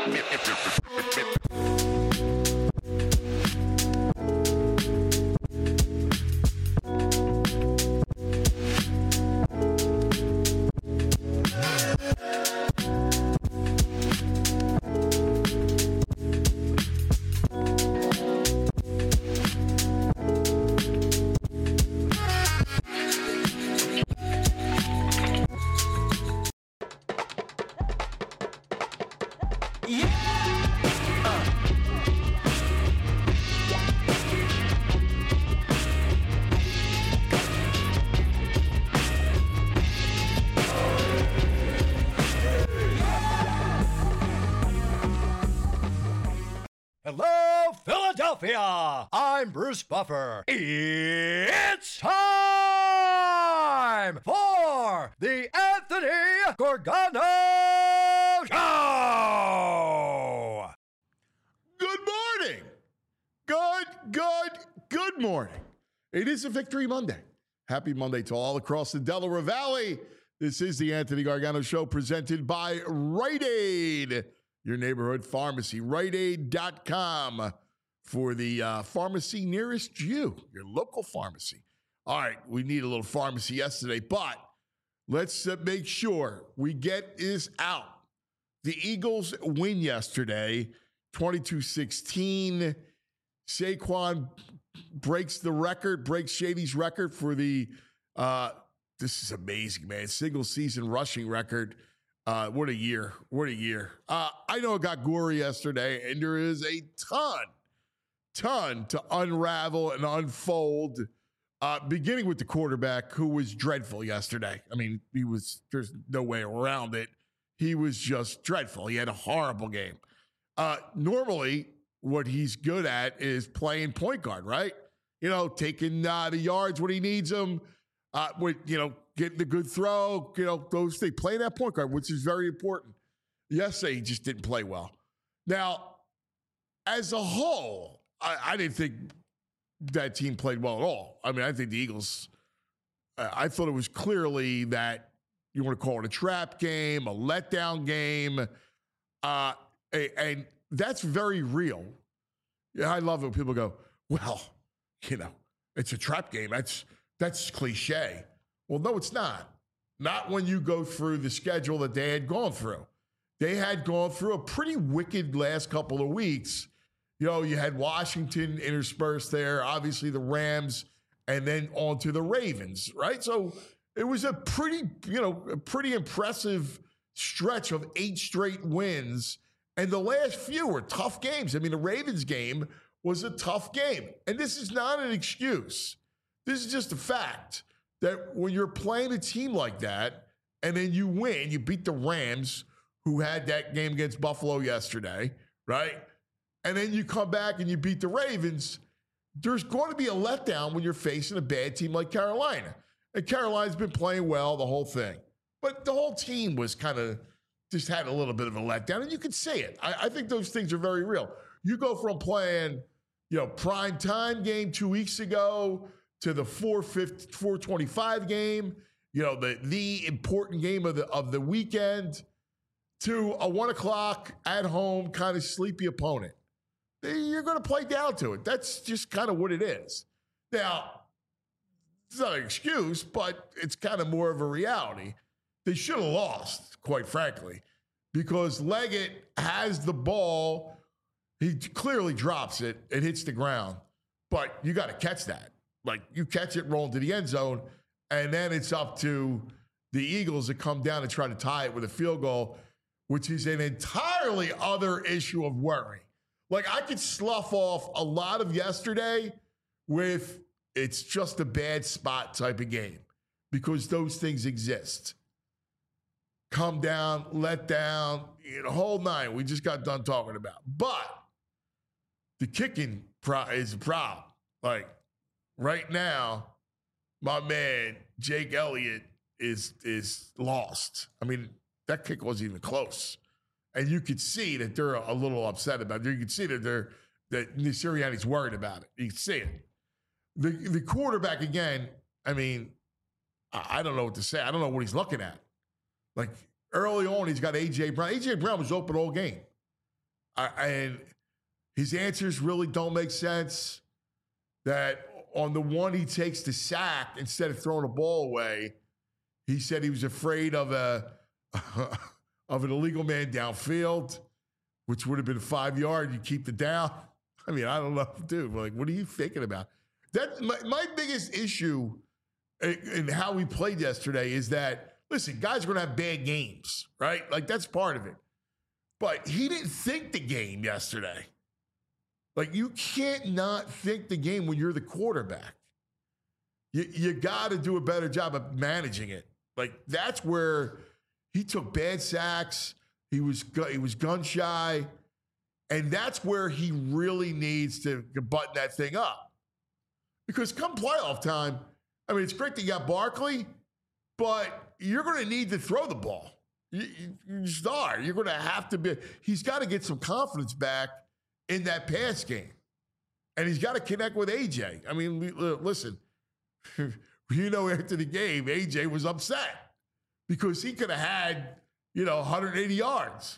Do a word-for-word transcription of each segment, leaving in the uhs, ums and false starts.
Hello, Philadelphia! I'm Bruce Buffer. It's time for the Anthony Gargano Show! Good morning! Good, good, good morning. It is a Victory Monday. Happy Monday to all across the Delaware Valley. This is the Anthony Gargano Show presented by Rite Aid, your neighborhood pharmacy, rite aid dot com for the uh, pharmacy nearest you, your local pharmacy. All right, we need a little pharmacy yesterday, but let's uh, make sure we get this out. The Eagles win yesterday, twenty-two sixteen. Saquon breaks the record, breaks Shady's record for the, uh, this is amazing, man, single season rushing record. Uh, what a year. What a year. Uh, I know it got gory yesterday, and there is a ton, ton to unravel and unfold, uh, beginning with the quarterback who was dreadful yesterday. I mean, he was, there's no way around it. He was just dreadful. He had a horrible game. Uh, normally, what he's good at is playing point guard, right? You know, taking uh, the yards when he needs them, uh, with, you know, getting the good throw, you know, those things, playing that point guard, which is very important. Yesterday, he just didn't play well. Now, as a whole, I, I didn't think that team played well at all. I mean, I think the Eagles, uh, I thought it was clearly that you want to call it a trap game, a letdown game, uh, a, and that's very real. Yeah, I love it when people go, well, you know, it's a trap game. That's that's cliche. Well, no, it's not. Not when you go through the schedule that they had gone through. They had gone through a pretty wicked last couple of weeks. You know, you had Washington interspersed there, obviously the Rams, and then on to the Ravens, right? So it was a pretty, you know, a pretty impressive stretch of eight straight wins. And the last few were tough games. I mean, the Ravens game was a tough game. And this is not an excuse. This is just a fact that when you're playing a team like that and then you win, you beat the Rams, who had that game against Buffalo yesterday, right? And then you come back and you beat the Ravens, there's going to be a letdown when you're facing a bad team like Carolina. And Carolina's been playing well, the whole thing. But the whole team was kind of just had a little bit of a letdown, and you can see it. I, I think those things are very real. You go from playing, you know, prime time game two weeks ago to the four twenty-five game, you know, the the important game of the of the weekend, to a one o'clock at home kind of sleepy opponent. You're going to play down to it. That's just kind of what it is. Now, it's not an excuse, but it's kind of more of a reality. They should have lost, quite frankly, because Leggett has the ball. He clearly drops it. It hits the ground. But you got to catch that. Like, you catch it, roll into the end zone, and then it's up to the Eagles to come down and try to tie it with a field goal, which is an entirely other issue of worry. Like, I could slough off a lot of yesterday with it's just a bad spot type of game, because those things exist. Come down, let down, you know, whole nine we just got done talking about. But the kicking pro- is a problem. Like, right now, my man, Jake Elliott, is is lost. I mean, that kick wasn't even close. And you could see that they're a little upset about it. You could see that they're that Sirianni's worried about it. You can see it. The the quarterback, again, I mean, I, I don't know what to say. I don't know what he's looking at. Like, early on, he's got A J. Brown. A J. Brown was open all game. I, and his answers really don't make sense. That on the one he takes the sack instead of throwing the ball away, he said he was afraid of a of an illegal man downfield, which would have been five yard. You keep the down. I mean, I don't know, dude. Like, what are you thinking about? That my, my biggest issue in, in how we played yesterday is that, listen, guys are going to have bad games, right? Like, that's part of it. But he didn't think the game yesterday. Like, you can't not think the game when you're the quarterback. You, you got to do a better job of managing it. Like, that's where he took bad sacks. He was he was gun shy. And that's where he really needs to button that thing up. Because come playoff time, I mean, it's great that you got Barkley, but you're going to need to throw the ball. You, you, you just are. You're going to have to be. He's got to get some confidence back in that pass game. And he's got to connect with A J. I mean, listen, you know, after the game, A J was upset because he could have had, you know, one hundred eighty yards.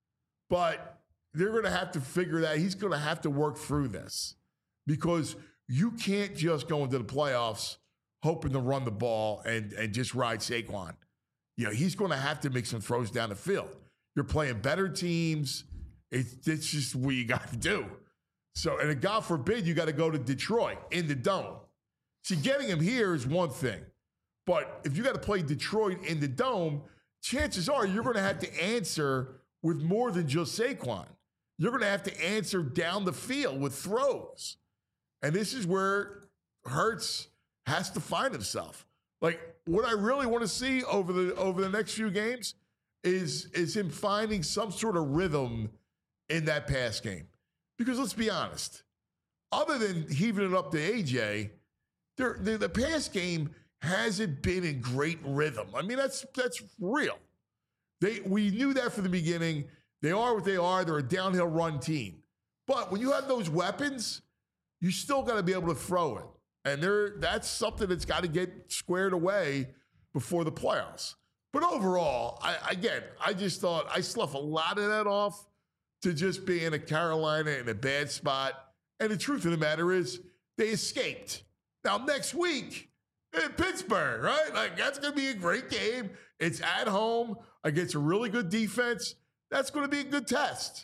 But they're going to have to figure that. He's going to have to work through this because you can't just go into the playoffs hoping to run the ball and, and just ride Saquon. You know, he's going to have to make some throws down the field. You're playing better teams. It's, it's just what you got to do. So, and God forbid you got to go to Detroit in the dome. See, getting him here is one thing. But if you got to play Detroit in the dome, chances are you're going to have to answer with more than just Saquon. You're going to have to answer down the field with throws. And this is where Hurts has to find himself. Like, what I really want to see over the over the next few games is, is him finding some sort of rhythm in that pass game. Because let's be honest, other than heaving it up to A J, the, the pass game hasn't been in great rhythm. I mean, that's that's real. They we knew that from the beginning. They are what they are. They're a downhill run team. But when you have those weapons, you still got to be able to throw it. And there, that's something that's got to get squared away before the playoffs. But overall, I, again, I just thought I sloughed a lot of that off to just being a Carolina in a bad spot. And the truth of the matter is they escaped. Now, next week in Pittsburgh, right? Like, that's going to be a great game. It's at home against a really good defense. That's going to be a good test.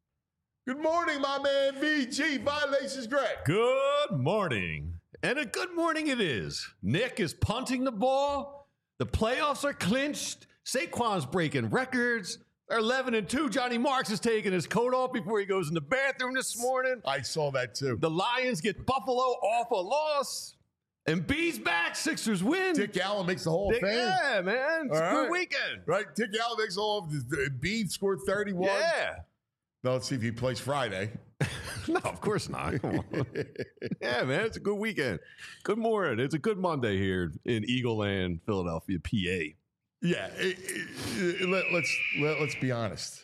Good morning, my man, V G. Violations Greg. Good morning. And a good morning it is. Nick is punting the ball. The playoffs are clinched. Saquon's breaking records. They're eleven and two. Johnny Marks is taking his coat off before he goes in the bathroom this morning. I saw that too. The Lions get Buffalo off a loss. And B's back. Sixers win. Dick Allen makes the Hall of Fame. Yeah, man. It's All a right. good weekend. Right? Dick Allen makes the Hall of Fame. B scored thirty-one. Yeah. Now let's see if he plays Friday. No, of course not. Come on. Yeah, man. It's a good weekend. Good morning. It's a good Monday here in Eagle Land, Philadelphia, P A. Yeah. It, it, let, let's let, let's be honest.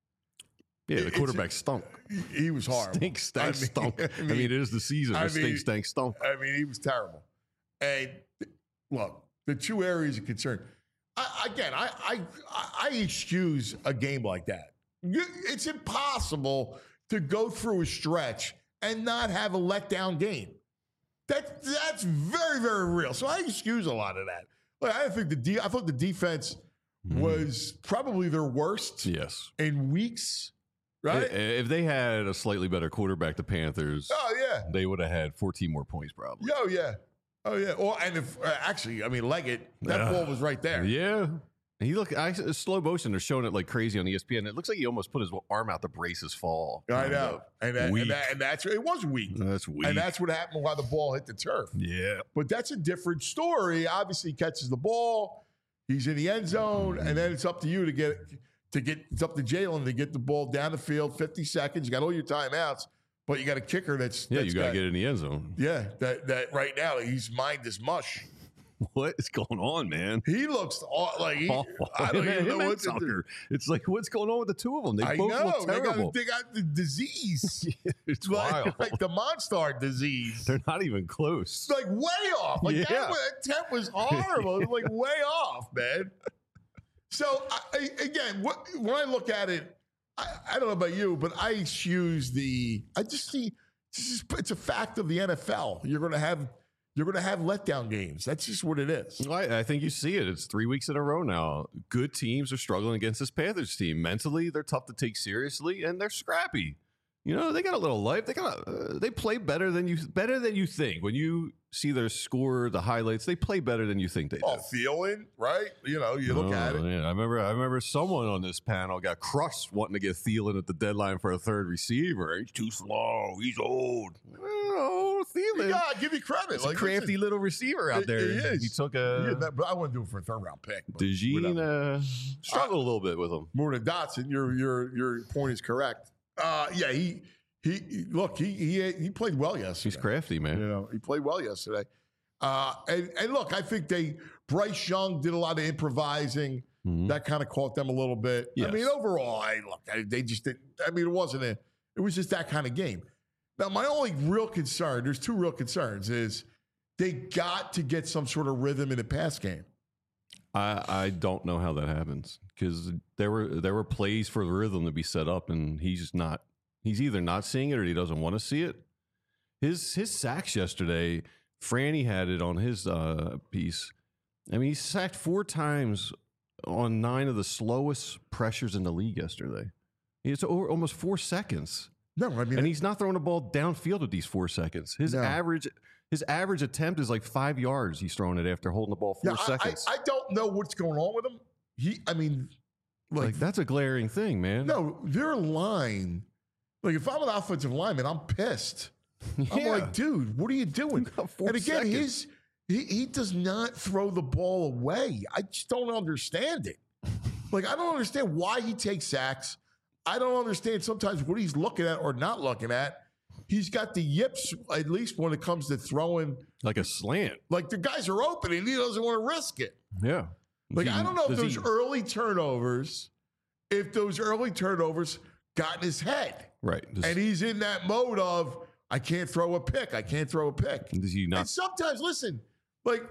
Yeah, the It's- quarterback stunk. He was horrible. Stink, stank, I mean- stunk. I I mean- mean, it is the season. I The stink, mean- stank, stunk. I mean, he was terrible. And look, the two areas of concern. I, again, I, I I excuse a game like that. You, it's impossible to go through a stretch and not have a letdown game. That that's very very real. So I excuse a lot of that. Like, I think the de- I thought the defense was probably their worst Yes. in weeks. Right? I- If they had a slightly better quarterback, the Panthers, Oh yeah. they would have had fourteen more points probably. Oh yeah. Oh yeah. Well, and if uh, actually, I mean, Leggett, that Yeah. ball was right there. Yeah. And he look I, slow motion. They're showing it like crazy on E S P N. It looks like he almost put his arm out to brace his fall. I kind know, of. and that, Weak. and, that, and that's it was weak, That's weak. and that's what happened while the ball hit the turf. yeah. But that's a different story. Obviously, he catches the ball, he's in the end zone, and then it's up to you to get to get it's up to Jalen to get the ball down the field. Fifty seconds, you got all your timeouts, but you got a kicker that's Yeah, that's you got to get in the end zone. yeah that that right now he's mind is mush. What is going on, man? He looks aw- like he, Awful. I don't Him even and- know him and what to do. Tucker. It's like, what's going on with the two of them? They I both know look they terrible. got, they got the disease. It's like, wild. like the Monster disease. They're not even close. It's like way off. Like Yeah. that, was, that temp was horrible. It was like way off, man. So I, I- again, what, when I look at it, I, I don't know about you, but I excuse the. I just see it's, just, it's a fact of the N F L. You're going to have you're going to have letdown games. That's just what it is. I, I think you see it. It's three weeks in a row now. Good teams are struggling against this Panthers team. Mentally, they're tough to take seriously, and they're scrappy. You know, they got a little life. They got. Uh, they play better than you. Better than you think. When you see their score, the highlights, they play better than you think they do. Oh, feeling right? You know, you look oh, at it. Man. I remember. I remember someone on this panel got crushed wanting to get Thielen at the deadline for a third receiver. He's too slow. He's old. Oh, Thielen. Yeah, I'll give you credit. He's like, a crafty listen, little receiver out it- there. He is. He took a. Yeah, that, but I wouldn't do it for a third round pick. but DeJean whatever. uh, struggled a little bit with him. More than Dotson. Your your your point is correct. Uh, yeah, he he he- look he he he played well yesterday. He's crafty, man. You know, he played well yesterday. Uh, and, and look, I think they Bryce Young did a lot of improvising. Mhm. That kind of caught them a little bit. I Yes. mean, overall, I look, I, they just didn't. I mean, it wasn't a. It was just that kind of game. Now, my only real concern, there's two real concerns, is they got to get some sort of rhythm in the pass game. I, I don't know how that happens because there were there were plays for the rhythm to be set up, and he's just not. He's either not seeing it or he doesn't want to see it. His his sacks yesterday, Franny had it on his uh, piece. I mean, he sacked four times on nine of the slowest pressures in the league yesterday. It's over almost four seconds, No, I mean, and he's not throwing the ball downfield with these four seconds. His No. average his average attempt is like five yards. He's throwing it after holding the ball four yeah, I, seconds. I, I don't know what's going on with him. He, I mean, like, like that's a glaring thing, man. no, their line. Like, if I'm an offensive lineman, I'm pissed. I'm Yeah. like, dude, what are you doing? got four And again, seconds. his he, he does not throw the ball away. I just don't understand it. Like, I don't understand why he takes sacks. I don't understand sometimes what he's looking at or not looking at. He's got the yips, at least when it comes to throwing. Like a slant. Like, the guys are open and he doesn't want to risk it. Yeah. Like, Does I he- don't know if does those he- early turnovers, if those early turnovers got in his head. Right. Does, And he's in that mode of, I can't throw a pick. I can't throw a pick. does he And not? sometimes, listen, like,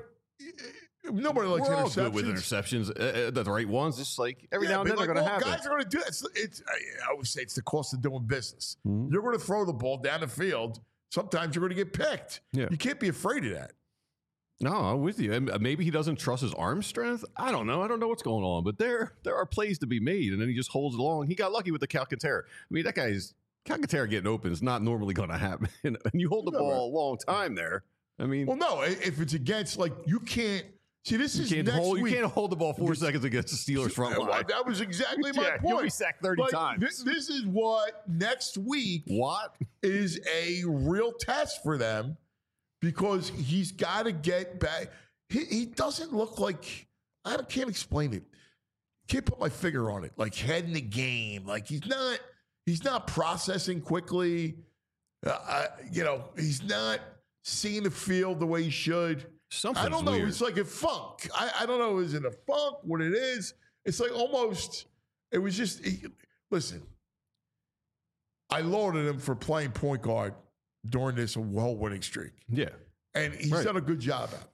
nobody likes We're all interceptions. good with interceptions. Uh, uh, the right ones. Just like every Yeah, now and but then they're like, going to well, happen. guys are going to do it. It's, it's, I I always say it's the cost of doing business. Mhm. You're going to throw the ball down the field. Sometimes you're going to get picked. Yeah. You can't be afraid of that. No, I'm with you. And maybe he doesn't trust his arm strength. I don't know. I don't know what's going on. But there, there are plays to be made, and then he just holds it along. He got lucky with the Calcaterra. I mean, that guy's Calcaterra getting open is not normally going to happen. And you hold the No, ball a long time there. I mean, Well, no, i- if it's against, like, you can't. See, this you is can't next hold. week. You can't hold the ball four This- seconds against the Steelers front Well, line. that was exactly my Yeah, point. you'll be sacked thirty Like, times. This, this is what next week What? is a real test for them because he's got to get back. He, he doesn't look like, I don't- can't explain it. Can't put my finger on it. Like head in the game. Like he's not, he's not processing quickly. Uh, I, you know, he's not seeing the field the way he should. Something's I don't know. weird. It's like a funk. I, I don't know. Is it a funk? What it is? It's like almost. It was just. He, listen, I lauded him for playing point guard during this whole winning streak, Yeah. and he's Right. done a good job at it.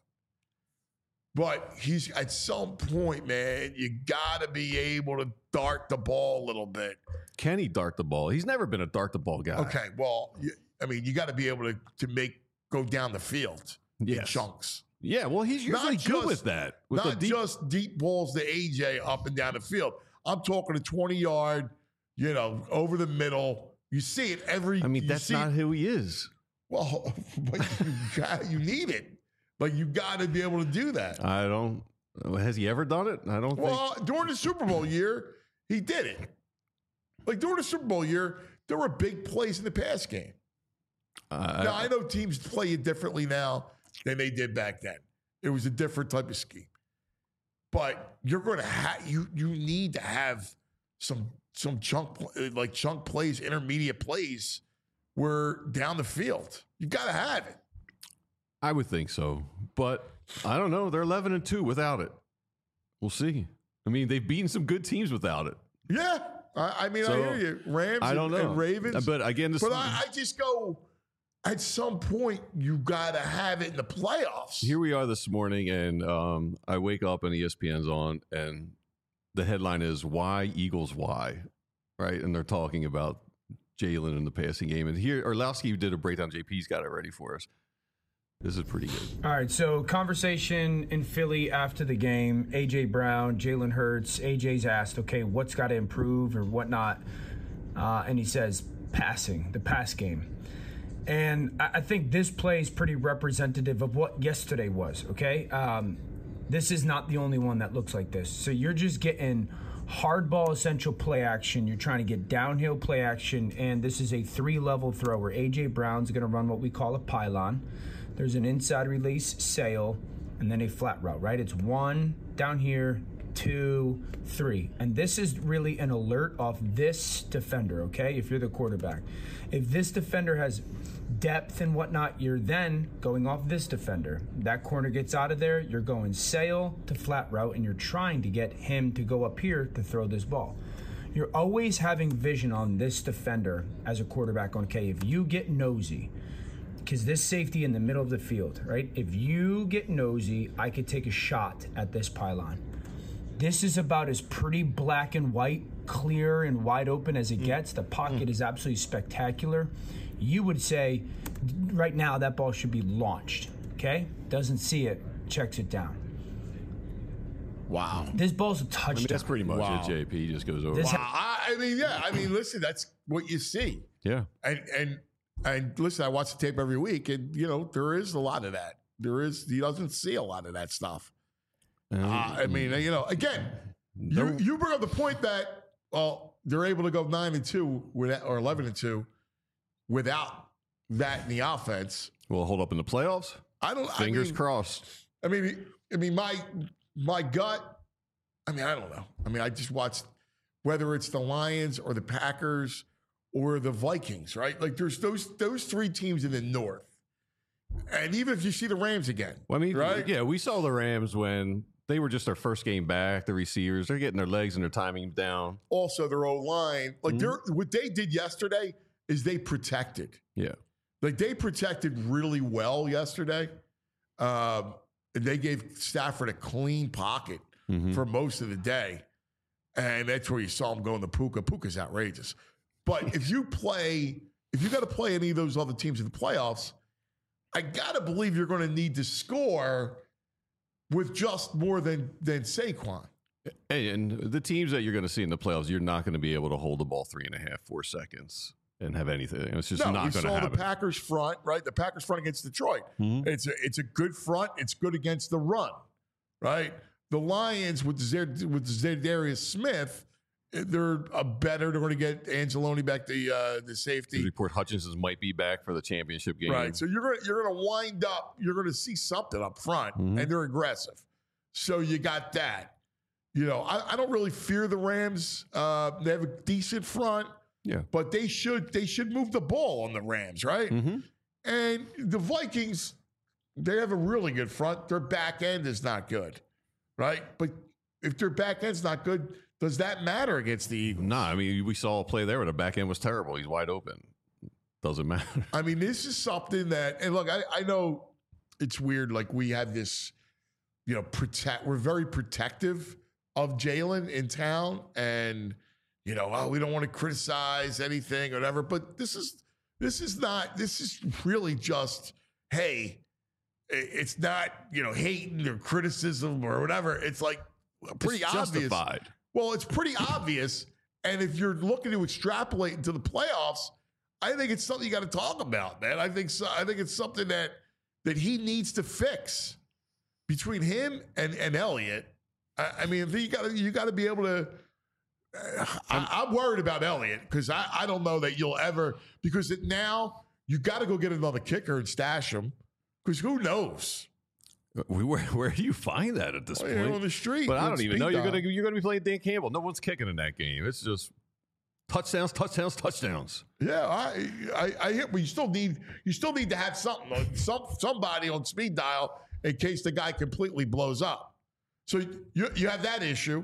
But he's at some point, man. You got to be able to dart the ball a little bit. Can he dart the ball? He's never been a dart the ball guy. Okay. Well, you, I mean, you got to be able to to make go down the field in Yes. chunks. Yeah. Well, he's Not usually good just- with that. With Not the deep, just deep balls to A J up and down the field. I'm talking a twenty yard, you know, over the middle. You see it every. I mean, you that's see- not who he is. Well, but you, got, you need it. Like you got to be able to do that. I don't. Has he ever done it? I don't think. Well, during the Super Bowl year, he did it. Like during the Super Bowl year, there were big plays in the pass game. Uh, Now I know teams play it differently now than they did back then. It was a different type of scheme. But you're going to have you you need to have some some chunk pl- like chunk plays, intermediate plays, where down the field you got to have it. I would think so, but I don't know. They're eleven and two without it. We'll see. I mean, they've beaten some good teams without it. Yeah, I, I mean So, I hear you, Rams. I don't and, know. and Ravens, But again, this but I, I just go. At some point, you got to have it in the playoffs. here we are this morning, and um, I wake up and E S P N's on, and the headline is "Why Eagles Why," right? And they're talking about Jalen in the passing game. And here, Orlowski did a breakdown. J P's got it ready for us. This is pretty good. All right, so conversation in Philly after the game. A J. Brown, Jalen Hurts. A J's asked, okay, what's got to improve or whatnot? Uh, and he says, passing, the pass game. And I, I think this play is pretty representative of what yesterday was, okay? Um, this is not the only one that looks like this. So you're just getting hardball essential play action. You're trying to get downhill play action, and this is a three-level throw where A J. Brown's going to run what we call a pylon. There's an inside release sail, and then a flat route, right? It's one down here, two, three. And this is really an alert off this defender, okay, if you're the quarterback. If this defender has depth and whatnot, you're then going off this defender. That corner gets out of there, you're going sail to flat route, and you're trying to get him to go up here to throw this ball. You're always having vision on this defender as a quarterback. Okay, if you get nosy, because this safety in the middle of the field, right? If you get nosy, I could take a shot at this pylon. This is about as pretty black and white, clear and wide open as it gets. The pocket mm. is absolutely spectacular. You would say, right now, that ball should be launched, okay? Doesn't see it, checks it down. Wow. This ball's a touchdown. I mean, that's pretty much Wow. it, J P. Just goes over. Wow. I, I mean, yeah. I mean, listen, that's what you see. Yeah. And, and, And listen, I watch the tape every week, and, you know, there is a lot of that. There is, he doesn't see a lot of that stuff. Um, Uh, I mean, you know, again, you, you bring up the point that, well, they're able to go nine and two with, or eleven and two without that in the offense. Will hold up in the playoffs. I don't, Fingers I mean, crossed. I mean, I mean, my, my gut, I mean, I don't know. I mean, I just watched, whether it's the Lions or the Packers or the Vikings, right? Like there's those those three teams in the North. And even if you see the Rams again. Well, I mean, right? yeah, we saw the Rams when they were just their first game back, the receivers, they're getting their legs and their timing down. Also, their O-line. Like Mhm. they're what they did yesterday is they protected. Yeah. Like they protected really well yesterday. Um, and they gave Stafford a clean pocket Mhm. for most of the day. And that's where you saw him going to Puka. Puka's outrageous. But if you play, if you got to play any of those other teams in the playoffs, I got to believe you're going to need to score with just more than than Saquon. Hey, and the teams that you're going to see in the playoffs, you're not going to be able to hold the ball three and a half, four seconds and have anything. It's just no, not we going to saw happen. the Packers front, right? The Packers front against Detroit. Mhm. It's a it's a good front. It's good against the run, right? The Lions with Zed, with Zadarius Smith, they're a better. They're going to get Angeloni back, the uh, the safety. The report Hutchinson might be back for the championship game. Right. So you're gonna you're gonna wind up, you're gonna see something up front, Mhm. and they're aggressive. So you got that. You know, I, I don't really fear the Rams. Uh, they have a decent front, Yeah. but they should they should move the ball on the Rams, right? Mm-hmm. And the Vikings, they have a really good front. Their back end is not good, right? But if their back end's not good, does that matter against the Eagles? No, I mean, we saw a play there where the back end was terrible. He's wide open. Doesn't matter. I mean, this is something that, and look, I, I know it's weird. Like we have this, you know, protect. We're very protective of Jalen in town, and you know, oh, we don't want to criticize anything or whatever. But this is this is not. This is really just, hey, it's not, you know, hating or criticism or whatever. It's like pretty It's obvious. justified. Well, it's pretty obvious. And if you're looking to extrapolate into the playoffs, I think it's something you got to talk about, man. I think so, I think it's something that that he needs to fix between him and, and Elliott. I, I mean, you got to you got to be able to. Uh, I, I'm worried about Elliott because I, I don't know that you'll ever because it, now you got to go get another kicker and stash him because who knows. We, where where do you find that at this Well, point? you're on the street. But I with don't even speed know you're dial. gonna you're gonna be playing Dan Campbell. No one's kicking in that game. It's just touchdowns, touchdowns, touchdowns. Yeah, I, I, I hear, but you still need, you still need to have something, uh, some, somebody on speed dial in case the guy completely blows up. So you, you have that issue.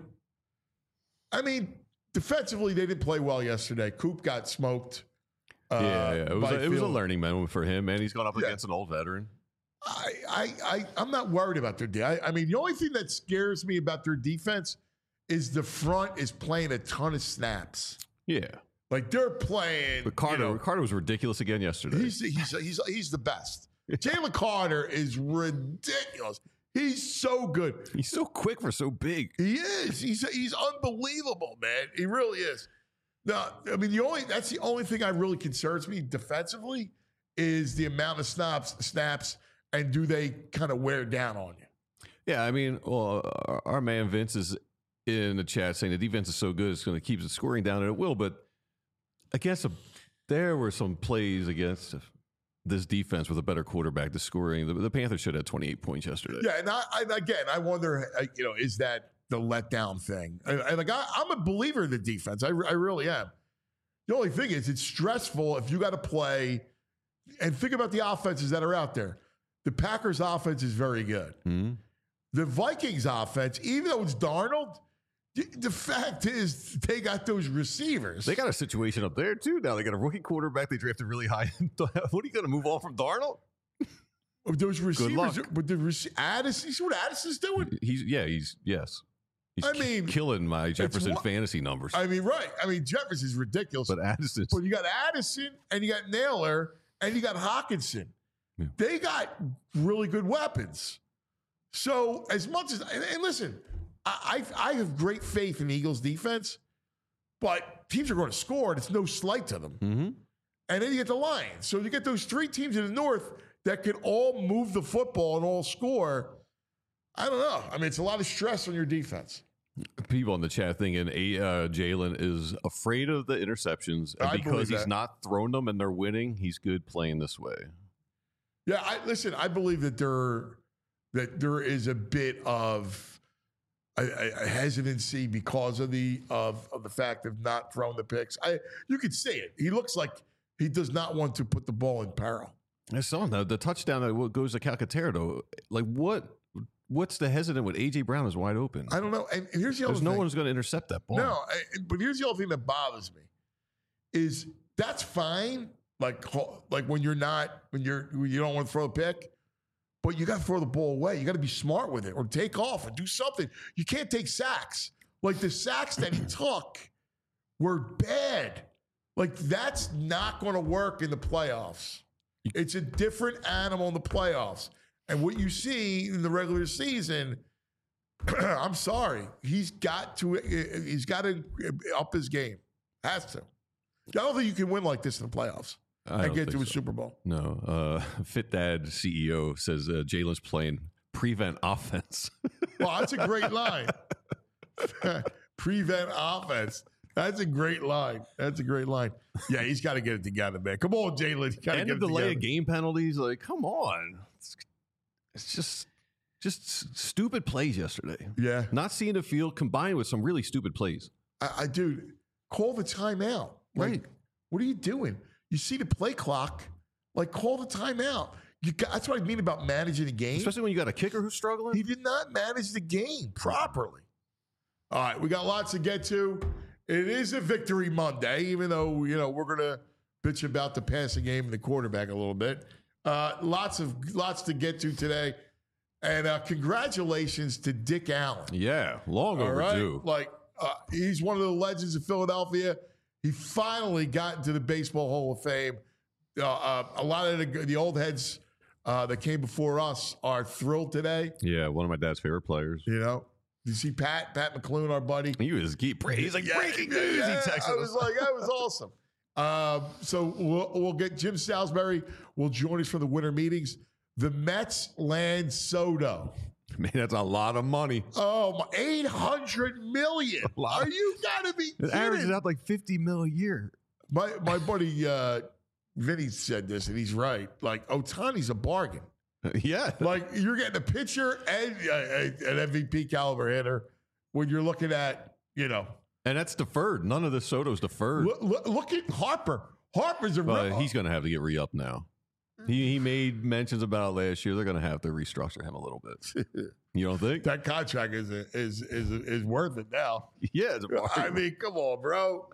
I mean, defensively, they didn't play well yesterday. Coop got smoked. Uh, yeah, yeah, it was by a, it was a Field. learning moment for him, man. He's gone up Yeah. against an old veteran. I, I, I, I'm not worried about their defense. I, I mean, the only thing that scares me about their defense is the front is playing a ton of snaps. Yeah. Like they're playing. Ricardo, you know, Ricardo was ridiculous again yesterday. He's he's he's he's the best. Jalen Carter is ridiculous. He's so good. He's so quick for so big. He is. He's he's unbelievable, man. He really is. Now, I mean, the only that's the only thing that really concerns me defensively is the amount of snaps, snaps, and do they kind of wear down on you? Yeah, I mean, well, our, our man Vince is in the chat saying the defense is so good it's going to keep the scoring down, and it will. But against a, there were some plays against this defense with a better quarterback. The scoring, the, the Panthers should have twenty-eight points yesterday. Yeah, and I, I, again, I wonder, you know, is that the letdown thing? And, and like, I, I'm a believer in the defense. I, I really am. The only thing is, it's stressful if you got to play. And think about the offenses that are out there. The Packers' offense is very good. Mm-hmm. The Vikings' offense, even though it's Darnold, the, the fact is they got those receivers. They got a situation up there too. Now they got a rookie quarterback they drafted really high. What are you going to move on from Darnold? Those receivers, luck. but the rec- Addison, you see what Addison's doing? He's yeah, he's yes. He's I mean, killing my Jefferson what- fantasy numbers. I mean, right. I mean, Jefferson's ridiculous. but Addison, But you got Addison and you got Naylor and you got Hawkinson. Yeah. They got really good weapons. So as much as and, and listen, I, I I have great faith in the Eagles defense, but teams are going to score and it's no slight to them. mm-hmm. And then you get the Lions. So you get those three teams in the North that can all move the football and all score. I don't know. I mean, it's a lot of stress on your defense. people in the chat thinking uh, Jalen is afraid of the interceptions, and I because believe he's that. not thrown them and they're winning, he's good playing this way. Yeah, I listen, I believe that there that there is a bit of a, a hesitancy because of the of of the fact of not throwing the picks. I you could see it. He looks like he does not want to put the ball in peril. I saw the, the touchdown that goes to Calcaterra, though. Like, what? What's the hesitant with A J Brown is wide open? I don't know. And, and here's the other There's no thing. one's going to intercept that ball. No, I, but here's the other thing that bothers me is that's fine. Like, like when you're not, when you're, when you don't want to throw a pick, but you got to throw the ball away. You got to be smart with it or take off or do something. You can't take sacks. Like the sacks that he took were bad. Like that's not going to work in the playoffs. It's a different animal in the playoffs. And what you see in the regular season, I'm sorry, he's got to he's got to up his game. Has to. I don't think you can win like this in the playoffs I and don't get to think a so. Super Bowl. No. Uh, Fit Dad C E O says uh, Jalen's playing prevent offense. Well, that's a great line. Prevent offense. That's a great line. That's a great line. Yeah, he's got to get it together, man. Come on, Jalen. You got to And get the it delay together. of game penalties. Like, come on. It's, it's just just s- stupid plays yesterday. Yeah. Not seeing the field combined with some really stupid plays. I, I dude, call the timeout. Like, Right. what are you doing? You see the play clock, like call the timeout. You got, that's what I mean about managing the game. Especially when you got a kicker who's struggling. He did not manage the game properly. All right, we got lots to get to. It is a victory Monday, even though, you know, we're going to bitch about the passing game and the quarterback a little bit. Uh, lots of lots to get to today. And uh, congratulations to Dick Allen. Yeah, long All right? overdue. Like, uh, he's one of the legends of Philadelphia. He finally got into the Baseball Hall of Fame. Uh, uh, a lot of the, the old heads uh, that came before us are thrilled today. Yeah, one of my dad's favorite players. You know, you see Pat, Pat McClune, our buddy. He was keep he's like Yeah, breaking yeah, news. yeah. He texted I was us. like, that was awesome. Um, so we'll, we'll get Jim Salisbury will join us for the winter meetings. The Mets land Soto. Man, that's a lot of money. Oh, my, eight hundred million. A lot. Are you got to be It averages kidding? out like fifty mil a year. My, my buddy uh, Vinny said this, and he's right. Like, Otani's a bargain. Yeah. Like, you're getting a pitcher and uh, an M V P caliber hitter when you're looking at, you know, And that's deferred. None of the Soto's deferred. look, look, look at Harper. Harper's a But real- he's going to have to get re-upped now. He he made mentions about it last year. They're going to have to restructure him a little bit. You don't think? that contract is is is is worth it now. Yeah. It's a I mean, come on, bro.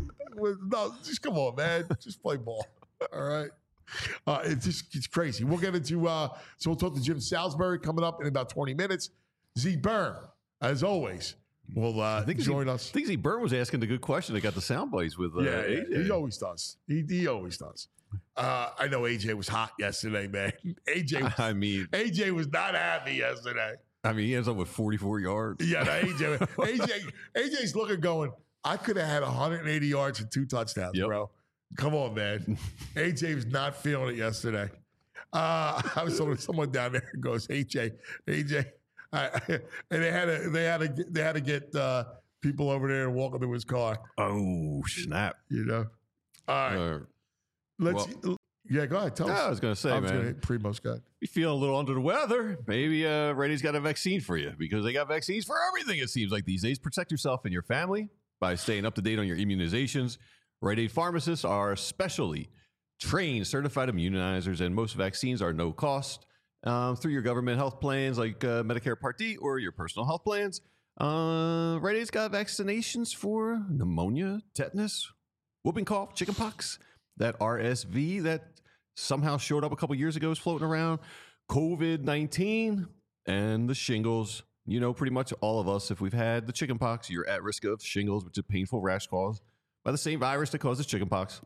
No, just come on, man. Just play ball. All right. Uh, it's just it's crazy. We'll get into uh, so we'll talk to Jim Salisbury coming up in about twenty minutes. Z Byrne, as always, will uh, I think join he, us. I think Z Burn was asking the good question. They got the sound bites with uh, yeah, A J. he always does. He, he always does. Uh, I know A J was hot yesterday, man. A J, was, I mean, A J was not happy yesterday. I mean, he ends up with forty-four yards. Yeah, no, A J, A J, A J's looking, going, I could have had one hundred eighty yards and two touchdowns, yep. bro. Come on, man. A J was not feeling it yesterday. Uh, I was talking to someone down there who goes, A J, A J, I, and they had to, they had to, they had to get uh, people over there and walk into his car. Oh snap! You know. All right. Uh, Let's. Well, yeah, go ahead. Tell yeah, us. I was going to say, I was man. Gonna hit Primo's guy. You feel a little under the weather? Maybe uh, Ready's got a vaccine for you because they got vaccines for everything. It seems like these days. Protect yourself and your family by staying up to date on your immunizations. Rite Aid pharmacists are specially trained, certified immunizers, and most vaccines are no cost um, through your government health plans like uh, Medicare Part D or your personal health plans. Uh, Rite Aid's got vaccinations for pneumonia, tetanus, whooping cough, chickenpox, that R S V that somehow showed up a couple years ago is floating around, COVID nineteen, and the shingles. You know, pretty much all of us, if we've had the chickenpox, you're at risk of shingles, which is a painful rash caused by the same virus that causes chickenpox.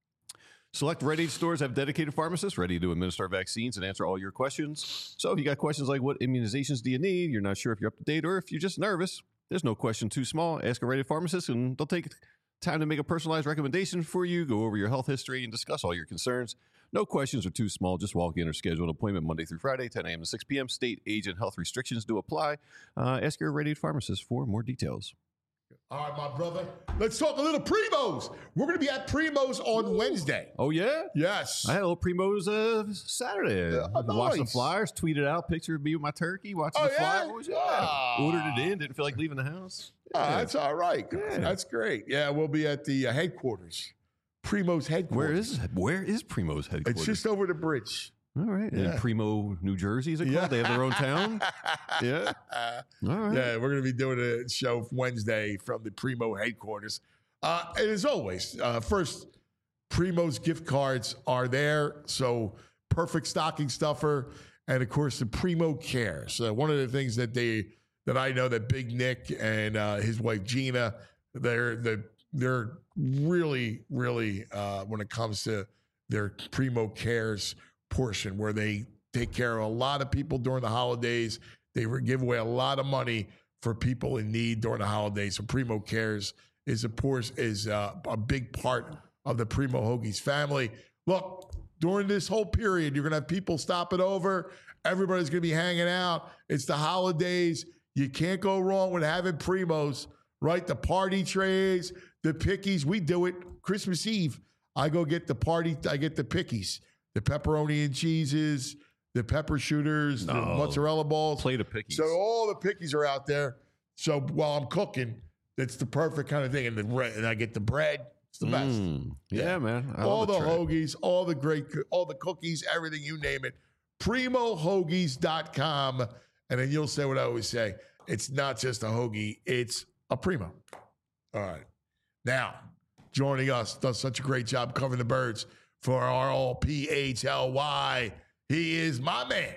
Select Rite Aid stores have dedicated pharmacists ready to administer vaccines and answer all your questions. So if you got questions like what immunizations do you need, you're not sure if you're up to date, or if you're just nervous, there's no question too small. Ask a Rite Aid pharmacist and they'll take time to make a personalized recommendation for you, go over your health history, and discuss all your concerns. No questions are too small. Just walk in or schedule an appointment Monday through Friday, ten a.m. to six p.m. State, age, and health restrictions do apply. Uh, ask your Rite Aid pharmacist for more details. All right, my brother. Let's talk a little Primo's. We're going to be at Primo's on Ooh. Wednesday. Oh, yeah? Yes. I had a little Primo's uh, Saturday. Yeah, nice. Watched the Flyers, tweeted out, picture of me with my turkey, watching oh, the yeah? Flyers. Yeah. Ah. Ordered it in, didn't feel like leaving the house. Yeah. Oh, that's all right. Yeah. That's great. Yeah, we'll be at the uh, headquarters. Primo's headquarters. Where is Where is Primo's headquarters? It's just over the bridge. All right. Yeah. In Primo, New Jersey, is it called? Yeah. They have their own town? Yeah. All right. Yeah, we're going to be doing a show Wednesday from the Primo headquarters. Uh, and as always, uh, first, Primo's gift cards are there. So perfect stocking stuffer. And, of course, the Primo Care. So one of the things that they that I know that Big Nick and uh, his wife Gina, they're, they're, they're really, really, uh, when it comes to their Primo Cares portion, where they take care of a lot of people during the holidays. They give away a lot of money for people in need during the holidays. So Primo Cares is, of course, is uh, a big part of the Primo Hoagies family. Look, during this whole period, you're going to have people stopping over. Everybody's going to be hanging out. It's the holidays. You can't go wrong with having Primos, right? The party trays, the pickies. We do it Christmas Eve. I go get the party. I get the pickies. The pepperoni and cheeses, the pepper shooters, no. the mozzarella balls. Plate of pickies. So all the pickies are out there. So while I'm cooking, it's the perfect kind of thing. And, the, and I get the bread. It's the best. Mm, yeah, yeah, man. I all the, the hoagies, all the great, all the cookies, everything, you name it. primo hoagies dot com. And then you'll say what I always say. It's not just a hoagie. It's a Primo. All right. Now, joining us, does such a great job covering the birds for R O P H L Y. He is my man,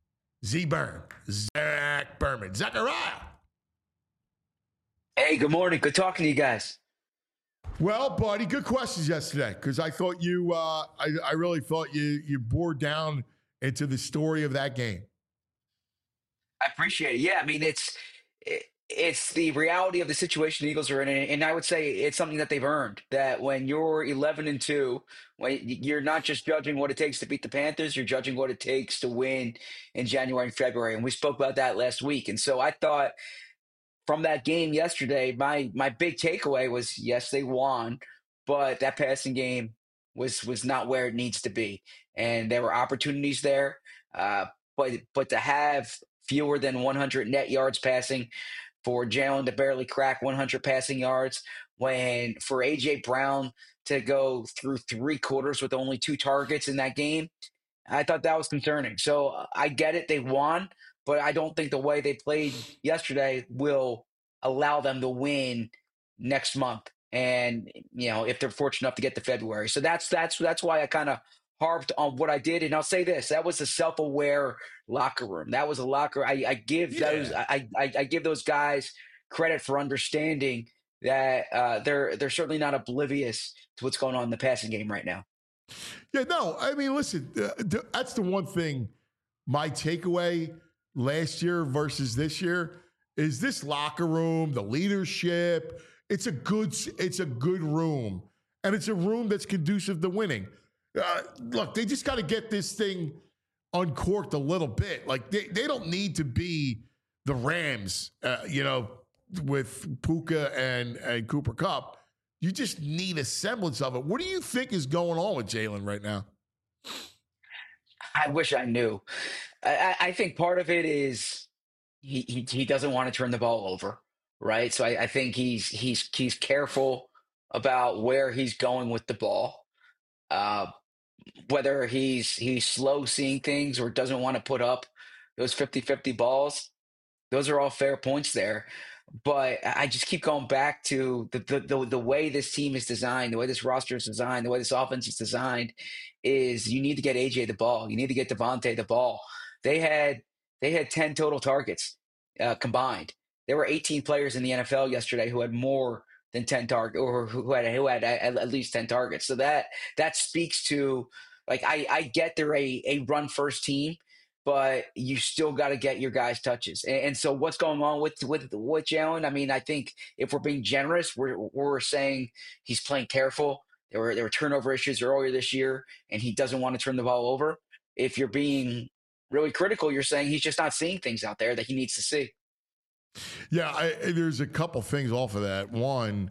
Z Burn, Zach Berman. Zachariah. Hey, good morning. Good talking to you guys. Well, buddy, good questions yesterday, because I thought you, uh, I, I really thought you, you bored down into the story of that game. I appreciate it. Yeah, I mean, it's it, it's the reality of the situation the Eagles are in, and I would say it's something that they've earned. That when you're eleven and two, when you're not just judging what it takes to beat the Panthers, you're judging what it takes to win in January and February, and we spoke about that last week. And so I thought from that game yesterday, my my big takeaway was, yes, they won, but that passing game was was not where it needs to be, and there were opportunities there, uh, but but to have fewer than one hundred net yards passing, for Jalen to barely crack one hundred passing yards, when for A J Brown to go through three quarters with only two targets in that game, I thought that was concerning. So uh, I get it, they won, but I don't think the way they played yesterday will allow them to win next month. And, you know, if they're fortunate enough to get to February. So that's that's that's why I kind of harped on what I did. And I'll say this, that was a self-aware locker room. That was a locker. I, I give yeah. those I, I I give those guys credit for understanding that uh, they're they're certainly not oblivious to what's going on in the passing game right now. Yeah, no, I mean, listen, uh, th- that's the one thing. My takeaway last year versus this year is this locker room, the leadership. It's a good, it's a good room, and it's a room that's conducive to winning. Uh, look, they just got to get this thing uncorked a little bit. Like they, they don't need to be the Rams, uh, you know, with Puka and, and Cooper Kupp. You just need a semblance of it. What do you think is going on with Jalen right now? I wish I knew. I, I think part of it is he, he he doesn't want to turn the ball over, right? So I, I think he's he's he's careful about where he's going with the ball. Uh, whether he's he's slow seeing things or doesn't want to put up those fifty-fifty balls, those are all fair points there. But I just keep going back to the, the the the way this team is designed, the way this roster is designed, the way this offense is designed is you need to get A J the ball. You need to get Devontae the ball. They had they had ten total targets uh, combined. There were eighteen players in the N F L yesterday who had more than ten targets, or who had who had at, at least ten targets. So that that speaks to, like, I I get they're a a run first team, but you still got to get your guys touches. And, and so what's going on with with with Jalen? I mean, I think if we're being generous, we're we're saying he's playing careful. There were there were turnover issues earlier this year, and he doesn't want to turn the ball over. If you're being really critical, you're saying he's just not seeing things out there that he needs to see. Yeah, I, there's a couple things off of that. One,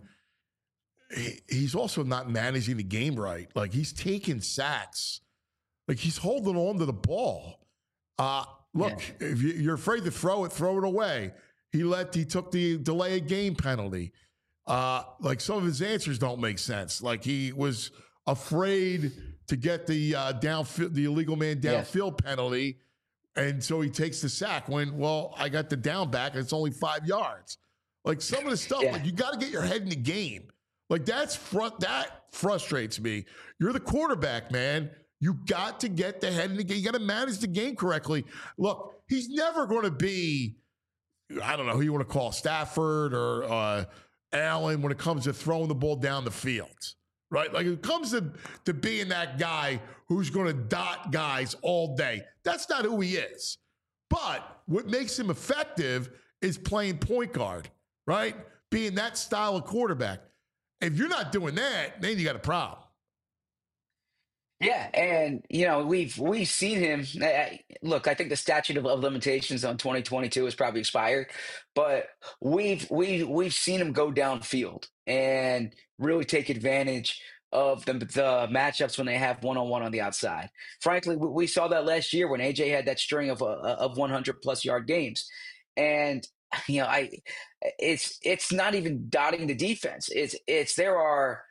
he, he's also not managing the game right. Like, he's taking sacks. Like, he's holding on to the ball. Uh, look, yeah. if you, you're afraid to throw it, throw it away. He let he took the delay of game penalty. Uh, like, some of his answers don't make sense. Like, he was afraid to get the uh, downfield, the illegal man downfield yeah. penalty. And so he takes the sack when, well, I got the down back and it's only five yards. Like, some of the stuff, yeah. like, you got to get your head in the game. Like, that's front, that frustrates me. You're the quarterback, man. You got to get the head in the game. You got to manage the game correctly. Look, he's never going to be, I don't know who you want to call, Stafford or uh, Allen when it comes to throwing the ball down the field. Right? Like, it comes to, to being that guy who's going to dot guys all day. That's not who he is. But what makes him effective is playing point guard, right? Being that style of quarterback. If you're not doing that, then you got a problem. Yeah, and you know we've we've seen him. Look, I think the statute of, of limitations on twenty twenty-two is probably expired, but we've we we've seen him go downfield and really take advantage of the, the matchups when they have one on one on the outside. Frankly, we, we saw that last year when A J had that string of uh, of one hundred plus yard games, and you know I it's it's not even dotting the defense. It's it's there are.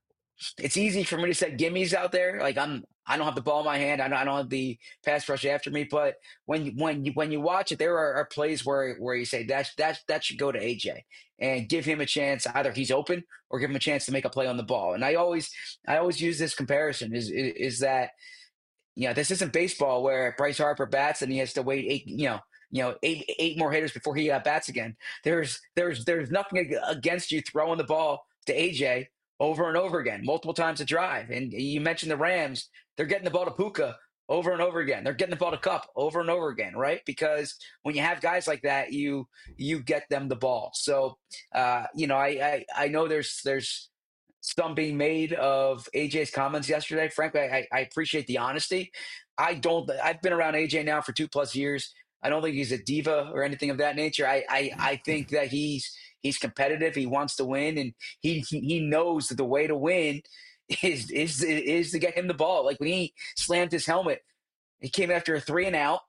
It's easy for me to set gimmies out there. Like I'm, I don't have the ball in my hand. I don't, I don't have the pass rush after me. But when you, when you, when you watch it, there are, are plays where, where you say that, that, that should go to A J and give him a chance. Either he's open or give him a chance to make a play on the ball. And I always, I always use this comparison is, is, is that, you know, this isn't baseball where Bryce Harper bats and he has to wait eight, you know, you know, eight, eight more hitters before he uh, bats again. There's, there's, there's nothing against you throwing the ball to A J over and over again, multiple times a drive. And you mentioned the Rams, they're getting the ball to Puka over and over again. They're getting the ball to Kupp over and over again, right? Because when you have guys like that, you you get them the ball. So, uh, you know, I, I I know there's there's some being made of A J's comments yesterday. Frankly, I, I appreciate the honesty. I don't. I've been around A J now for two plus years. I don't think he's a diva or anything of that nature. I I, I think that he's He's competitive. He wants to win, and he he knows that the way to win is is is to get him the ball. Like when he slammed his helmet, he came after a three and out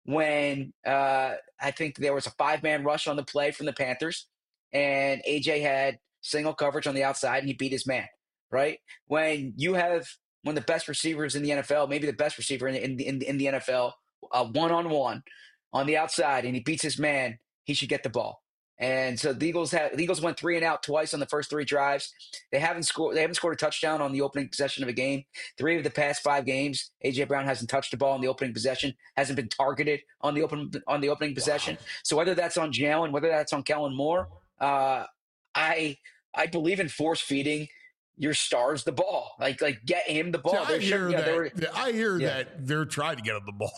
when uh, I think there was a five man rush on the play from the Panthers, and A J had single coverage on the outside, and he beat his man. Right when you have one of the best receivers in the N F L, maybe the best receiver in in in, in the N F L, one on one on the outside, and he beats his man, he should get the ball. And so the Eagles have the Eagles went three and out twice on the first three drives. They haven't scored. They haven't scored a touchdown on the opening possession of a game. Three of the past five games, A J Brown hasn't touched the ball on the opening possession. Hasn't been targeted on the open on the opening possession. Wow. So whether that's on Jalen, whether that's on Kellen Moore, Uh, I I believe in force feeding your stars the ball. Like like get him the ball. See, I There should- hear you know, that. there were- I hear Yeah. that they're trying to get him the ball.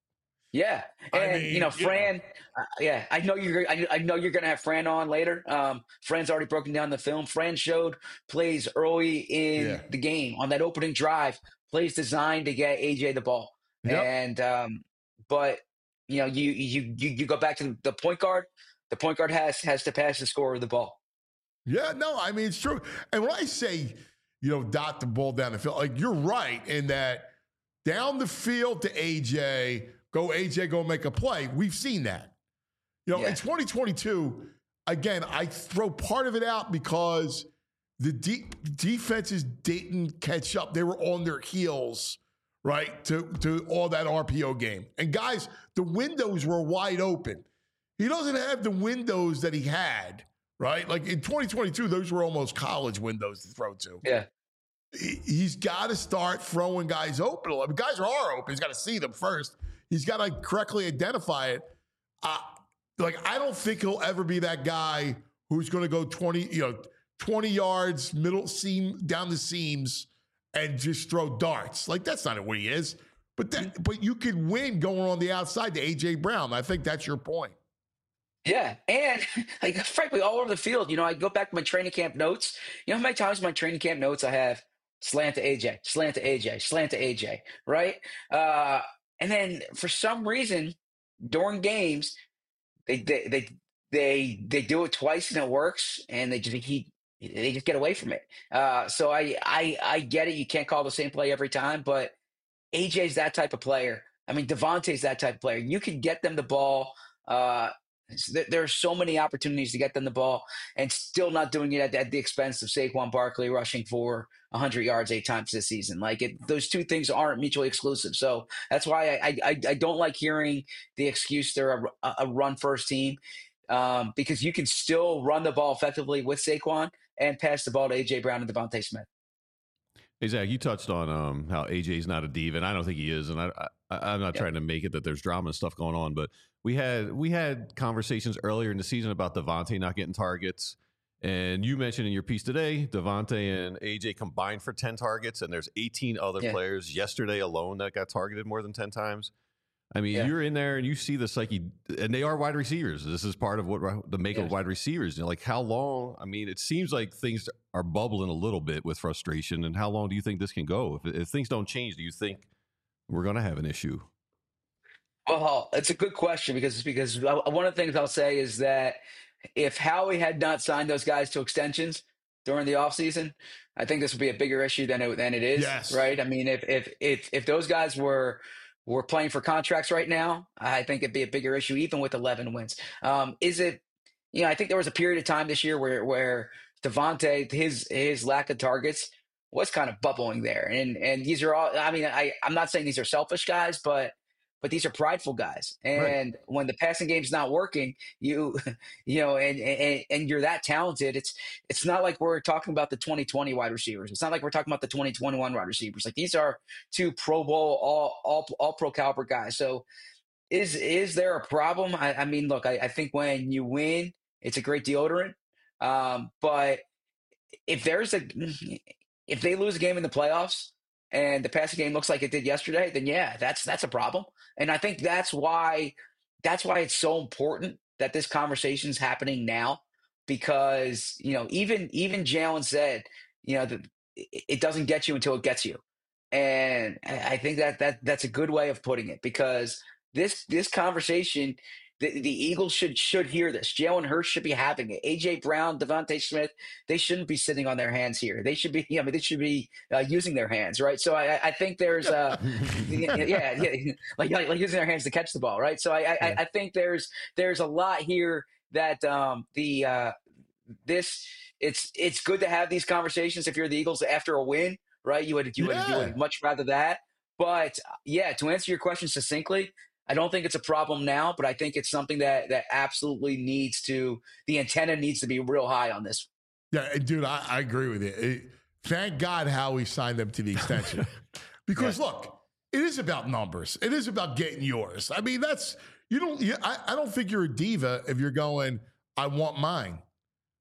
Yeah, I and mean, you know, you know. Fran. Uh, yeah, I know you're. I, I know you're going to have Fran on later. Um, Fran's already broken down the film. Fran showed plays early in Yeah. the game on that opening drive. Plays designed to get A J the ball, Yep. and um, but you know, you you you you go back to the point guard. The point guard has has to pass the scorer the ball. Yeah, no, I mean, it's true. And when I say, you know, dot the ball down the field, like you're right in that down the field to A J, go A J, go make a play. We've seen that. You know, Yeah. in twenty twenty-two, again, I throw part of it out because the de- defenses didn't catch up. They were on their heels, right, to, to all that R P O game. And guys, the windows were wide open. He doesn't have the windows that he had, right? Like in twenty twenty-two, those were almost college windows to throw to. Yeah, He- He's got to start throwing guys open. I mean, guys are open. He's got to see them first. He's got to correctly identify it. Uh, like, I don't think he'll ever be that guy who's going to go twenty, you know, twenty yards, middle seam, down the seams, and just throw darts. Like, that's not what he is. But that, but you can win going on the outside to A J Brown. I think that's your point. yeah, and like frankly, all over the field. You know, I go back to my training camp notes. You know how many times in my training camp notes I have slant to A J, slant to A J, slant to A J, right? Uh, and then for some reason during games, they they they they, they do it twice and it works, and they just he they just get away from it. Uh, so I I I get it. You can't call the same play every time, but A J's that type of player. I mean, Devontae's that type of player. You can get them the ball. Uh, there are so many opportunities to get them the ball and still not doing it at, at the expense of Saquon Barkley rushing for one hundred yards eight times this season. Like it, those two things aren't mutually exclusive. So that's why I I, I don't like hearing the excuse they're a, a run first team um, because you can still run the ball effectively with Saquon and pass the ball to A J Brown and Devontae Smith. Hey, Zach, you touched on um, how A J's not a diva, and I don't think he is. And I, I, I'm not Yeah. trying to make it that there's drama and stuff going on, but we had we had conversations earlier in the season about Devontae not getting targets. And you mentioned in your piece today, Devontae and A J combined for ten targets, and there's eighteen other Yeah. players yesterday alone that got targeted more than ten times. I mean, Yeah. you're in there and you see the psyche, and they are wide receivers. This is part of what the make Yeah. of wide receivers. You know, like how long? I mean, it seems like things are bubbling a little bit with frustration. And how long do you think this can go? If, if things don't change, do you think we're going to have an issue? Well, it's a good question because because one of the things I'll say is that if Howie had not signed those guys to extensions during the offseason, I think this would be a bigger issue than it than it is. Yes. Right. I mean, if if if if those guys were were playing for contracts right now, I think it'd be a bigger issue, even with eleven wins. Um, is it? You know, I think there was a period of time this year where where Devontae, his his lack of targets was kind of bubbling there, and and these are all. I mean, I I'm not saying these are selfish guys, but. But these are prideful guys, and Right. when the passing game's not working, you, you know, and, and and you're that talented. It's it's not like we're talking about the twenty twenty wide receivers. It's not like we're talking about the twenty twenty-one wide receivers. Like these are two Pro Bowl, all all all pro caliber guys. So is is there a problem? I, I mean, look, I, I think when you win, it's a great deodorant. Um, but if there's a if they lose a game in the playoffs and the passing game looks like it did yesterday, then yeah, that's that's a problem. And I think that's why that's why it's so important that this conversation is happening now, because you know even even Jalen said, you know, that it it doesn't get you until it gets you, and I I think that that that's a good way of putting it, because this this conversation. The, the Eagles should should hear this. Jalen Hurts should be having it. A J Brown, Devontae Smith, they shouldn't be sitting on their hands here. They should be. I mean, they should be uh, using their hands, right? So I, I think there's, uh, yeah, yeah, like, like like using their hands to catch the ball, right? So I I, I think there's there's a lot here that um, the uh, this it's it's good to have these conversations if you're the Eagles after a win, right? You would you would, you Yeah. would much rather that. But yeah, to answer your question succinctly, I don't think it's a problem now, but I think it's something that that absolutely needs to the antenna needs to be real high on this. Yeah, and dude, I, I agree with you. It- thank God Howie signed them to the extension. Because look, it is about numbers. It is about getting yours. I mean, that's you don't. You, I, I don't think you're a diva if you're going. I want mine.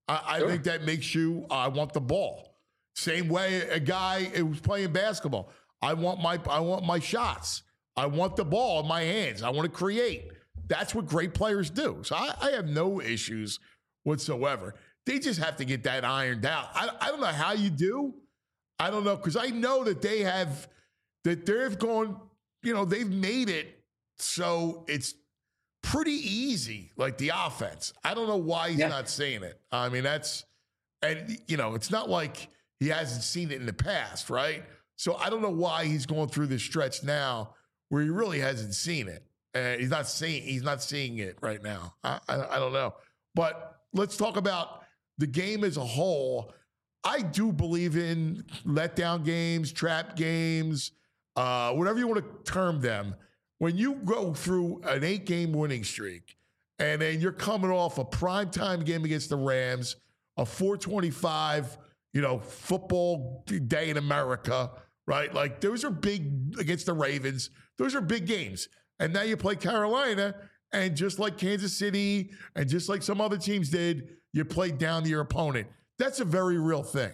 I, I Sure. think that makes you, I want the ball. Same way a guy who's playing basketball. I want my I want my shots. I want the ball in my hands. I want to create. That's what great players do. So I, I have no issues whatsoever. They just have to get that ironed out. I, I don't know how you do. I don't know, because I know that they have, that they've gone, you know, they've made it so it's pretty easy, like the offense. I don't know why he's Yeah. not seeing it. I mean, that's, and, you know, it's not like he hasn't seen it in the past, right? So I don't know why he's going through this stretch now where he really hasn't seen it. And he's not seeing, he's not seeing it right now. I, I, I don't know. But let's talk about the game as a whole. I do believe in letdown games, trap games, uh, whatever you want to term them. When you go through an eight-game winning streak, and then you're coming off a primetime game against the Rams, a four twenty-five, you know, football day in America, right? Like, those are big against the Ravens. Those are big games. And now you play Carolina, and just like Kansas City and just like some other teams did, you played down to your opponent. That's a very real thing.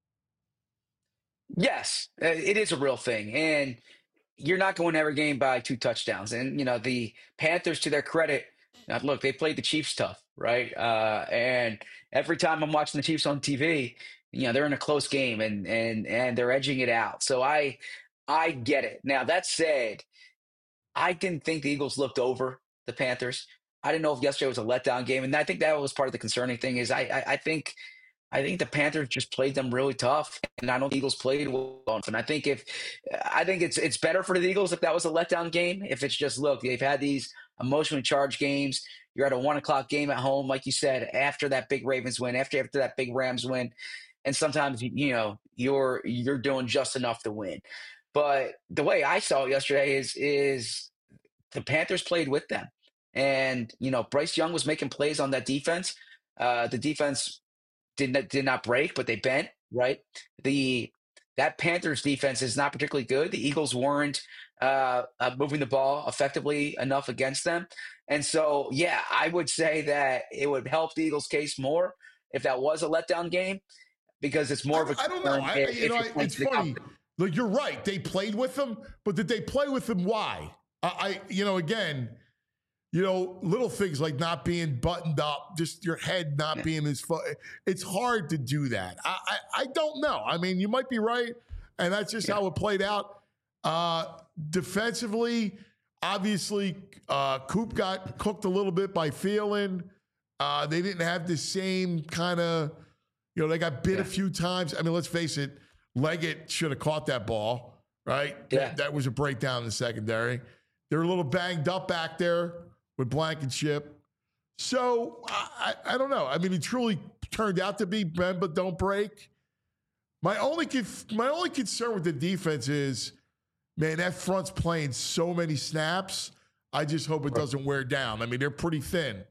Yes, uh, it is a real thing. And you're not going every game by two touchdowns. And, you know, the Panthers, to their credit, now look, they played the Chiefs tough, right? Uh, and every time I'm watching the Chiefs on T V, you know, they're in a close game and and and they're edging it out. So I I get it. Now, that said, I didn't think the Eagles looked over the Panthers. I didn't know if yesterday was a letdown game. And I think that was part of the concerning thing is I I, I think I think the Panthers just played them really tough, and I don't think the Eagles played well. And I think if I think it's it's better for the Eagles if that was a letdown game. If it's just look, they've had these emotionally charged games. You're at a one o'clock game at home, like you said, after that big Ravens win, after after that big Rams win, and sometimes you know you're you're doing just enough to win. But the way I saw it yesterday is is the Panthers played with them, and you know Bryce Young was making plays on that defense. Uh, the defense did not did not break, but they bent, right? The that Panthers defense is not particularly good. The Eagles weren't uh, uh, moving the ball effectively enough against them, and so yeah, I would say that it would help the Eagles' case more if that was a letdown game because it's more of a. I don't know. I, if, you know, if I, it's funny. Like you're right. They played with them, but did they play with them? Why? I, I you know, again. You know, little things like not being buttoned up, just your head not being as far. It's hard to do that. I, I, I don't know. I mean, you might be right, and that's just yeah. how it played out. Uh, defensively, obviously, uh, Coop got cooked a little bit by Thielen. Uh, they didn't have the same kind of, you know, they got bit yeah. a few times. I mean, let's face it, Leggett should have caught that ball, right? Yeah. That, that was a breakdown in the secondary. They're a little banged up back there with Blankenship. So, I, I, I don't know. I mean, it truly turned out to be bend but don't break. My only conf- my only concern with the defense is, man, that front's playing so many snaps. I just hope it doesn't wear down. I mean, they're pretty thin.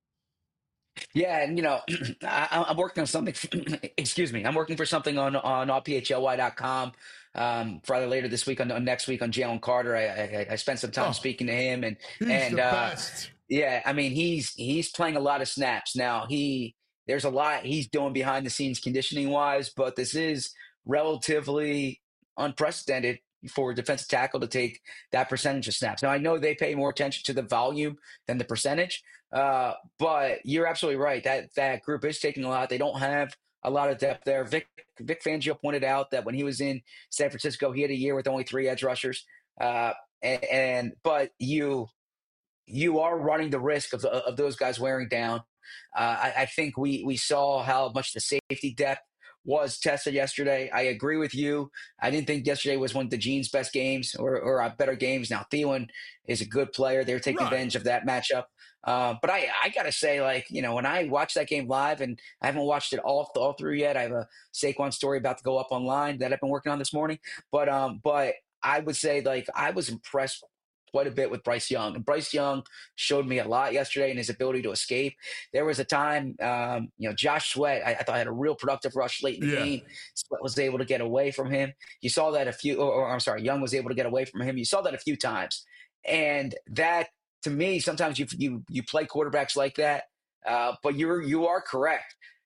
Yeah, and you know, I, I'm working on something. Excuse me, I'm working for something on on R P H L Y dot com. Um, for either later this week on, on next week on Jalen Carter. I, I I spent some time Oh, speaking to him, and he's and the uh, best. yeah, I mean he's he's playing a lot of snaps now. He there's a lot he's doing behind the scenes conditioning wise, but this is relatively unprecedented for a defensive tackle to take that percentage of snaps. Now I know they pay more attention to the volume than the percentage, uh, but you're absolutely right. That that group is taking a lot. They don't have a lot of depth there. Vic Vic Fangio pointed out that when he was in San Francisco, he had a year with only three edge rushers. Uh, and, and but you you are running the risk of of those guys wearing down. Uh, I, I think we we saw how much the safety depth was tested yesterday. I agree with you. I didn't think yesterday was one of the Gene's best games or or uh, better games. Now Thielen is a good player. They're taking Right. advantage of that matchup. Uh, but I, I gotta say, like, you know, when I watched that game live, and I haven't watched it all all through yet. I have a Saquon story about to go up online that I've been working on this morning. But um, but I would say, like, I was impressed quite a bit with Bryce Young, and Bryce Young showed me a lot yesterday in his ability to escape. There was a time, um, you know, Josh Sweat, I, I thought had a real productive rush late in the Yeah. game. Sweat was able to get away from him. You saw that a few, or, or I'm sorry, Young was able to get away from him. You saw that a few times, and that. To me, sometimes you you you play quarterbacks like that, uh, but you're you are correct.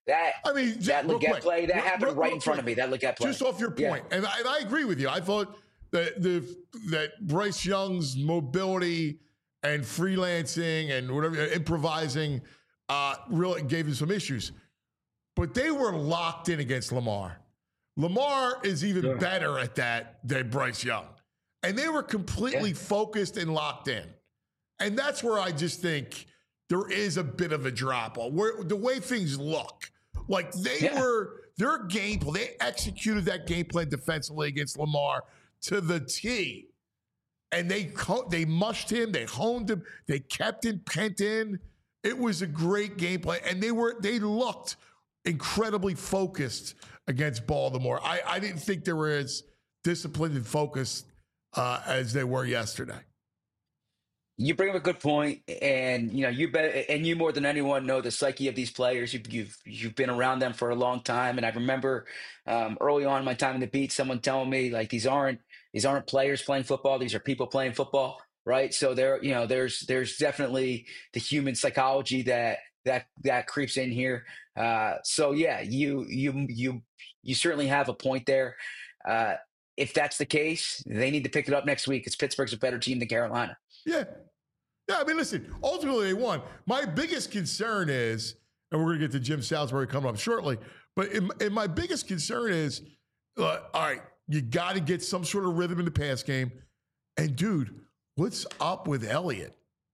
That I mean, that real Legette quick, play that real- happened real- right real in front quick, of me. That Legette play. just off your Yeah. point, and, I, and I agree with you. I thought that the that Bryce Young's mobility and freelancing and whatever improvising uh, really gave him some issues, but they were locked in against Lamar. Lamar is even Yeah. better at that than Bryce Young, and they were completely Yeah. focused and locked in, and that's where I just think there is a bit of a drop off. Where the way things look, like they Yeah. were their game plan, they executed that game plan defensively against Lamar to the T, and they co- they mushed him, they honed him, they kept him pent in. It was a great game plan, and they were they looked incredibly focused against Baltimore. I, I didn't think they were as disciplined and focused uh, as they were yesterday. You bring up a good point, and you know you bet, and you more than anyone know the psyche of these players. You've you've you've been around them for a long time, and I remember um, early on in my time in the beat, someone telling me like these aren't these aren't players playing football; these are people playing football, right? So there, you know, there's there's definitely the human psychology that that that creeps in here. Uh, so yeah, you you you you certainly have a point there. Uh, if that's the case, they need to pick it up next week. Because Pittsburgh's a better team than Carolina. Yeah. Yeah, I mean, listen, ultimately they won. My biggest concern is, and we're going to get to Jim Salisbury coming up shortly, but in, in my biggest concern is, uh, all right, you got to get some sort of rhythm in the pass game. And, dude, what's up with Elliott?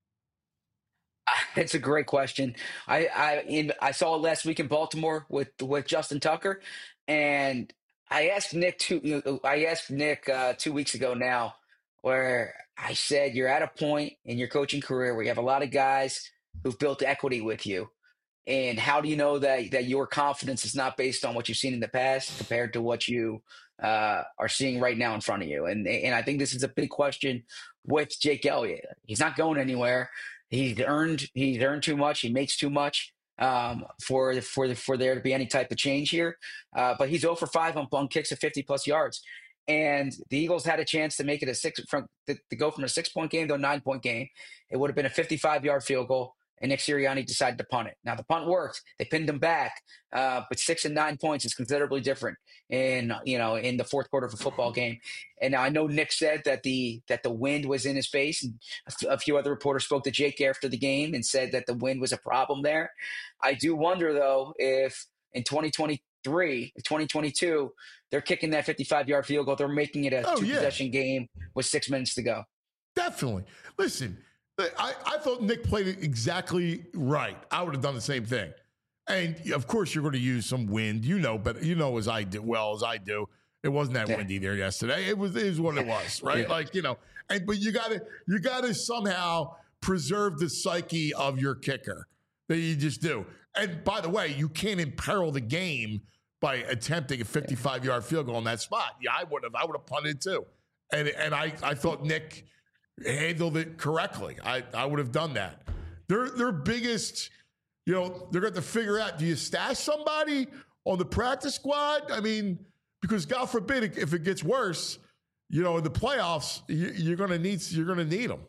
It's a great question. I I in, I saw it last week in Baltimore with with Justin Tucker, and I asked Nick two. You know, I asked Nick uh, two weeks ago now, where I said you're at a point in your coaching career where you have a lot of guys who've built equity with you, and how do you know that that your confidence is not based on what you've seen in the past compared to what you uh, are seeing right now in front of you? And and I think this is a big question with Jake Elliott. He's not going anywhere. He's earned he's earned too much. He makes too much um, for for the, for there to be any type of change here. Uh, but he's zero for five on, on kicks of fifty plus yards. And the Eagles had a chance to make it a six from to, to go from a six point game to a nine point game. It would have been a fifty-five yard field goal, and Nick Sirianni decided to punt it. Now the punt worked; they pinned him back, uh, but six and nine points is considerably different in you know in the fourth quarter of a football game. And now I know Nick said that the that the wind was in his face, and a, f- a few other reporters spoke to Jake after the game and said that the wind was a problem there. I do wonder though if in twenty twenty-three, twenty twenty-two, they're kicking that fifty-five yard field goal. They're making it a Oh, two yeah. possession game with six minutes to go. Definitely. Listen, I, I thought Nick played it exactly right. I would have done the same thing. And of course, you're going to use some wind. You know, but you know as I do well as I do. It wasn't that Yeah. windy there yesterday. It was it was what it was, right? Yeah. Like you know, and but you got to you got to somehow preserve the psyche of your kicker. That you just do. And by the way, you can't imperil the game by attempting a fifty-five yard field goal in that spot. Yeah, I would have. I would have punted too. And and I I thought Nick handled it correctly. I, I would have done that. Their their biggest, you know, they're going to figure out, do you stash somebody on the practice squad? I mean, because God forbid if it gets worse, you know, in the playoffs, you, you're going to need you're going to need them.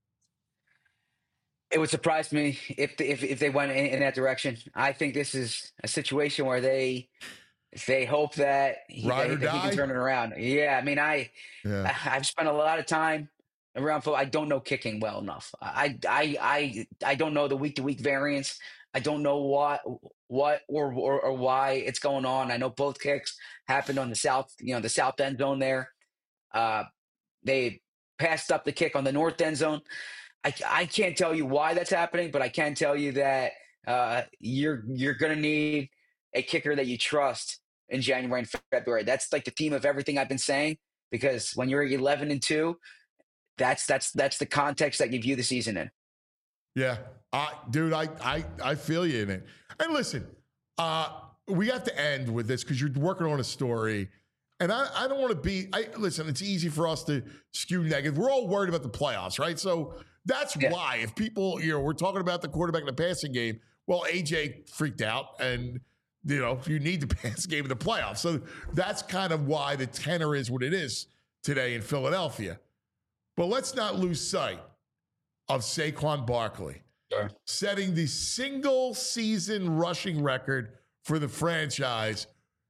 It would surprise me if if if they went in, in that direction. I think this is a situation where they they hope that he, Ride they, or that he die? can turn it around. Yeah, I mean, I, Yeah. I I've spent a lot of time around football. I don't know kicking well enough. I I I I don't know the week to week variance. I don't know what what or, or or why it's going on. I know both kicks happened on the south, you know, the south end zone there. Uh, they passed up the kick on the north end zone. I, I can't tell you why that's happening, but I can tell you that uh, you're you're going to need a kicker that you trust in January and February. That's like the theme of everything I've been saying, because when you're eleven and two, that's that's that's the context that you view the season in. Yeah. Uh, dude, I, I, I feel you in it. And listen, uh, we have to end with this because you're working on a story. And I, I don't want to be, I listen, it's easy for us to skew negative. We're all worried about the playoffs, right? So that's Yeah. why if people, you know, we're talking about the quarterback in the passing game. Well, A J freaked out and, you know, you need the pass game in the playoffs. So that's kind of why the tenor is what it is today in Philadelphia. But let's not lose sight of Saquon Barkley, Sure. setting the single season rushing record for the franchise.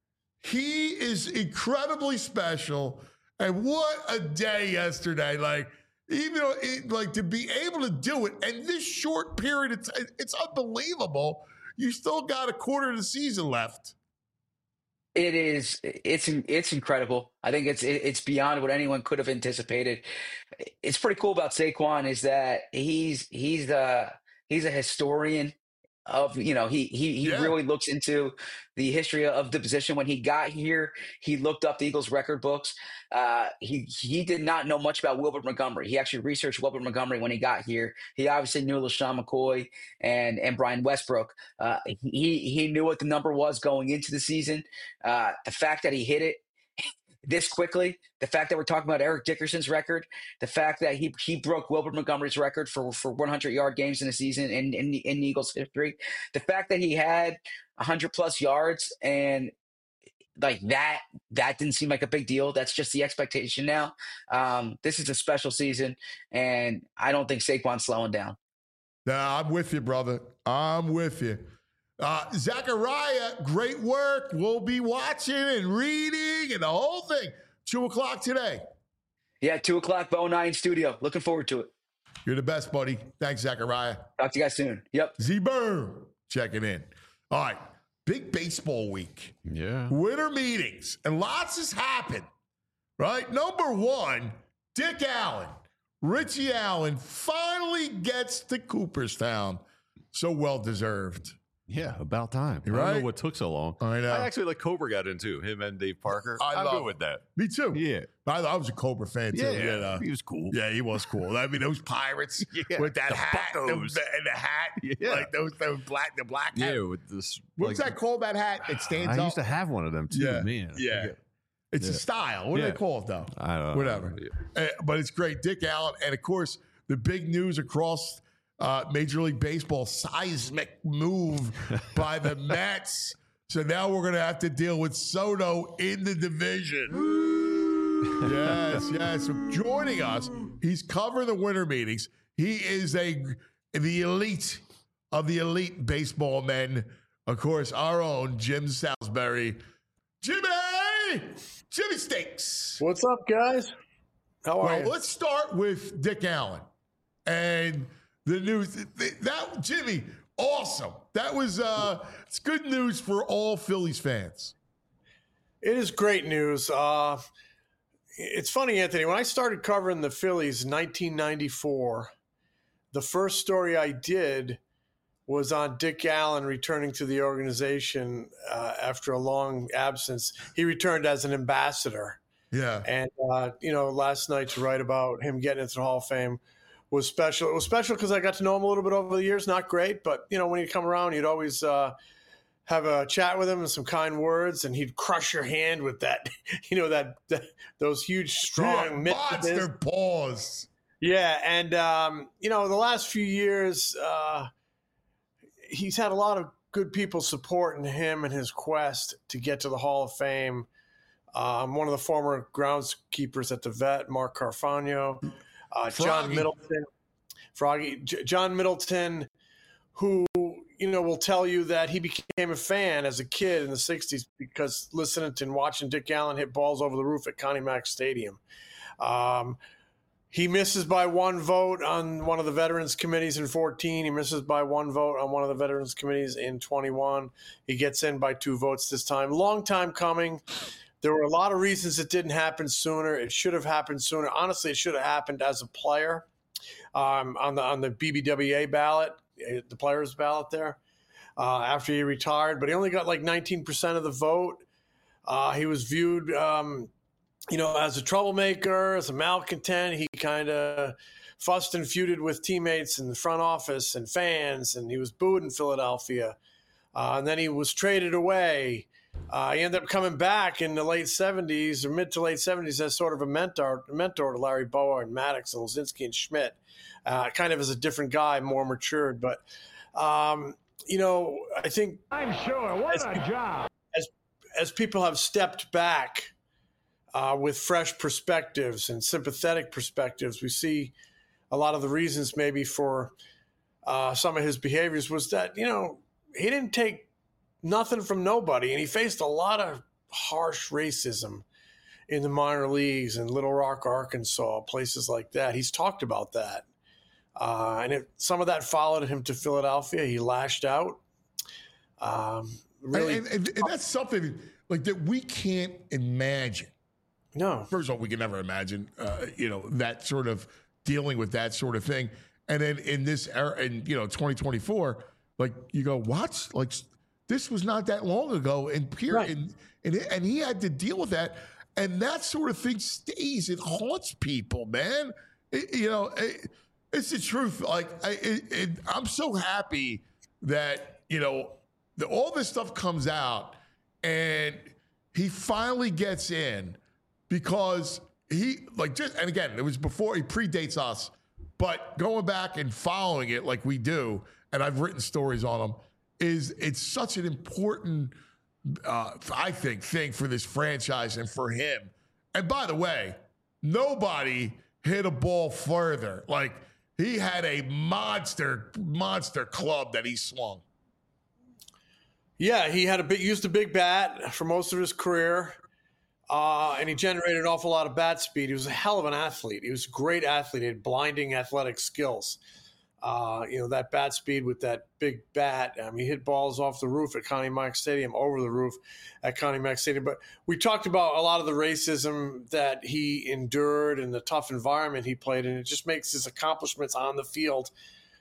He is incredibly special. And what a day yesterday. Like, even though it, like to be able to do it and this short period, it's, it's unbelievable. You still got a quarter of the season left. It is. It's it's incredible. I think it's it's beyond what anyone could have anticipated. It's pretty cool about Saquon is that he's he's the he's a historian of, you know, he he he Yeah. really looks into the history of the position. When he got here, he looked up the Eagles record books. Uh, he he did not know much about Wilbert Montgomery. He actually researched Wilbert Montgomery when he got here. He obviously knew LaShawn McCoy and and Brian Westbrook. Uh, he he knew what the number was going into the season. Uh, the fact that he hit it this quickly, the fact that we're talking about Eric Dickerson's record, the fact that he he broke Wilbert Montgomery's record for for one hundred yard games in a season in, in in Eagles history, the fact that he had one hundred plus yards and like that, that didn't seem like a big deal. That's just the expectation now. Um, this is a special season, and I don't think Saquon's slowing down. Nah, I'm with you, brother. I'm with you. Uh, Zachariah, great work. We'll be watching and reading and the whole thing. Two o'clock today. Yeah, two o'clock, Bo nine Studio. Looking forward to it. You're the best, buddy. Thanks, Zachariah. Talk to you guys soon. Yep. Z-Burn checking in. All right. Big baseball week. Yeah. Winter meetings. And lots has happened, right? Number one, Dick Allen. Richie Allen finally gets to Cooperstown. So well-deserved. Yeah, about time. You're I don't right. know what took so long. I know. I actually like Cobra got into him and Dave Parker. I I'm love good with that. Me too. Yeah. I, I was a Cobra fan too. Yeah, you know. he was cool. Yeah, he was cool. I mean, those pirates Yeah, with that the hat the, buckos. the, and the hat, Yeah. like those those black the black hat. Yeah, with this. What's like, that called? That hat? It stands I up. used to have one of them too, yeah, man. yeah. It's a Yeah. style. What do Yeah. they call it though? I don't know. Whatever. Yeah. Uh, but it's great, Dick Allen, and of course the big news across uh, Major League Baseball: seismic move by the Mets. So now we're going to have to deal with Soto in the division. yes, yes. So joining us, he's covering the winter meetings. He is a the elite of the elite baseball men. Of course, our own Jim Salisbury. Jimmy! Jimmy Steaks. What's up, guys? How are Well, you? let's start with Dick Allen and the news. That Jimmy, awesome. That was uh, it's good news for all Phillies fans. It is great news. Uh, it's funny, Anthony. When I started covering the Phillies in nineteen ninety-four, the first story I did was on Dick Allen returning to the organization uh, after a long absence. He returned as an ambassador. Yeah. And, uh, you know, last night to write about him getting into the Hall of Fame was special. It was special because I got to know him a little bit over the years. Not great, but, you know, when he'd come around, you'd always uh, have a chat with him and some kind words, and he'd crush your hand with that, you know, that, that those huge, strong yeah, mitts of his. monster paws. Yeah, and, um, you know, the last few years, uh, he's had a lot of good people supporting him and his quest to get to the Hall of Fame. Um, one of the former groundskeepers at the Vet, Mark Carfagno, uh, John Froggy. Middleton, Froggy, J- John Middleton, who, you know, will tell you that he became a fan as a kid in the sixties because listening to and watching Dick Allen hit balls over the roof at Connie Mack Stadium. Um, He misses by one vote on one of the veterans committees in fourteen. He misses by one vote on one of the veterans committees in twenty-one. He gets in by two votes this time. Long time coming. There were a lot of reasons it didn't happen sooner. It should have happened sooner. Honestly, it should have happened as a player um, on the on the B B W A ballot, the players' ballot there, uh, after he retired. But he only got like nineteen percent of the vote. Uh, he was viewed um, you know, as a troublemaker, as a malcontent. He kind of fussed and feuded with teammates in the front office and fans, and he was booed in Philadelphia. Uh, and then he was traded away. Uh, he ended up coming back in the late seventies or mid to late seventies as sort of a mentor, a mentor to Larry Bowa and Maddox and Lozinski and Schmidt, uh, kind of as a different guy, more matured. But, um, you know, I think I'm sure. What as, a job. As, as people have stepped back Uh, with fresh perspectives and sympathetic perspectives, we see a lot of the reasons maybe for uh, some of his behaviors was that, you know, he didn't take nothing from nobody, and he faced a lot of harsh racism in the minor leagues in Little Rock, Arkansas, places like that. He's talked about that. Uh, and if some of that followed him to Philadelphia, he lashed out. Um, really, and, and, and that's something like that we can't imagine. No. First of all, we can never imagine, uh, you know, that sort of dealing with that sort of thing. And then in this era, in, you know, twenty twenty-four, like you go, what? Like this was not that long ago. And period. Right. And, and, and he had to deal with that. And that sort of thing stays. It haunts people, man. It, you know, it, it's the truth. Like, I, it, it, I'm so happy that, you know, the, all this stuff comes out and he finally gets in because he, like, just, and again, it was before, he predates us, but going back and following it like we do, and I've written stories on him, is it's such an important, uh, I think, thing for this franchise and for him. And by the way, nobody hit a ball further. Like, he had a monster, monster club that he swung. Yeah, he had a bit used a big bat for most of his career, uh, and he generated an awful lot of bat speed. He was a hell of an athlete. He was a great athlete. He had blinding athletic skills. Uh, you know, that bat speed with that big bat. I mean, he hit balls off the roof at Connie Mack Stadium, over the roof at Connie Mack Stadium. But we talked about a lot of the racism that he endured and the tough environment he played in. It just makes his accomplishments on the field.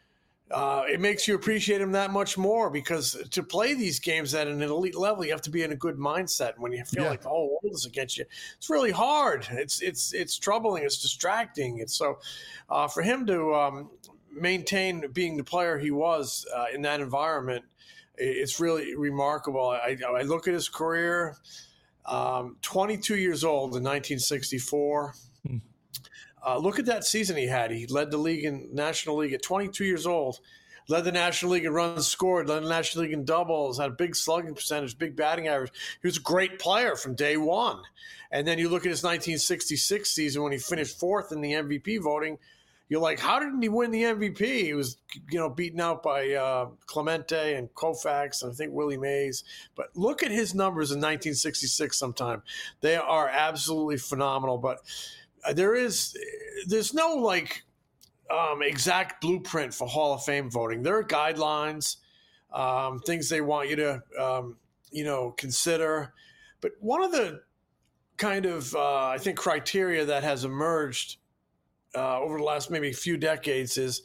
Uh, it makes you appreciate him that much more, because to play these games at an elite level, you have to be in a good mindset. When you feel yeah. like the whole world is against you, it's really hard. It's it's it's troubling. It's distracting. And so, uh, for him to um, maintain being the player he was uh, in that environment, it's really remarkable. I, I look at his career. Um, twenty-two years old in nineteen sixty-four. Hmm. Uh, look at that season he had. He led the league in National League at twenty-two years old, led the National League in runs scored, led the National League in doubles, had a big slugging percentage, big batting average. He was a great player from day one. And then you look at his nineteen sixty-six season when he finished fourth in the M V P voting. You're like, how didn't he win the M V P? He was, you know, beaten out by uh, Clemente and Koufax and I think Willie Mays. But look at his numbers in nineteen sixty-six sometime. They are absolutely phenomenal. But There is, there's no like um, exact blueprint for Hall of Fame voting. There are guidelines, um, things they want you to, um, you know, consider. But one of the kind of, uh, I think, criteria that has emerged uh, over the last maybe few decades is,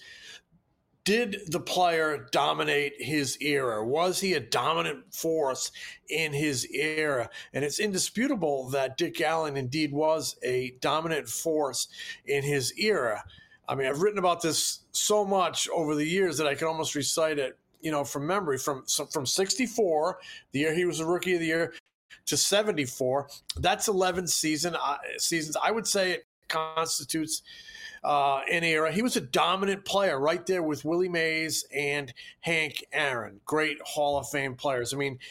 did the player dominate his era? Was he a dominant force in his era? And it's indisputable that Dick Allen indeed was a dominant force in his era. I mean, I've written about this so much over the years that I can almost recite it, you know, from memory. From from sixty-four, the year he was the Rookie of the Year, to seventy-four, that's eleven season uh, seasons. I would say it constitutes Uh, an era. He was a dominant player right there with Willie Mays and Hank Aaron, great Hall of Fame players. I mean,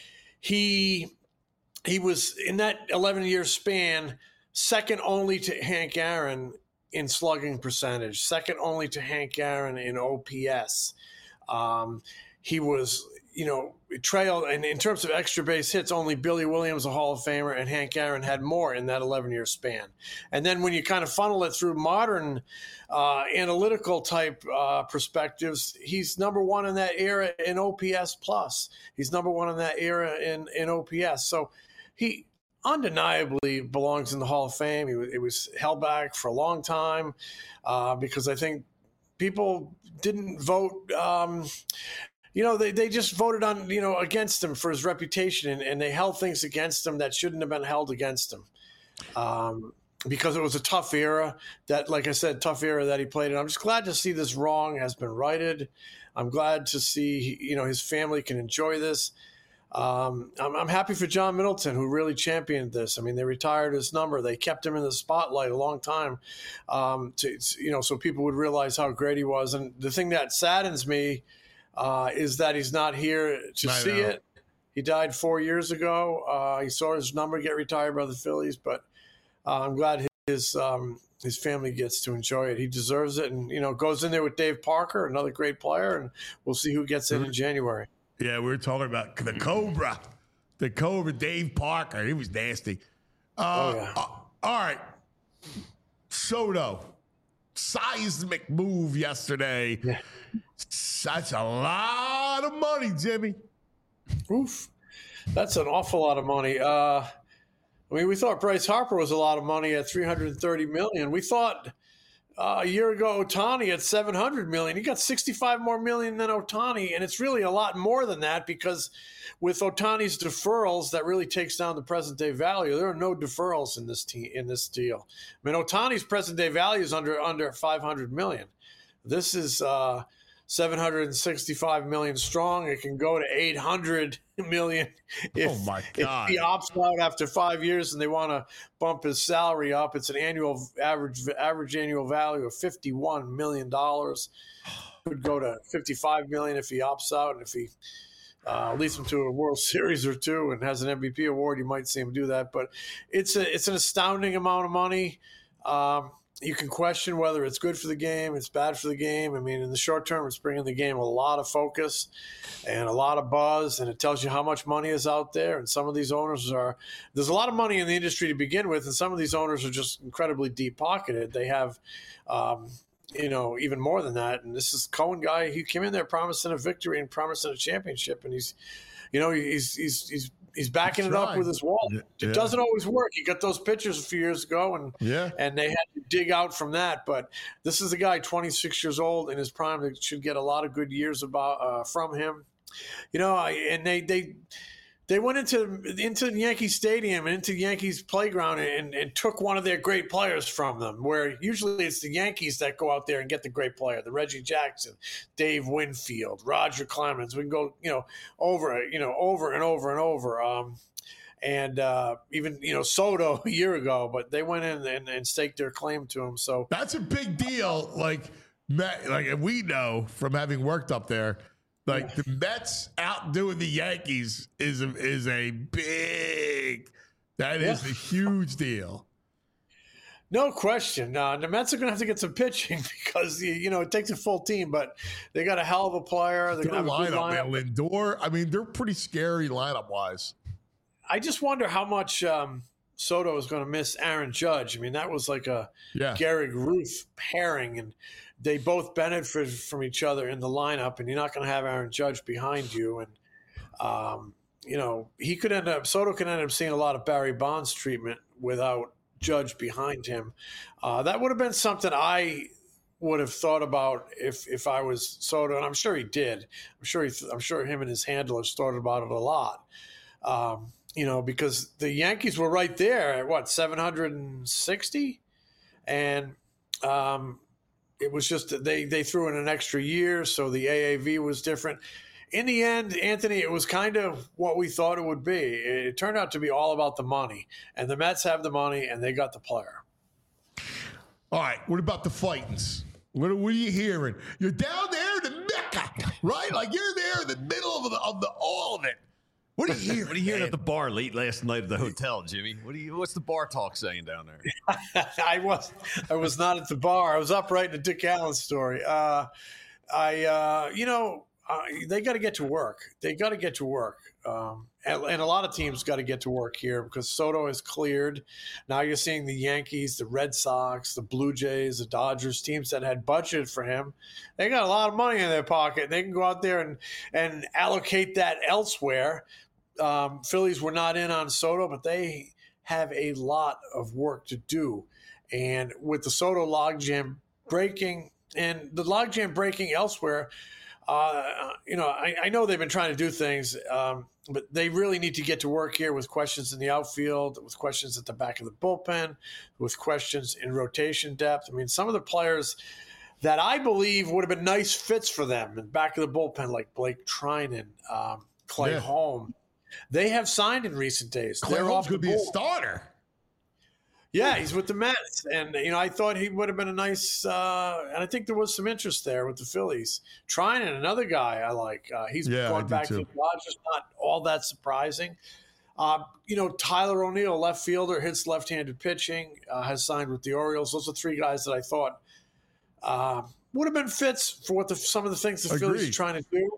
he he was in that eleven-year span second only to Hank Aaron in slugging percentage, second only to Hank Aaron in O P S. Um, he was, you know, trailed, and in terms of extra base hits, only Billy Williams, a Hall of Famer, and Hank Aaron had more in that eleven-year span. And then when you kind of funnel it through modern uh, analytical type uh, perspectives, he's number one in that era in O P S plus. He's number one in that era in, in O P S. So he undeniably belongs in the Hall of Fame. He was, it was held back for a long time uh, because I think people didn't vote um, – You know, they, they just voted on, you know, against him for his reputation, and, and they held things against him that shouldn't have been held against him um, because it was a tough era that, like I said, tough era that he played in. I'm just glad to see this wrong has been righted. I'm glad to see, you know, his family can enjoy this. Um, I'm, I'm happy for John Middleton, who really championed this. I mean, they retired his number. They kept him in the spotlight a long time, um, to, you know, so people would realize how great he was. And the thing that saddens me Uh, is that he's not here to I see know. it. He died four years ago. Uh, he saw his number get retired by the Phillies, but uh, I'm glad his um, his family gets to enjoy it. He deserves it, and you know, goes in there with Dave Parker, another great player, and we'll see who gets in in January. Yeah, we were talking about the Cobra. The Cobra, Dave Parker. He was nasty. Uh, Oh, yeah. uh, all right. Soto. Seismic move yesterday. Yeah. That's a lot of money, Jimmy. Oof. That's an awful lot of money. Uh, I mean, we thought Bryce Harper was a lot of money at three hundred thirty million. We thought uh, a year ago Ohtani at seven hundred million. He got sixty-five more million than Ohtani, and it's really a lot more than that because with Ohtani's deferrals, that really takes down the present day value. There are no deferrals in this te- in this deal. I mean, Ohtani's present day value is under under five hundred million. This is uh, seven hundred sixty-five million strong. It can go to eight hundred million if, Oh, my if God. he opts out after five years and they want to bump his salary up. It's an annual average average annual value of fifty-one million dollars. Could go to fifty-five million dollars if he opts out, and if he uh, leads him to a World Series or two and has an M V P award, you might see him do that. But it's a it's an astounding amount of money. Um, You can question whether it's good for the game, it's bad for the game. I mean, in the short term, it's bringing the game a lot of focus and a lot of buzz, and it tells you how much money is out there. And some of these owners are – there's a lot of money in the industry to begin with, and some of these owners are just incredibly deep-pocketed. They have, um, you know, even more than that. And this is Cohen guy. He came in there promising a victory and promising a championship, and he's – you know, he's he's he's – He's backing He's it up trying. with his wallet. Yeah. It doesn't always work. He got those pictures a few years ago, and Yeah. and they had to dig out from that. But this is a guy, twenty-six years old, in his prime, that should get a lot of good years about uh, from him. You know, and they they they went into into Yankee Stadium and into Yankees playground and, and took one of their great players from them, where usually it's the Yankees that go out there and get the great player, the Reggie Jackson, Dave Winfield, Roger Clemens. We can go, you know, over, you know, over and over and over. Um, and uh, even, you know, Soto a year ago, but they went in and, and staked their claim to him. So That's a big deal. Like, Met, like and we know from having worked up there, like the Mets outdoing the Yankees is a, is a big. That is Yeah. a huge deal. no question. Uh, the Mets are going to have to get some pitching because, you you know, it takes a full team, but they got a hell of a player. They're Their going to have a good lineup, lineup. man, Lindor. I mean, they're pretty scary lineup wise. I just wonder how much um, Soto is going to miss Aaron Judge. I mean, that was like a Yeah. Gehrig Ruth pairing, and they both benefited from each other in the lineup, and you're not going to have Aaron Judge behind you. And, um, you know, he could end up, Soto could end up seeing a lot of Barry Bonds treatment without Judge behind him. Uh, that would have been something I would have thought about if if I was Soto, and I'm sure he did. I'm sure he, I'm sure him and his handlers thought about it a lot. Um, you know, because the Yankees were right there at what, seven hundred sixty, and um, it was just that they they threw in an extra year, so the A A V was different. In the end, Anthony, it was kind of what we thought it would be. It turned out to be all about the money, and the Mets have the money, and they got the player. All right. What about the fightings? What, what are you hearing? You're down there in the Mecca, right? Like you're there in the middle of the of the all of it. What are you hearing? What are you hearing man? at the bar late last night at the hotel, Jimmy? What do you? What's the bar talk saying down there? I was I was not at the bar. I was up writing a Dick Allen story. Uh, I uh, you know uh, they got to get to work. They got to get to work, um, and, and a lot of teams got to get to work here because Soto is cleared. Now you're seeing the Yankees, the Red Sox, the Blue Jays, the Dodgers, teams that had budgeted for him. They got a lot of money in their pocket. They can go out there and and allocate that elsewhere. Um, Phillies were not in on Soto, but they have a lot of work to do. And with the Soto logjam breaking and the logjam breaking elsewhere, uh, you know, I, I know they've been trying to do things, um, but they really need to get to work here with questions in the outfield, with questions at the back of the bullpen, with questions in rotation depth. I mean, some of the players that I believe would have been nice fits for them in the back of the bullpen, like Blake Trinan, um, Clay Yeah. Holm, they have signed in recent days. Clay They're Holmes off the could be a board. starter. Yeah, he's with the Mets, and you know I thought he would have been a nice. Uh, and I think there was some interest there with the Phillies. Trinan, another guy I like. Uh, he's Yeah, I going do back to too. the Dodgers. Not all that surprising. Uh, you know, Tyler O'Neill, left fielder, hits left-handed pitching, uh, has signed with the Orioles. Those are three guys that I thought uh, would have been fits for what the, some of the things the Phillies Agreed. are trying to do.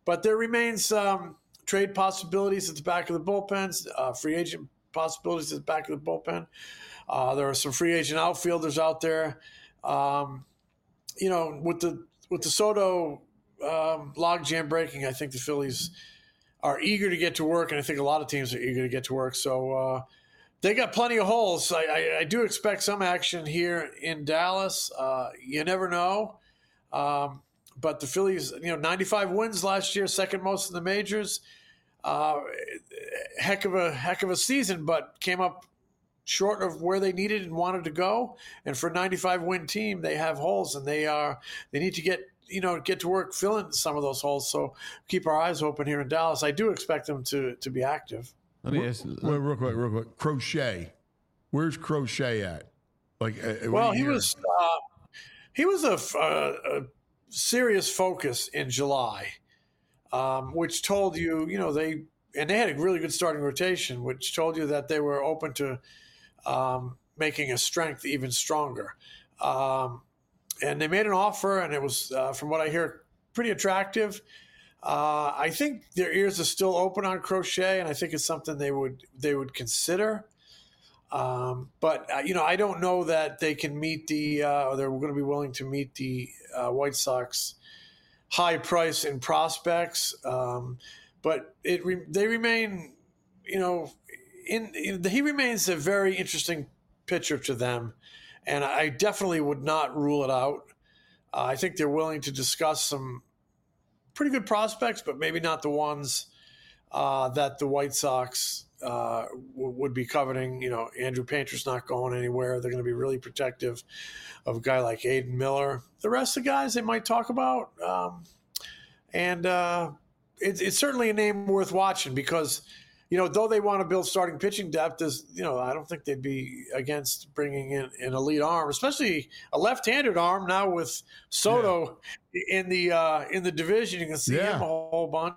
but there remains um, trade possibilities at the back of the bullpens, uh, free agent possibilities at the back of the bullpen. Uh, there are some free agent outfielders out there. Um, you know, with the with the Soto um, logjam breaking, I think the Phillies are eager to get to work, and I think a lot of teams are eager to get to work. So uh, they got plenty of holes. I, I, I do expect some action here in Dallas. Uh, you never know. Um, but the Phillies, you know, ninety-five wins last year, second most in the majors. Uh, heck of a heck of a season, but came up short of where they needed and wanted to go. And for a ninety-five win team, they have holes, and they are they need to get you know get to work filling some of those holes. So keep our eyes open here in Dallas. I do expect them to to be active. Let me ask. Wait, real quick, real quick. Crochet, where's Crochet at? Like, uh, well, he was uh, he was a, a, a serious focus in July, um, which told you you know they and they had a really good starting rotation, which told you that they were open to um, making a strength even stronger. Um, and they made an offer, and it was, uh, from what I hear, pretty attractive. Uh, I think their ears are still open on Crochet, and I think it's something they would they would consider. Um, but uh, you know, I don't know that they can meet the uh, or they're going to be willing to meet the uh, White Sox high price in prospects. Um, but it re- they remain, you know, in, in he remains a very interesting pitcher to them, and I definitely would not rule it out. Uh, I think they're willing to discuss some pretty good prospects, but maybe not the ones uh, that the White Sox uh, w- would be coveting. You know, Andrew Painter's not going anywhere. They're going to be really protective of a guy like Aiden Miller. The rest of the guys they might talk about. Um, and uh, it, it's certainly a name worth watching because, you know, though they want to build starting pitching depth, is you know, I don't think they'd be against bringing in an elite arm, especially a left-handed arm now with Soto yeah. in the uh, in the division. You can see yeah. him a whole bunch.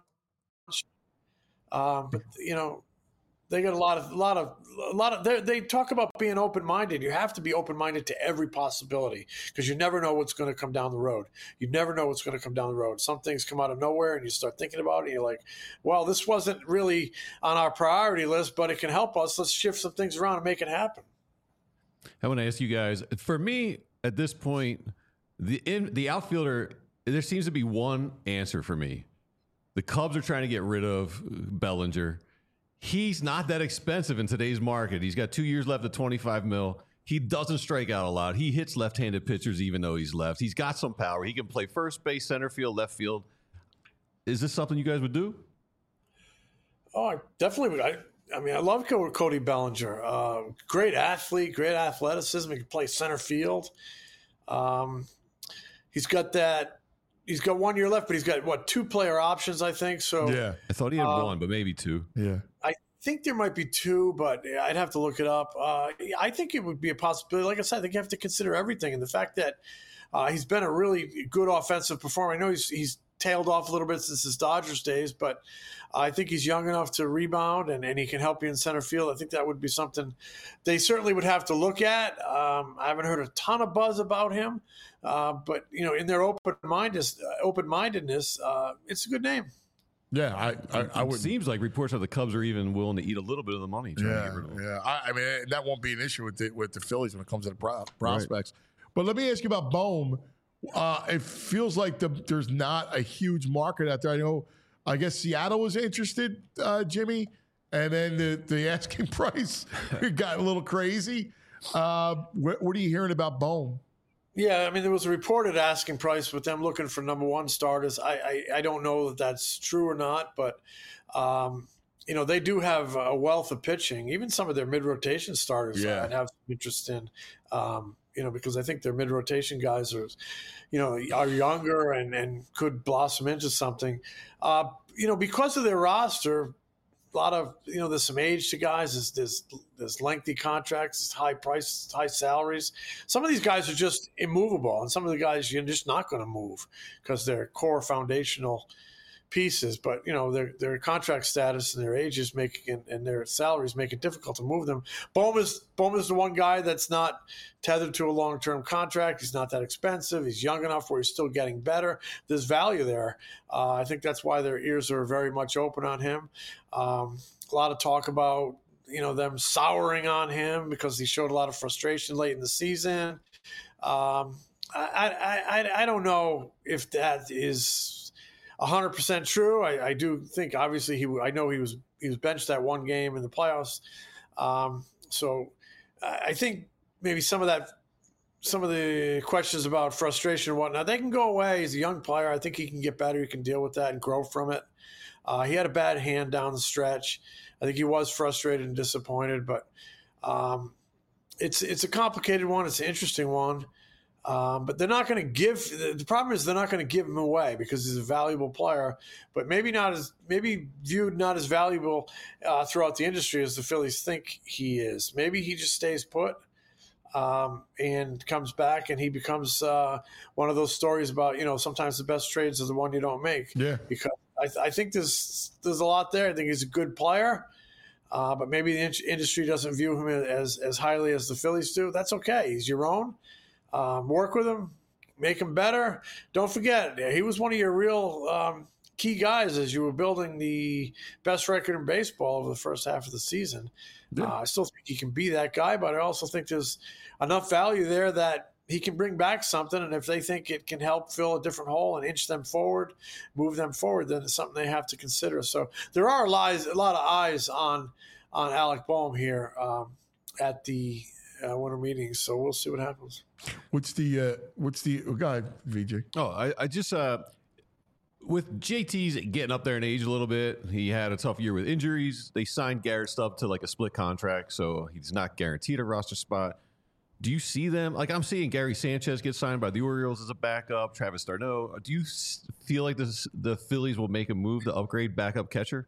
Um, but you know, they got a lot of a lot of a lot of. They talk about being open-minded. You have to be open-minded to every possibility because you never know what's going to come down the road. You never know what's going to come down the road. Some things come out of nowhere, and you start thinking about it. And you're like, "Well, this wasn't really on our priority list, but it can help us. Let's shift some things around and make it happen." I want to ask you guys. For me, at this point, the in the outfielder, there seems to be one answer for me. The Cubs are trying to get rid of Bellinger. He's not that expensive in today's market. He's got two years left at twenty-five mil. He doesn't strike out a lot. He hits left-handed pitchers even though he's left. He's got some power. He can play first base, center field, left field. Is this something you guys would do? Oh, I definitely would. I, I mean, I love Cody Bellinger. Uh, great athlete, great athleticism. He can play center field. Um, he's got that. He's got one year left, but he's got, what, two player options, I think. So yeah, I thought he had uh, one, but maybe two. Yeah. I think there might be two, but I'd have to look it up. Uh, I think it would be a possibility. Like I said, I think you have to consider everything. And the fact that uh, he's been a really good offensive performer. I know he's he's tailed off a little bit since his Dodgers days, but I think he's young enough to rebound, and, and he can help you in center field. I think that would be something they certainly would have to look at. Um, I haven't heard a ton of buzz about him, uh, but, you know, in their open-mindedness, uh, open-mindedness uh, it's a good name. Yeah, I, I, I would. It seems like reports of the Cubs are even willing to eat a little bit of the money. Trying Yeah, to get rid of him. yeah. I, I mean, that won't be an issue with the, with the Phillies when it comes to the pro, prospects. Right. But let me ask you about Bohm. Uh, it feels like the, there's not a huge market out there. I know, I guess Seattle was interested, uh, Jimmy, and then the, the asking price got a little crazy. Uh, what, what are you hearing about Bohm? Yeah, I mean, there was a reported asking price with them looking for number one starters. I, I, I don't know that that's true or not, but, um, you know, they do have a wealth of pitching. Even some of their mid-rotation starters yeah. I'd have some interest in, um, you know, because I think their mid-rotation guys are, you know, are younger and, and could blossom into something. Uh, you know, because of their roster, a lot of, you know, there's some age to guys. There's, there's, there's lengthy contracts, there's high prices, high salaries. Some of these guys are just immovable, and some of the guys you're just not going to move because they're core foundational pieces, but you know their their contract status and their ages make and, and their salaries make it difficult to move them. Bohm is Bohm is the one guy that's not tethered to a long term contract. He's not that expensive. He's young enough where he's still getting better. There's value there. Uh, I think that's why their ears are very much open on him. Um, a lot of talk about you know them souring on him because he showed a lot of frustration late in the season. Um, I, I I I don't know if that is one hundred percent true. I, I do think, obviously, he. I know he was he was benched that one game in the playoffs. Um, so I think maybe some of that, some of the questions about frustration and whatnot, they can go away. He's a young player. I think he can get better. He can deal with that and grow from it. Uh, he had a bad hand down the stretch. I think he was frustrated and disappointed, but um, it's it's a complicated one. It's an interesting one. Um, but they're not going to give. The problem is they're not going to give him away because he's a valuable player, but maybe not as maybe viewed not as valuable uh, throughout the industry as the Phillies think he is. Maybe he just stays put um, and comes back, and he becomes uh, one of those stories about you know sometimes the best trades are the one you don't make. Yeah, because I, th- I think there's there's a lot there. I think he's a good player. Uh, but maybe the in- industry doesn't view him as as highly as the Phillies do. That's okay. He's your own. Um, work with him, make him better. Don't forget, he was one of your real um, key guys as you were building the best record in baseball over the first half of the season. Yeah. Uh, I still think he can be that guy, but I also think there's enough value there that he can bring back something. And if they think it can help fill a different hole and inch them forward, move them forward, then it's something they have to consider. So there are lies, a lot of eyes on on Alec Bohm here um, at the uh, winter meetings. So we'll see what happens. What's the uh, what's the oh, go ahead, V J? Oh, I, I just uh, with J T's getting up there in age a little bit, he had a tough year with injuries. They signed Garrett Stubb to like a split contract, so he's not guaranteed a roster spot. Do you see them like I'm seeing Gary Sanchez get signed by the Orioles as a backup? Travis d'Arnaud. Do you feel like this, the Phillies will make a move to upgrade backup catcher?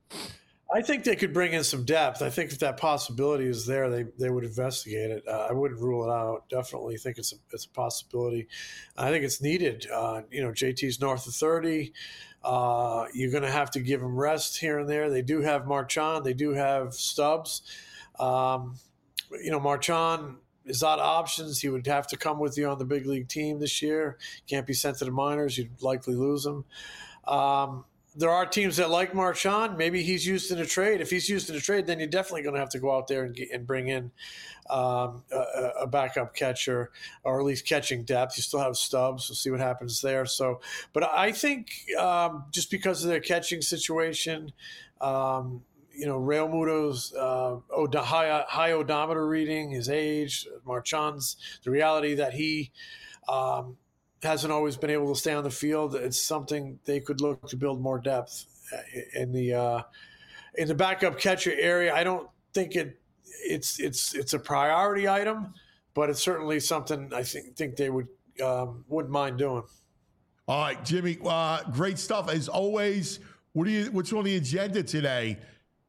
I think they could bring in some depth. I think if that possibility is there, they, they would investigate it. Uh, I wouldn't rule it out. Definitely think it's a, it's a possibility. I think it's needed. Uh, you know, J T's north of thirty. Uh, you're going to have to give him rest here and there. They do have Marchand. They do have Stubbs. Um, you know, Marchand is out of options. He would have to come with you on the big league team this year. Can't be sent to the minors. You'd likely lose him. Um, There are teams that like Marchand. Maybe he's used in a trade. If he's used in a trade, then you're definitely going to have to go out there and, get, and bring in um, a, a backup catcher, or at least catching depth. You still have Stubbs. We'll see what happens there. So, but I think um, just because of their catching situation, um, you know, Real Muto's uh, od- high, high odometer reading, his age, Marchand's, the reality that he um, – hasn't always been able to stay on the field. It's something they could look to build more depth in the uh, in the backup catcher area. I don't think it it's it's it's a priority item, but it's certainly something I think think they would um, wouldn't mind doing. All right, Jimmy, uh, great stuff as always. What do you? What's on the agenda today?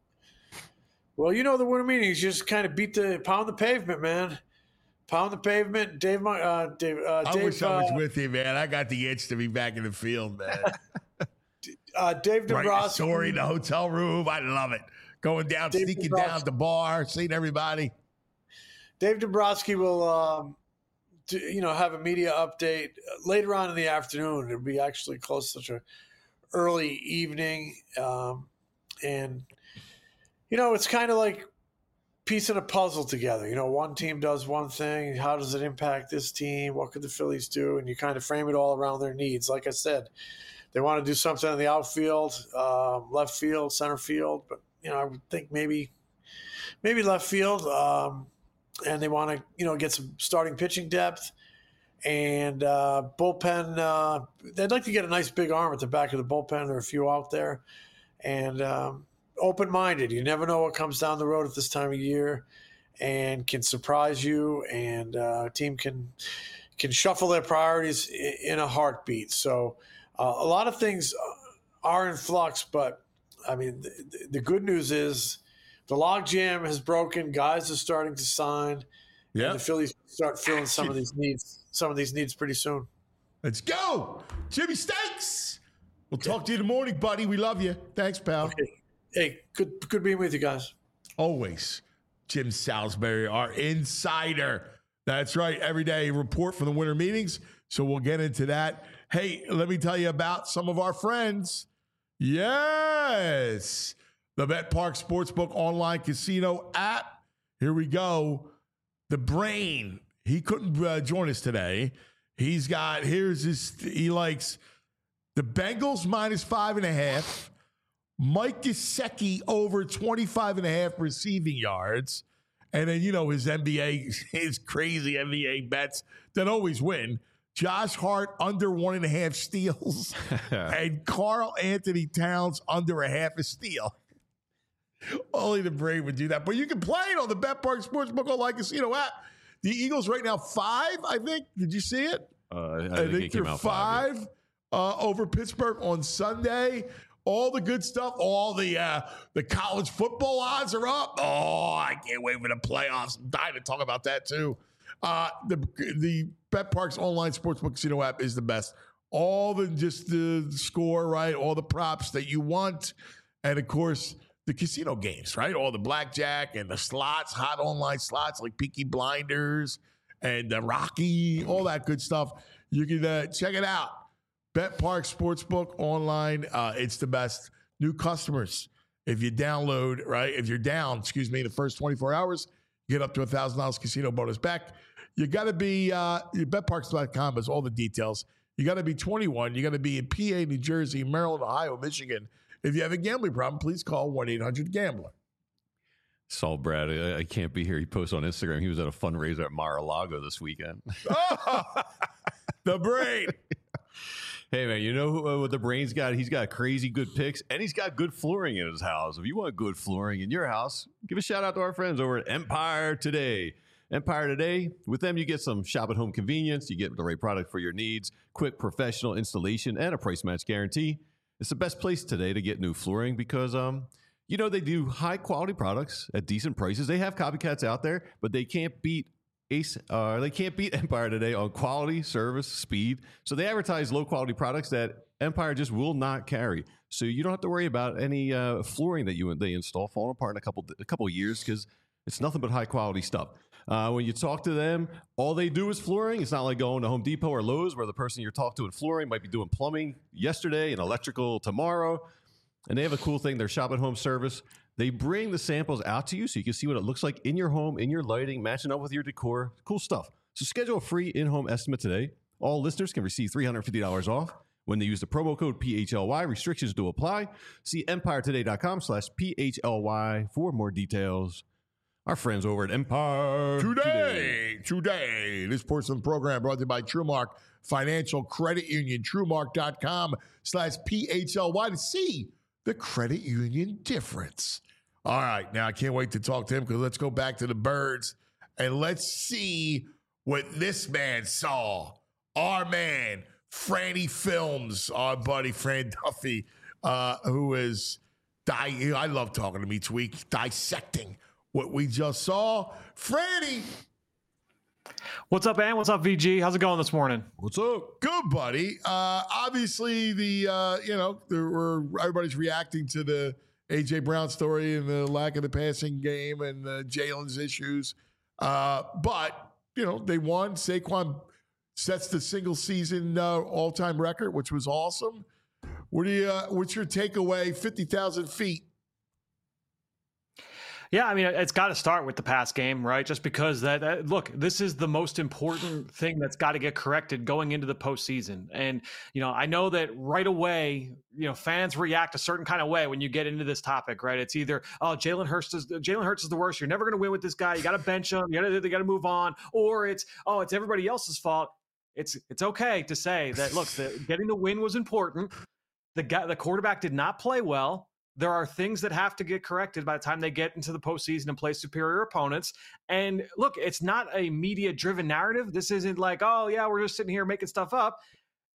Well, you know the winter meetings just kind of beat the pound the pavement, man. Pound the pavement, Dave. Uh, Dave, uh, I Dave, wish I was uh, with you, man. I got the itch to be back in the field, man. uh, Dave Writing a Dombrowski. story in the hotel room. I love it. Going down, Dave sneaking Dombrowski. down at the bar, seeing everybody. Dave Dombrowski will, um, do, you know, have a media update later on in the afternoon. It'll be actually close to such a early evening, um, and you know, it's kind of like piecing a puzzle together. You know, one team does one thing. How does it impact this team? What could the Phillies do? And you kind of frame it all around their needs. Like I said, they want to do something in the outfield, uh, left field, center field. But, you know, I would think maybe maybe left field. Um, and they want to, you know, get some starting pitching depth. And uh, bullpen, uh, they'd like to get a nice big arm at the back of the bullpen. There are a few out there. And, um, open-minded. You never know what comes down the road at this time of year and can surprise you, and uh, a team can can shuffle their priorities in a heartbeat. So uh, a lot of things are in flux, but, I mean, the, the good news is the logjam has broken. Guys are starting to sign. Yeah, the Phillies start filling some of these needs, some of these needs pretty soon. Let's go. Jimmy Stakes. We'll talk to you in the morning, buddy. We love you. Thanks, pal. Okay. Hey, good good being with you guys. Always. Jim Salisbury, our insider. That's right. Every day, report from the winter meetings. So we'll get into that. Hey, let me tell you about some of our friends. Yes. The BetParx Sportsbook online casino app. Here we go. The Brain. He couldn't uh, join us today. He's got, here's his, he likes the Bengals minus five and a half. Mike Gesicki over twenty-five and a half receiving yards. And then, you know, his N B A, his crazy N B A bets that always win. Josh Hart under one and a half steals. And Karl Anthony Towns under a half a steal. Only the Brain would do that. But you can play it on the BetParx Sportsbook online casino app. The Eagles right now five, I think. Did you see it? Uh, I, I think, think it came they're out five, five uh, over Pittsburgh on Sunday. All the good stuff, all the uh, the college football odds are up. Oh, I can't wait for the playoffs. I'm dying to talk about that too. Uh, the the BetParx online sportsbook casino app is the best. All the just the score, right? All the props that you want, and of course the casino games, right? All the blackjack and the slots, hot online slots like Peaky Blinders and uh, Rocky, all that good stuff. You can uh, check it out. BetParx Sportsbook online. Uh, it's the best. New customers, if you download, right? If you're down, excuse me, the first twenty-four hours, you get up to one thousand dollars casino bonus back. You got to be, uh, bet parx dot com has all the details. You got to be twenty-one. You got to be in P A, New Jersey, Maryland, Ohio, Michigan. If you have a gambling problem, please call one eight hundred gambler. Saul Brad, I, I can't be here. He posted on Instagram. He was at a fundraiser at Mar-a-Lago this weekend. Oh, the Brain. Hey, man, you know who, uh, what the Brain's got? He's got crazy good picks, and he's got good flooring in his house. If you want good flooring in your house, give a shout out to our friends over at Empire Today. Empire Today, with them, you get some shop at home convenience. You get the right product for your needs, quick professional installation, and a price match guarantee. It's the best place today to get new flooring because, um, you know, they do high quality products at decent prices. They have copycats out there, but they can't beat Ace, uh, they can't beat Empire Today on quality, service, speed. So they advertise low quality products that Empire just will not carry. So you don't have to worry about any uh, flooring that you they install falling apart in a couple a couple of years because it's nothing but high quality stuff. Uh, when you talk to them, all they do is flooring. It's not like going to Home Depot or Lowe's where the person you're talking to in flooring might be doing plumbing yesterday and electrical tomorrow. And they have a cool thing, their shop at home service. They bring the samples out to you so you can see what it looks like in your home, in your lighting, matching up with your decor. Cool stuff. So schedule a free in-home estimate today. All listeners can receive three hundred fifty dollars off when they use the promo code P H L Y. Restrictions do apply. See empiretoday.com slash PHLY for more details. Our friends over at Empire Today, today, today. This portion of the program brought to you by TrueMark Financial Credit Union. TrueMark.com slash PHLY to see the credit union difference. All right, now I can't wait to talk to him because let's go back to the birds and let's see what this man saw. Our man, Franny Films, our buddy Fran Duffy, uh, who is, di- I love talking to him each week, dissecting what we just saw. Franny. What's up, Ant? What's up, V G? How's it going this morning? What's up? Good, buddy. Uh, obviously, the uh, you know, there were everybody's reacting to the A J Brown story and the lack of the passing game and uh, Jalen's issues. Uh, but you know, they won. Saquon sets the single season uh, all time record, which was awesome. What do you? Uh, what's your takeaway? Fifty thousand feet. Yeah, I mean, it's got to start with the pass game, right? Just because that, that look, this is the most important thing that's got to get corrected going into the postseason. And, you know, I know that right away, you know, fans react a certain kind of way when you get into this topic, right? It's either, oh, Jalen Hurts is Jalen Hurts is the worst. You're never going to win with this guy. You got to bench him. You got to they got to move on. Or it's, oh, it's everybody else's fault. It's it's okay to say that, look, the, getting the win was important. The guy, the quarterback did not play well. There are things that have to get corrected by the time they get into the postseason and play superior opponents. And look, it's not a media-driven narrative. This isn't like, oh, yeah, we're just sitting here making stuff up.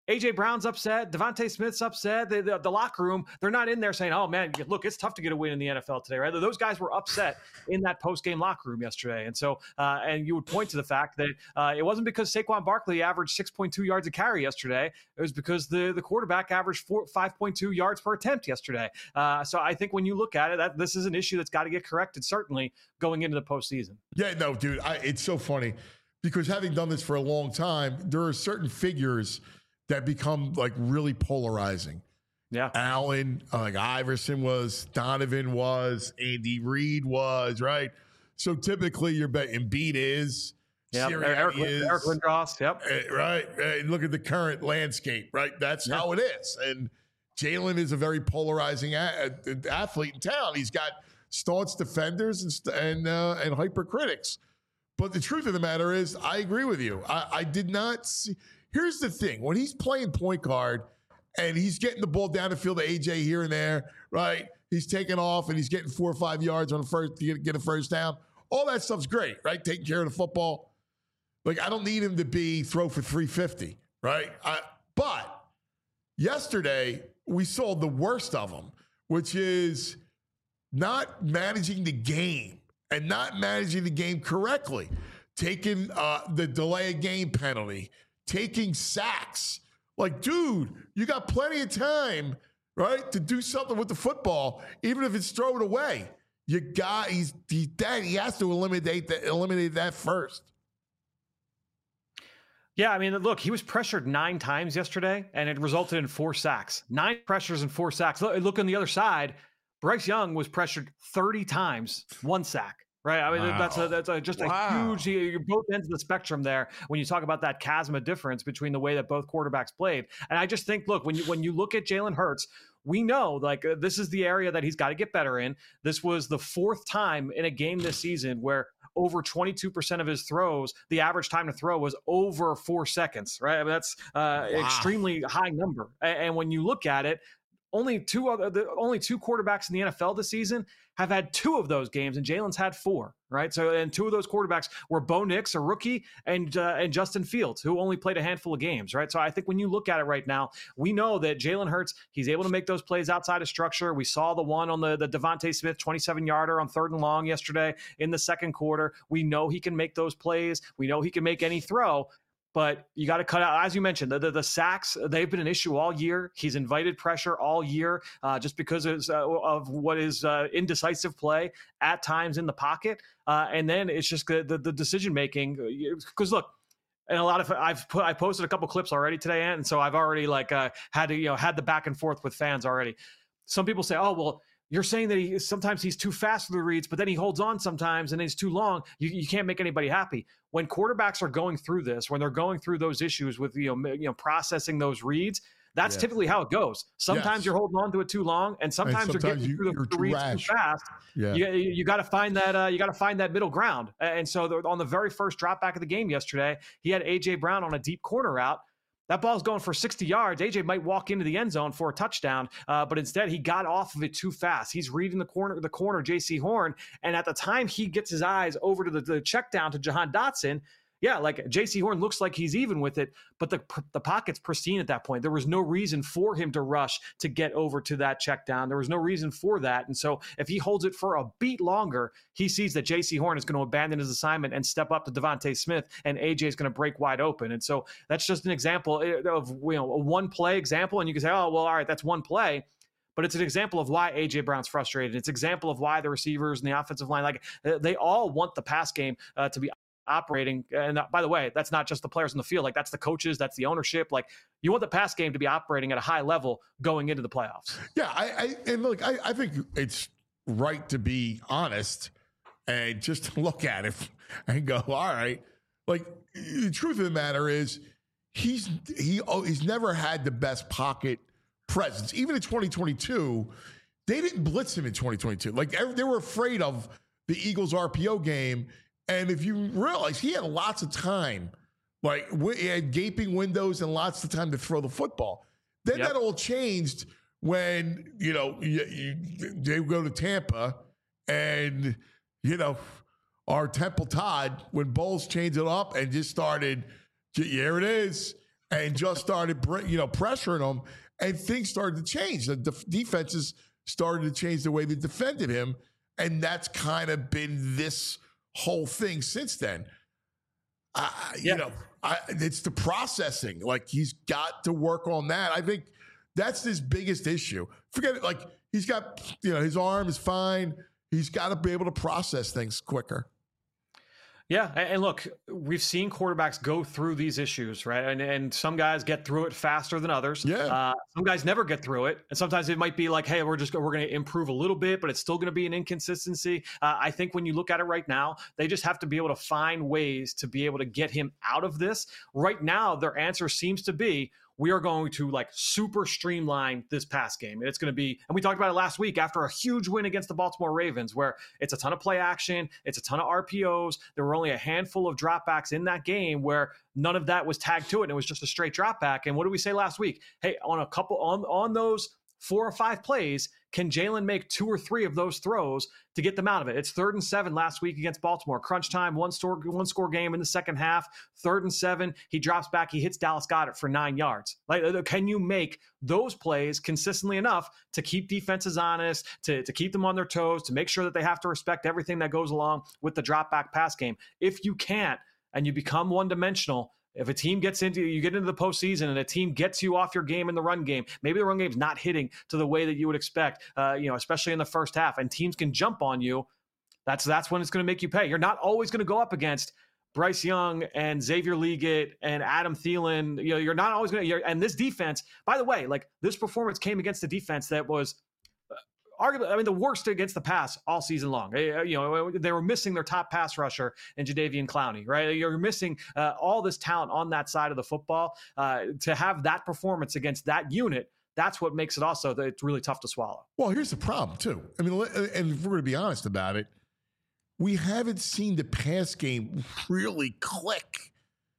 A J Brown's upset. Devontae Smith's upset. The, the, the locker room, they're not in there saying, oh, man, look, it's tough to get a win in the N F L today, right? Those guys were upset in that post-game locker room yesterday. And so, uh, and you would point to the fact that uh, it wasn't because Saquon Barkley averaged six point two yards a carry yesterday. It was because the, the quarterback averaged four, five point two yards per attempt yesterday. Uh, so I think when you look at it, that this is an issue that's got to get corrected, certainly going into the postseason. Yeah, no, dude, I, it's so funny because having done this for a long time, there are certain figures that become like really polarizing. Yeah. Allen, uh, like Iverson was, Donovan was, Andy Reid was, right? So typically you're betting Embiid is, yep. Sirianni Eric, is, Eric Lindros, yep. uh, right? Uh, look at the current landscape, right? That's yep. how it is. And Jalen is a very polarizing a- a- athlete in town. He's got staunch defenders and st- and, uh, and hypercritics. But the truth of the matter is, I agree with you. I, I did not see. Here's the thing. When he's playing point guard and he's getting the ball down the field to A J here and there, right? He's taking off and he's getting four or five yards on the first to get, get a first down. All that stuff's great, right? Taking care of the football. Like, I don't need him to be throw for three fifty, right? I, but yesterday, we saw the worst of him, which is not managing the game and not managing the game correctly. Taking uh, the delay of game penalty, taking sacks. Like, dude, you got plenty of time, right, to do something with the football, even if it's thrown away. You got he's he, that he has to eliminate that eliminate that first. Yeah, I mean, look, he was pressured nine times yesterday, and it resulted in four sacks. Nine pressures and four sacks. Look, look on the other side. Bryce Young was pressured thirty times, one sack. Right, I mean wow. that's a, that's a, just a wow. huge. You're both ends of the spectrum there when you talk about that chasm of difference between the way that both quarterbacks played. And I just think, look, when you when you look at Jalen Hurts, we know like uh, this is the area that he's got to get better in. This was the fourth time in a game this season where over twenty-two percent of his throws, the average time to throw was over four seconds. Right, I mean, that's uh, wow. extremely high number. And, and when you look at it, only two other, the only two quarterbacks in the N F L this season have had two of those games, and Jalen's had four, right? So, and two of those quarterbacks were Bo Nix, a rookie, and uh, and Justin Fields, who only played a handful of games, right? So I think when you look at it right now, we know that Jalen Hurts, he's able to make those plays outside of structure. We saw the one on the, the Devontae Smith twenty-seven yarder on third and long yesterday in the second quarter. We know he can make those plays. We know he can make any throw. But you got to cut out, as you mentioned, the, the, the sacks, they've been an issue all year. He's invited pressure all year uh, just because of, uh, of what is uh, indecisive play at times in the pocket. Uh, and then it's just the, the, the decision-making. Because, look, and a lot of I've put I posted a couple clips already today, and so I've already like uh, had to, you know, had the back and forth with fans already. Some people say, oh, well, you're saying that he sometimes he's too fast for the reads, but then he holds on sometimes and he's too long. You, you can't make anybody happy. When quarterbacks are going through this, when they're going through those issues with you know you know processing those reads, that's yes. typically how it goes. Sometimes yes. you're holding on to it too long, and sometimes, and sometimes you're getting you, through the, the reads rash. too fast. Yeah. You, you, you got to find that uh, you got to find that middle ground. And so the, on the very first drop back of the game yesterday, he had A J Brown on a deep corner route. That ball's going for sixty yards. A J might walk into the end zone for a touchdown, uh, but instead he got off of it too fast. He's reading the corner, the corner, J C Horn, and at the time he gets his eyes over to the, the check down to Jahan Dotson. Yeah, like J C Horn looks like he's even with it, but the the pocket's pristine at that point. There was no reason for him to rush to get over to that check down. There was no reason for that. And so if he holds it for a beat longer, he sees that J C Horn is going to abandon his assignment and step up to Devontae Smith, and A J is going to break wide open. And so that's just an example of you know a one play example. And you can say, oh, well, all right, that's one play. But it's an example of why A J Brown's frustrated. It's an example of why the receivers and the offensive line, like they all want the pass game uh, to be operating. And by the way, that's not just the players in the field. Like that's the coaches, that's the ownership. Like you want the pass game to be operating at a high level going into the playoffs. Yeah. I, I and look, I, I think it's right to be honest and just look at it and go, all right. Like the truth of the matter is he's, he, oh, he's never had the best pocket presence. Even in twenty twenty-two, they didn't blitz him in twenty twenty-two. Like they were afraid of the Eagles R P O game. And if you realize he had lots of time, like he had gaping windows and lots of time to throw the football. Then yep. that all changed when, you know, you, you, they go to Tampa and, you know, our Temple Todd, when Bowles changed it up and just started, here it is. and just started, you know, pressuring him, and things started to change. The def- defenses started to change the way they defended him, and that's kind of been this whole thing since then. Uh, yeah. You know, I, it's the processing. Like, he's got to work on that. I think that's his biggest issue. Forget it. Like, he's got, you know, his arm is fine. He's got to be able to process things quicker. Yeah, and look, we've seen quarterbacks go through these issues, right? And and some guys get through it faster than others. Yeah. Uh, some guys never get through it, and sometimes it might be like, hey, we're just we're going to improve a little bit, but it's still going to be an inconsistency. Uh, I think when you look at it right now, they just have to be able to find ways to be able to get him out of this. Right now, their answer seems to be, we are going to like super streamline this pass game. And it's going to be, and we talked about it last week after a huge win against the Baltimore Ravens, where it's a ton of play action, it's a ton of R P Os. There were only a handful of dropbacks in that game where none of that was tagged to it, and it was just a straight dropback. And what did we say last week? Hey, on a couple on on those four or five plays, can Jalen make two or three of those throws to get them out of it? It's third and seven last week against Baltimore. Crunch time, one score, one score game in the second half. Third and seven, he drops back, he hits Dallas Goedert for nine yards. Like, can you make those plays consistently enough to keep defenses honest, to, to keep them on their toes, to make sure that they have to respect everything that goes along with the drop back pass game? If you can't, and you become one dimensional, if a team gets into, you get into the postseason and a team gets you off your game in the run game, maybe the run game's not hitting to the way that you would expect, uh, you know, especially in the first half, and teams can jump on you, that's that's when it's going to make you pay. You're not always going to go up against Bryce Young and Xavier Legette and Adam Thielen. You know, you're not always going to, and this defense, by the way, like, this performance came against a defense that was arguably, I mean, the worst against the pass all season long. You know, they were missing their top pass rusher in Jadeveon Clowney, right? You're missing uh, all this talent on that side of the football. Uh, to have that performance against that unit, that's what makes it also that it's really tough to swallow. Well, here's the problem, too. I mean, and if we're going to be honest about it, we haven't seen the pass game really click,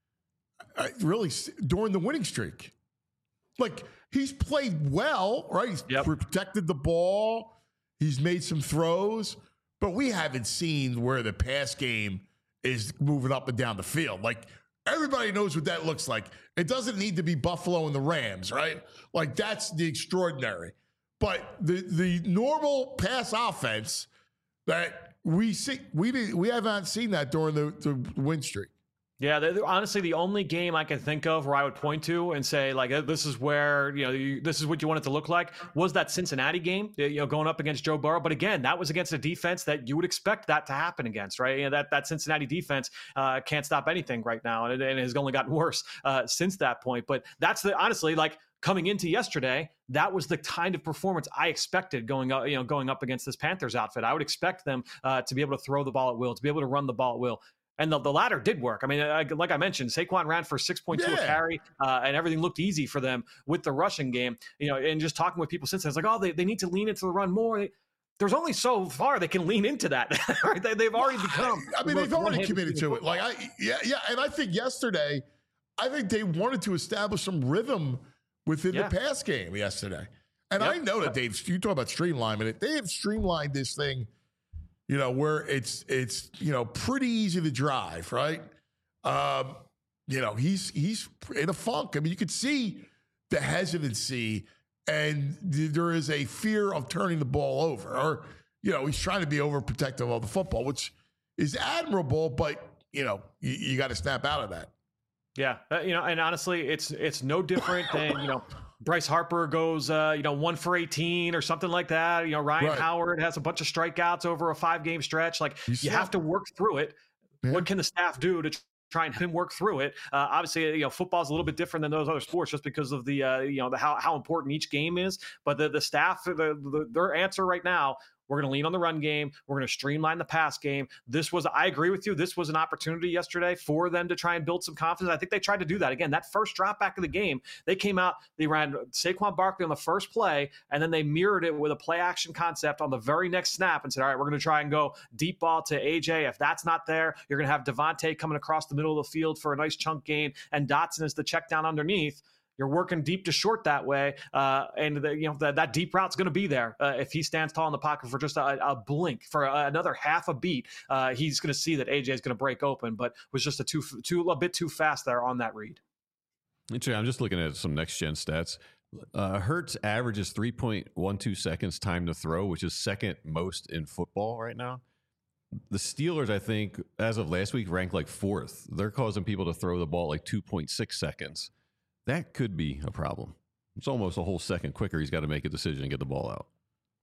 uh, really, during the winning streak. Like, he's played well, right? He's yep. protected the ball. He's made some throws, but we haven't seen where the pass game is moving up and down the field. Like, everybody knows what that looks like. It doesn't need to be Buffalo and the Rams, right? Like, that's the extraordinary. But the the normal pass offense that we see, we did, we haven't seen that during the, the win streak. Yeah, they're, honestly, the only game I can think of where I would point to and say, like, this is where, you know, you, this is what you want it to look like, was that Cincinnati game, you know, going up against Joe Burrow. But again, that was against a defense that you would expect that to happen against, right? You know, that, that Cincinnati defense uh, can't stop anything right now, and it, and it has only gotten worse uh, since that point. But that's the, honestly, like, coming into yesterday, that was the kind of performance I expected going up, you know, going up against this Panthers outfit. I would expect them uh, to be able to throw the ball at will, to be able to run the ball at will. And the, the latter did work. I mean, I, like I mentioned, Saquon ran for six point two yeah. a carry, uh, and everything looked easy for them with the rushing game. You know, and just talking with people since then, it's like, oh, they, they need to lean into the run more. There's only so far they can lean into that. Right? They, they've already become. I mean, they've already committed to it. Like, I, yeah, yeah. And I think yesterday, I think they wanted to establish some rhythm within yeah. the pass game yesterday. And yep. I know that they've, you talk about streamlining it, they have streamlined this thing, you know, where it's, it's, you know, pretty easy to drive, right? Um, you know, he's, he's in a funk. I mean, you could see the hesitancy, and th- there is a fear of turning the ball over, or, you know, he's trying to be overprotective of the football, which is admirable, but, you know, you, you got to snap out of that. Yeah. Uh, you know, and honestly, it's, it's no different than, you know, Bryce Harper goes, uh, you know, one for eighteen or something like that. You know, Ryan right. Howard has a bunch of strikeouts over a five game stretch. Like, you, you have to work through it. Yeah. What can the staff do to try and work through it? Uh, obviously, you know, football is a little bit different than those other sports just because of the, uh, you know, the how, how important each game is. But the, the staff, the, the, their answer right now, we're going to lean on the run game. We're going to streamline the pass game. This was, I agree with you, this was an opportunity yesterday for them to try and build some confidence. I think they tried to do that. Again, that first drop back of the game, they came out, they ran Saquon Barkley on the first play, and then they mirrored it with a play action concept on the very next snap and said, all right, we're going to try and go deep ball to A J. If that's not there, you're going to have Devontae coming across the middle of the field for a nice chunk gain, and Dotson is the check down underneath. You're working deep to short that way, uh, and the, you know the, that deep route's going to be there. Uh, if he stands tall in the pocket for just a, a blink, for a, another half a beat, uh, he's going to see that A J is going to break open. But was just a too too a bit too fast there on that read. Interesting. I'm just looking at some next gen stats. Uh, Hurts averages three point one two seconds time to throw, which is second most in football right now. The Steelers, I think, as of last week, ranked like fourth. They're causing people to throw the ball like two point six seconds. That could be a problem. It's almost a whole second quicker. He's got to make a decision and get the ball out.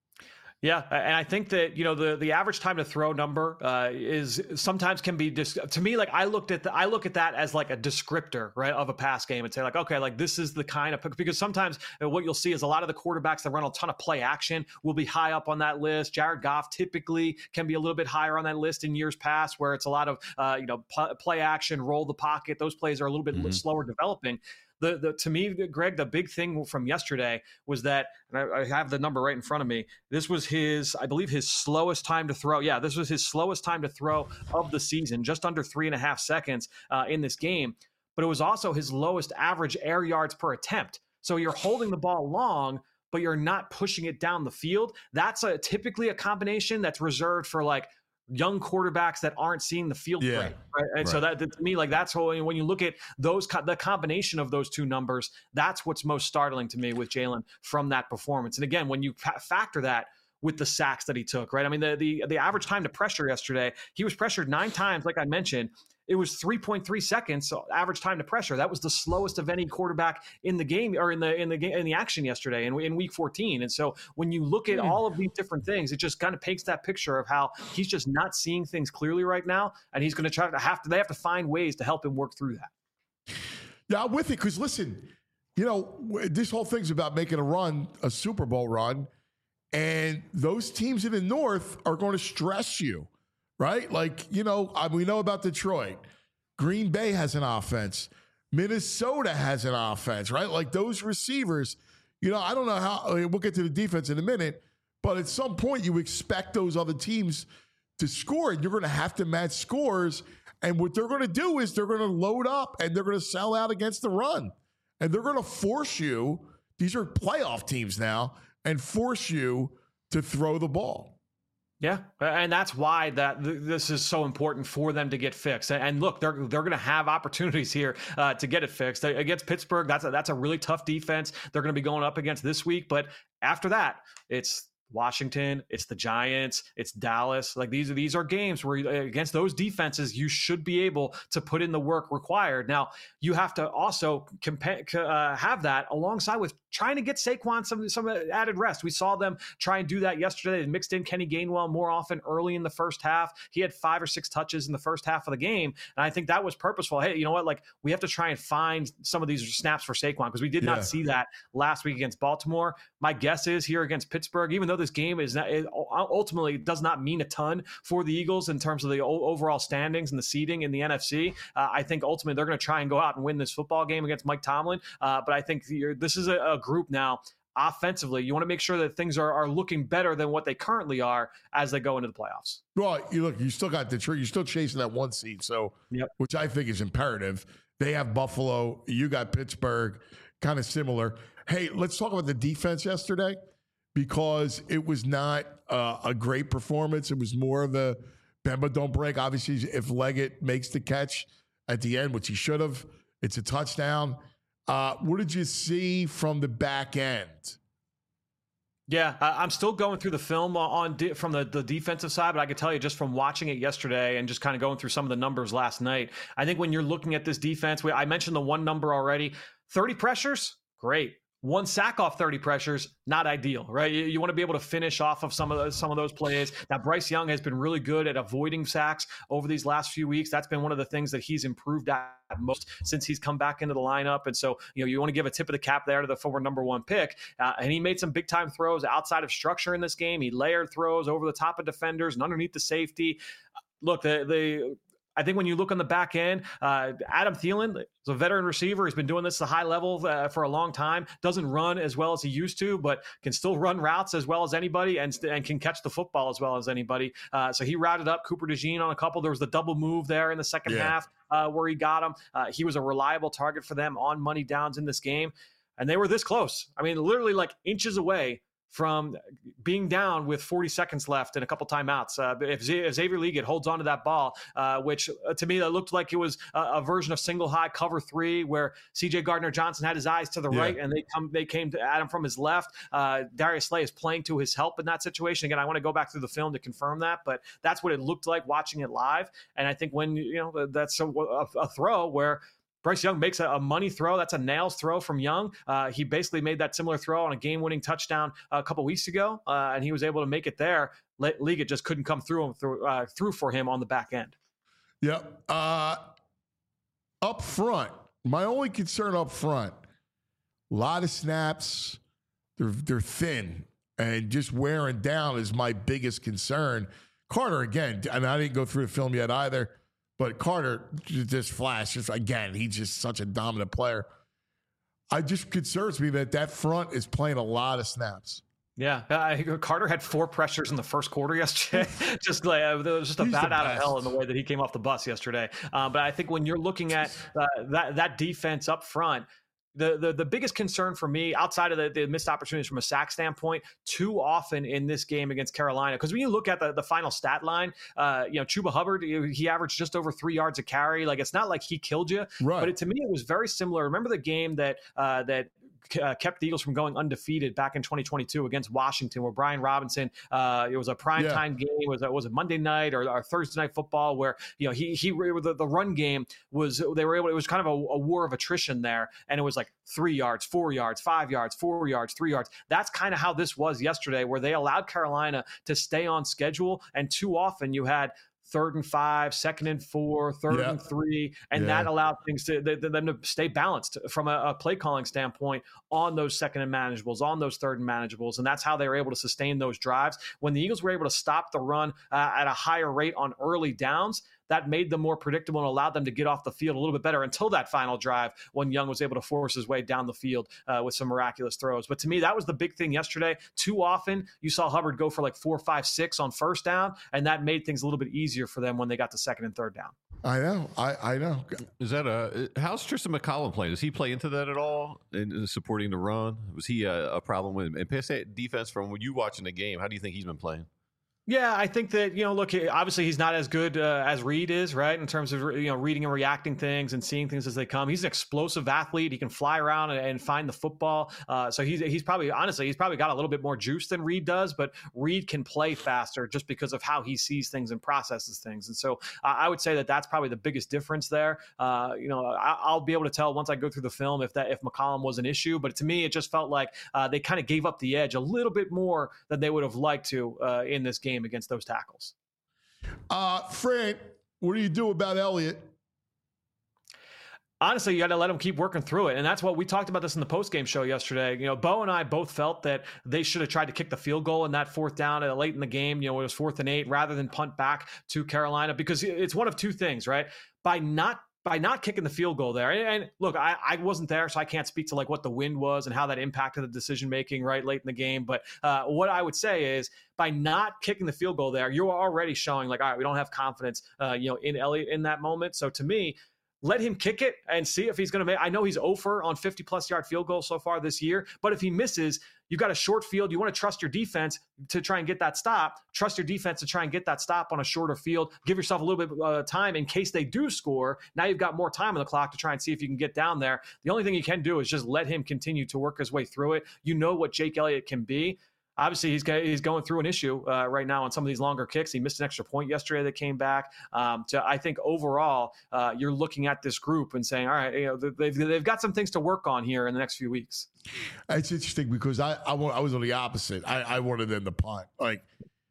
Yeah, and I think that, you know, the the average time to throw number uh, is sometimes can be dis- to me, like I looked at the, I look at that as like a descriptor, right, of a pass game and say like, okay, like this is the kind of, because sometimes what you'll see is a lot of the quarterbacks that run a ton of play action will be high up on that list. Jared Goff typically can be a little bit higher on that list in years past, where it's a lot of uh, you know p- play action, roll the pocket. Those plays are a little bit mm-hmm. slower developing. The, the to me, Greg, the big thing from yesterday was that, and I, I have the number right in front of me. This was his, I believe, his slowest time to throw. Yeah, this was his slowest time to throw of the season, just under three and a half seconds uh, in this game. But it was also his lowest average air yards per attempt. So you're holding the ball long, but you're not pushing it down the field. That's a typically a combination that's reserved for like young quarterbacks that aren't seeing the field yeah. great, right? And right. so that, that to me, like that's what, when you look at those, the combination of those two numbers, that's what's most startling to me with Jalen from that performance. And again, when you fa- factor that with the sacks that he took, right? I mean, the the the average time to pressure yesterday, he was pressured nine times, like I mentioned. It was three point three seconds so average time to pressure. That was the slowest of any quarterback in the game or in the in the game in the action yesterday in, in week fourteen. And so when you look at all of these different things, it just kind of paints that picture of how he's just not seeing things clearly right now, and he's going to try to have to they have to find ways to help him work through that. Yeah, I'm with it because listen, you know, this whole thing's about making a run, a Super Bowl run, and those teams in the North are going to stress you. Right? Like, you know, we know about Detroit. Green Bay has an offense. Minnesota has an offense, right? Like those receivers, you know, I don't know how, I mean, we'll get to the defense in a minute, but at some point you expect those other teams to score and you're going to have to match scores. And what they're going to do is they're going to load up and they're going to sell out against the run. And they're going to force you, these are playoff teams now, and force you to throw the ball. Yeah, and that's why that th- this is so important for them to get fixed. And, and look, they're they're going to have opportunities here uh, to get it fixed against Pittsburgh. That's a, that's a really tough defense they're going to be going up against this week. But after that, it's Washington, it's the Giants, it's Dallas. Like these are these are games where against those defenses you should be able to put in the work required. Now you have to also compa- uh, have that alongside with trying to get Saquon some some added rest. We saw them try and do that yesterday. They mixed in Kenny Gainwell more often early in the first half. He had five or six touches in the first half of the game, and I think that was purposeful. Hey, you know what? Like we have to try and find some of these snaps for Saquon because we did yeah. not see that last week against Baltimore. My guess is here against Pittsburgh, even though this game is not, it ultimately does not mean a ton for the Eagles in terms of the overall standings and the seeding in the N F C. Uh, I think ultimately they're going to try and go out and win this football game against Mike Tomlin. Uh, but I think this is a, a group now offensively. You want to make sure that things are, are looking better than what they currently are as they go into the playoffs. Well, you look, you still got Detroit. You're still chasing that one seed, so yep. which I think is imperative. They have Buffalo. You got Pittsburgh, kind of similar. Hey, let's talk about the defense yesterday. Because it was not uh, a great performance. It was more of a Bemba don't break. Obviously, if Leggett makes the catch at the end, which he should have, it's a touchdown. Uh, what did you see from the back end? Yeah, I'm still going through the film on de- from the, the defensive side, but I can tell you just from watching it yesterday and just kind of going through some of the numbers last night, I think when you're looking at this defense, we, I mentioned the one number already, thirty pressures, great. One sack off thirty pressures, not ideal, right? You, you want to be able to finish off of some of those, some of those plays. Now, Bryce Young has been really good at avoiding sacks over these last few weeks. That's been one of the things that he's improved at most since he's come back into the lineup. And so, you know, you want to give a tip of the cap there to the former number one pick. Uh, and he made some big time throws outside of structure in this game. He layered throws over the top of defenders and underneath the safety. Look, the the. I think when you look on the back end, uh, Adam Thielen is a veteran receiver. He's been doing this at a high level uh, for a long time. Doesn't run as well as he used to, but can still run routes as well as anybody and, and can catch the football as well as anybody. Uh, so he routed up Cooper DeJean on a couple. There was the double move there in the second yeah. half uh, where he got him. Uh, he was a reliable target for them on money downs in this game. And they were this close. I mean, literally like inches away from being down with forty seconds left and a couple timeouts. Uh, if, Z- if Xavier Legette holds on to that ball, uh, which uh, to me, that looked like it was a, a version of single high cover three where C J Gardner-Johnson had his eyes to the Yeah. right and they come they came to at him from his left. Uh, Darius Slay is playing to his help in that situation. Again, I want to go back through the film to confirm that, but that's what it looked like watching it live. And I think when, you know, that's a, a, a throw where Bryce Young makes a, a money throw. That's a nails throw from Young. Uh, he basically made that similar throw on a game-winning touchdown a couple weeks ago, uh, and he was able to make it there. Le- Legette just couldn't come through him through, uh, through for him on the back end. Yep. Uh, up front, my only concern up front, a lot of snaps. They're they're thin, and just wearing down is my biggest concern. Carter again, and I didn't go through the film yet either. But Carter just flashes again. He's just such a dominant player. I just concerns me that that front is playing a lot of snaps. Yeah, uh, Carter had four pressures in the first quarter yesterday. just like uh, there was just a He's bat the out of best. hell in the way that he came off the bus yesterday. Uh, but I think when you're looking at uh, that that defense up front. The, the the biggest concern for me, outside of the, the missed opportunities from a sack standpoint, too often in this game against Carolina, because when you look at the, the final stat line, uh, you know, Chuba Hubbard, he averaged just over three yards a carry. Like, it's not like he killed you, Right. but it, to me, it was very similar. Remember the game that uh, that uh, kept the Eagles from going undefeated back in twenty twenty-two against Washington, where Brian Robinson, uh, it was a primetime Yeah. game, it was, it was a Monday night or, or Thursday night football, where, you know, he, he the, the run game was, they were able, it was kind of a, a war of attrition there. And it was like three yards, four yards, five yards, four yards, three yards. That's kind of how this was yesterday, where they allowed Carolina to stay on schedule. And too often you had third and five, second and four, third Yeah. and three, and Yeah. that allowed things to th- them to stay balanced from a, a play calling standpoint on those second and manageables, on those third and manageables, and that's how they were able to sustain those drives. When the Eagles were able to stop the run uh, at a higher rate on early downs, that made them more predictable and allowed them to get off the field a little bit better until that final drive when Young was able to force his way down the field uh, with some miraculous throws. But to me, that was the big thing yesterday. Too often, you saw Hubbard go for like four, five, six on first down, and that made things a little bit easier for them when they got to second and third down. I know. I, I know. Is that a how's Tristan McCollum playing? Does he play into that at all in, in supporting the run? Was he a, a problem with and pass defense from when you watching the game? How do you think he's been playing? Yeah, I think that, you know, look, obviously he's not as good uh, as Reed is, right, in terms of, you know, reading and reacting things and seeing things as they come. He's an explosive athlete. He can fly around and, and find the football. Uh, so he's he's probably, honestly, he's probably got a little bit more juice than Reed does, but Reed can play faster just because of how he sees things and processes things. And so uh, I would say that that's probably the biggest difference there. Uh, you know, I, I'll be able to tell once I go through the film if that if McCollum was an issue, but to me, it just felt like uh, they kind of gave up the edge a little bit more than they would have liked to uh, in this game against those tackles. Uh, Frank, what do you do about Elliott? Honestly, you got to let them keep working through it. And that's what we talked about this in the postgame show yesterday. You know, Bo and I both felt that they should have tried to kick the field goal in that fourth down uh, late in the game. You know, it was fourth and eight rather than punt back to Carolina, because it's one of two things, right? By not By not kicking the field goal there. And, and look, I, I wasn't there, so I can't speak to like what the wind was and how that impacted the decision-making right late in the game. But uh, what I would say is by not kicking the field goal there, you're already showing like, all right, we don't have confidence, uh, you know, in Elliott in that moment. So to me, let him kick it and see if he's going to make. I know he's oh for on fifty plus yard field goals so far this year, but if he misses, you've got a short field. You want to trust your defense to try and get that stop. Trust your defense to try and get that stop on a shorter field. Give yourself a little bit of uh, time in case they do score. Now you've got more time on the clock to try and see if you can get down there. The only thing you can do is just let him continue to work his way through it. You know what Jake Elliott can be. Obviously, he's he's going through an issue uh, right now on some of these longer kicks. He missed an extra point yesterday that came back. Um, to, I think overall, uh, you're looking at this group and saying, all right, you know, they've they've got some things to work on here in the next few weeks. It's interesting because I I, I was on the opposite. I, I wanted them to punt. Like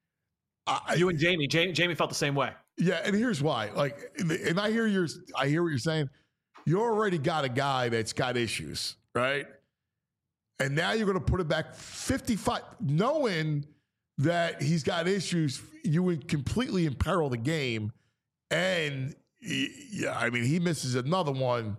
I, You and Jamie, Jamie, Jamie felt the same way. Yeah, and here's why. Like, and I hear your I hear what you're saying. You already got a guy that's got issues, right? And now you're going to put it back fifty-five, knowing that he's got issues. You would completely imperil the game. And, yeah, I mean, he misses another one.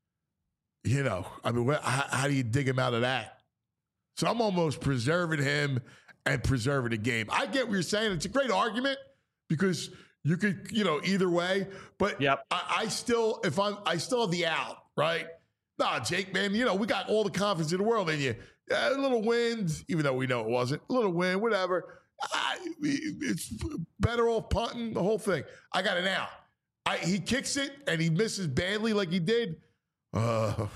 You know, I mean, how, how do you dig him out of that? So I'm almost preserving him and preserving the game. I get what you're saying. It's a great argument because you could, you know, either way. But yep. I, I still, if I'm, I still have the out, right? Nah, Jake, man, you know, we got all the confidence in the world in you. yeah, a little wind, even though we know it wasn't. A little wind, whatever. I, it's better off punting the whole thing. I got it now. I, he kicks it and he misses badly like he did. Uh,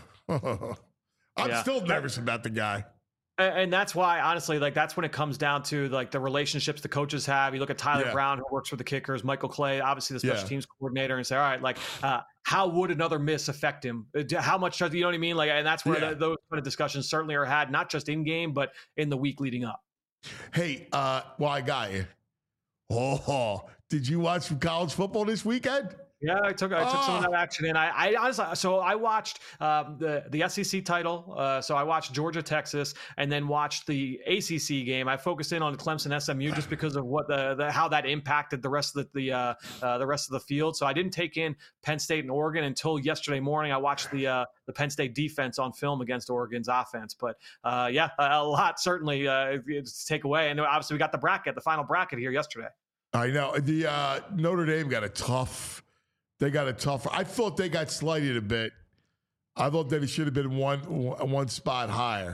I'm Yeah. still nervous about the guy. And that's why, honestly, like that's when it comes down to like the relationships the coaches have. You look at Tyler Yeah. Brown, who works for the Kickers, Michael Clay, obviously the special Yeah. teams coordinator, and say, all right, like uh, how would another miss affect him? Uh, How much does, you know what I mean? Like, and that's where Yeah. the, those kind of discussions certainly are had, not just in game, but in the week leading up. Hey, uh, well, I got you. Oh, did you watch some college football this weekend? Yeah, I took I took some of Oh. that action in. I, I honestly, so I watched um, the the S E C title. Uh, so I watched Georgia, Texas, and then watched the A C C game. I focused in on Clemson, S M U, just because of what the, the how that impacted the rest of the the, uh, uh, the rest of the field. So I didn't take in Penn State and Oregon until yesterday morning. I watched the uh, the Penn State defense on film against Oregon's offense. But uh, yeah, a, a lot certainly uh, to take away. And obviously we got the bracket, the final bracket here yesterday. I know the uh, Notre Dame got a tough. They got a tough. I thought they got slighted a bit. I thought that it should have been one one spot higher.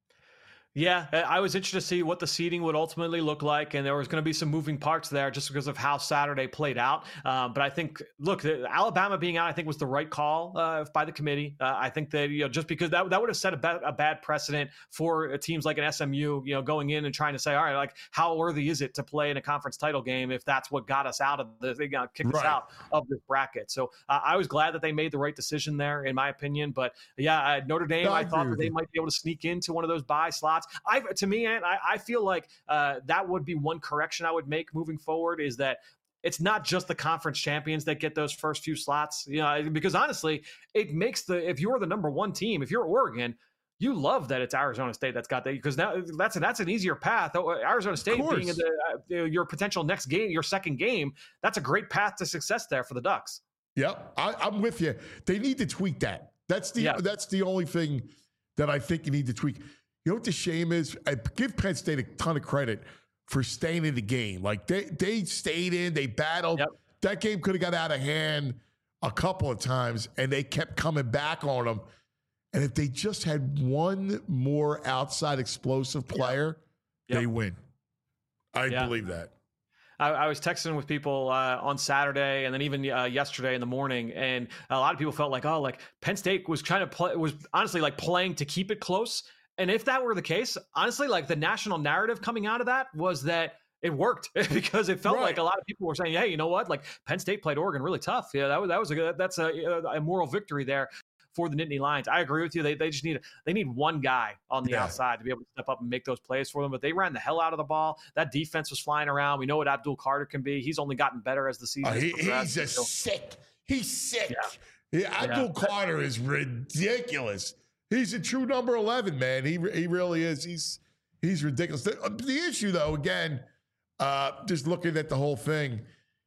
Yeah, I was interested to see what the seeding would ultimately look like, and there was going to be some moving parts there just because of how Saturday played out. Um, but I think, look, Alabama being out, I think was the right call uh, by the committee. Uh, I think that you know just because that that would have set a, ba- a bad precedent for teams like an S M U, you know, going in and trying to say, all right, like how worthy is it to play in a conference title game if that's what got us out of the they got kicked us Right. out of this bracket. So uh, I was glad that they made the right decision there, in my opinion. But yeah, uh, Notre Dame, No, I I thought agree that with they you. might be able to sneak into one of those bye slots. I, to me, and I, I feel like uh, that would be one correction I would make moving forward is that it's not just the conference champions that get those first few slots, you know, because honestly, it makes the, if you're the number one team, if you're Oregon, you love that it's Arizona State that's got that because now that's a, that's an easier path. Arizona State being in the, uh, your potential next game, your second game, that's a great path to success there for the Ducks. Yep, I, I'm with you. They need to tweak that. That's the Yeah. that's the only thing that I think you need to tweak. You know what the shame is? I give Penn State a ton of credit for staying in the game. Like they they stayed in, they battled. Yep. That game could have got out of hand a couple of times, and they kept coming back on them. And if they just had one more outside explosive player, Yep. they win. I Yeah. believe that. I, I was texting with people uh, on Saturday and then even uh, yesterday in the morning, and a lot of people felt like, oh, like Penn State was trying to play, was honestly like playing to keep it close. And if that were the case, honestly, like the national narrative coming out of that was that it worked because it felt Right. like a lot of people were saying, hey, you know what? Like Penn State played Oregon really tough. Yeah, that was that was a good, that's a, a moral victory there for the Nittany Lions. I agree with you. They they just need they need one guy on the Yeah. outside to be able to step up and make those plays for them. But they ran the hell out of the ball. That defense was flying around. We know what Abdul Carter can be. He's only gotten better as the season Uh, has he, progressed. he's a So- sick. He's sick. Yeah. Yeah, Abdul Carter is ridiculous. He's a true number eleven, man. He he really is. He's he's ridiculous. The, uh, the issue, though, again, uh, just looking at the whole thing,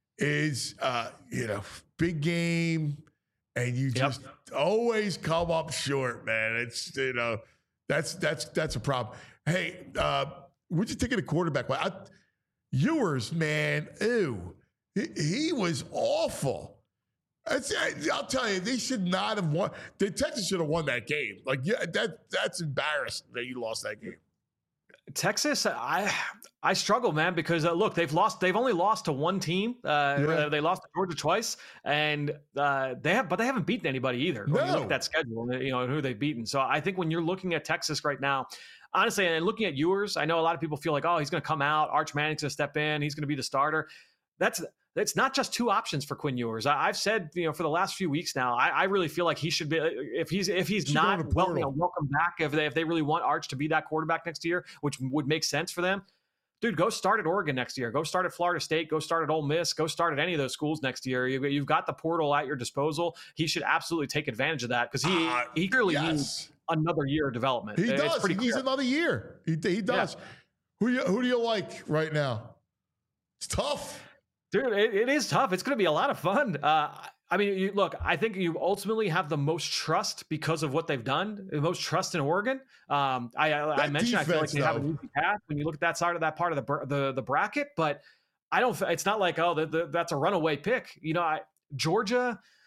is uh, you know, big game, and you just always come up short, man. It's you know, that's that's that's a problem. Hey, uh, what'd you think of the quarterback? I, Ewers, man, ew, he, he was awful. That's, I'll tell you, they should not have won. The Texas should have won that game. Like, yeah, that that's embarrassing that you lost that game. Texas, I I struggle, man, because uh, look, they've lost. They've only lost to one team. Uh, Yeah. They lost to Georgia twice, and uh, they have, but they haven't beaten anybody either. When you look No. at that schedule, you know, and who they've beaten. So I think when you're looking at Texas right now, honestly, and looking at Ewers, I know a lot of people feel like, oh, he's going to come out. Arch Manning's going to step in. He's going to be the starter. That's It's not just two options for Quinn Ewers. I, I've said, you know, for the last few weeks now, I, I really feel like he should be. If he's if he's Should go in not the well, portal. you know, welcome back. If they if they really want Arch to be that quarterback next year, which would make sense for them, dude, go start at Oregon next year. Go start at Florida State. Go start at Ole Miss. Go start at any of those schools next year. You, you've got the portal at your disposal. He should absolutely take advantage of that because he Uh, he clearly yes. needs another year of development. He It's does. pretty He needs clear. another year. He, he does. Who you, who do you like right now? It's tough. Dude, it, it is tough. It's going to be a lot of fun. Uh, I mean, you, look, I think you ultimately have the most trust because of what they've done, the most trust in Oregon. Um, I, I, I That mentioned I feel like defense, they have an though. easy path when you look at that side of that part of the br- the, the bracket, but I don't. It's not like oh, the, the, that's a runaway pick. You know, I, Georgia.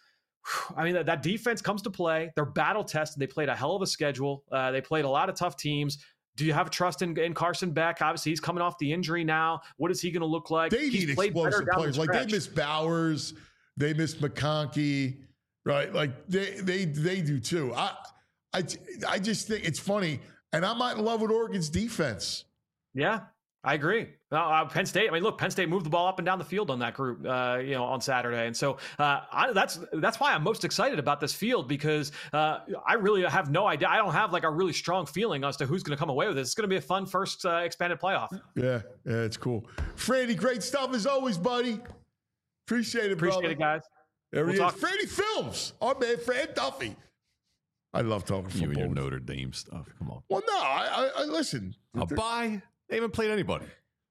I mean, that, that defense comes to play. They're battle tested. They played a hell of a schedule. Uh, they played a lot of tough teams. Do you have trust in, in Carson Beck? Obviously, he's coming off the injury now. What is he going to look like? They he's need played explosive players. the Like they miss Bowers, they miss McConkey, right? Like they they they do too. I I I just think it's funny, and I'm not in love with Oregon's defense. Yeah, I agree. Well, uh, Penn State. I mean, look, Penn State moved the ball up and down the field on that group, uh, you know, on Saturday, and so uh, I, that's that's why I'm most excited about this field because uh, I really have no idea. I don't have like a really strong feeling as to who's going to come away with it. It's going to be a fun first uh, expanded playoff. Yeah, yeah, it's cool. Franny, great stuff as always, buddy. Appreciate it, Appreciate brother. it, guys. There We'll he talk- is. Franny Films. Our man, Fran Duffy. I love talking You football. and your Notre Dame stuff. Come on. Well, no, I, I, I listen. A bye? They haven't played anybody.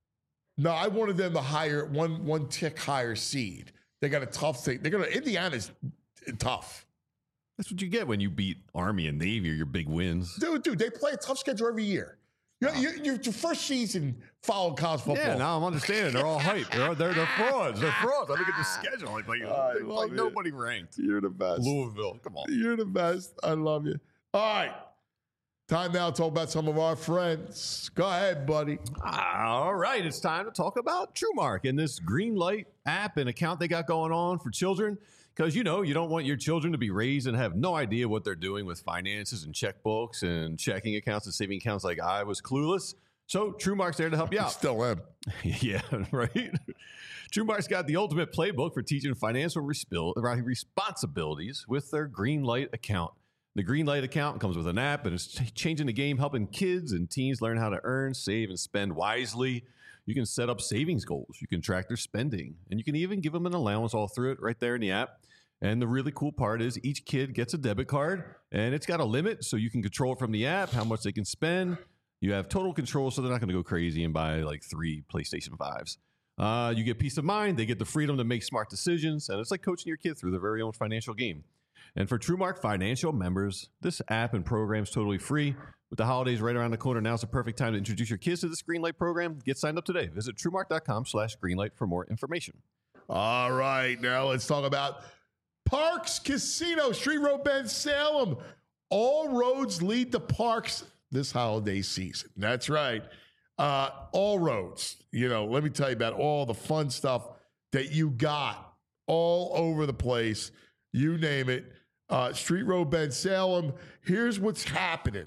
No, I wanted them to hire one one tick higher seed. They got a tough thing. They're gonna Indiana's tough. That's what you get when you beat Army and Navy or your big wins. Dude, dude, they play a tough schedule every year. You, you, you, your first season following college football. Yeah, now I'm understanding. They're all hype. They're, they're, they're frauds. They're frauds. I look at the schedule. Like, like, I like love it. nobody ranked. You're the best. Louisville. Come on. You're the best. I love you. All right. Time now to talk about some of our friends. Go ahead, buddy. All right. It's time to talk about TrueMark and this green light app and account they got going on for children. Because, you know, you don't want your children to be raised and have no idea what they're doing with finances and checkbooks and checking accounts and saving accounts like I was clueless. So TrueMark's there to help you out. Still am. Yeah, right? TrueMark's got the ultimate playbook for teaching financial resp- responsibilities with their green light account. The Green Light account comes with an app and it's ch- changing the game, helping kids and teens learn how to earn, save, and spend wisely. You can set up savings goals. You can track their spending. And you can even give them an allowance all through it right there in the app. And the really cool part is each kid gets a debit card, and it's got a limit, so you can control it from the app, how much they can spend. You have total control, so they're not going to go crazy and buy like three PlayStation fives. Uh, you get peace of mind. They get the freedom to make smart decisions. And it's like coaching your kid through their very own financial game. And for TrueMark Financial members, this app and program is totally free. With the holidays right around the corner, now's the perfect time to introduce your kids to this Greenlight program. Get signed up today. Visit TrueMark.com slash Greenlight for more information. All right. Now let's talk about Parks Casino, Street Road Bend, Salem. All roads lead to Parks this holiday season. That's right. Uh, all roads. You know, let me tell you about all the fun stuff that you got all over the place. You name it. Uh, Street Road Bend, Salem. Here's what's happening.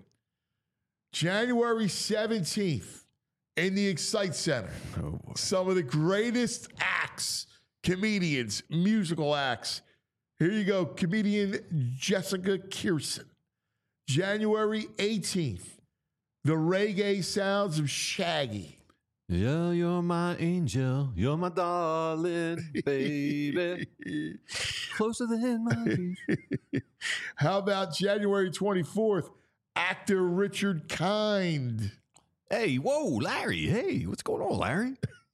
January seventeenth in the Excite Center. Oh, Some of the greatest acts, comedians, musical acts. Here you go. Comedian Jessica Kirson. January eighteenth, the reggae sounds of Shaggy. Yeah, you're my angel. You're my darling, baby. Closer than my dreams. How about January twenty-fourth, actor Richard Kind. Hey, whoa, Larry. Hey, what's going on, Larry?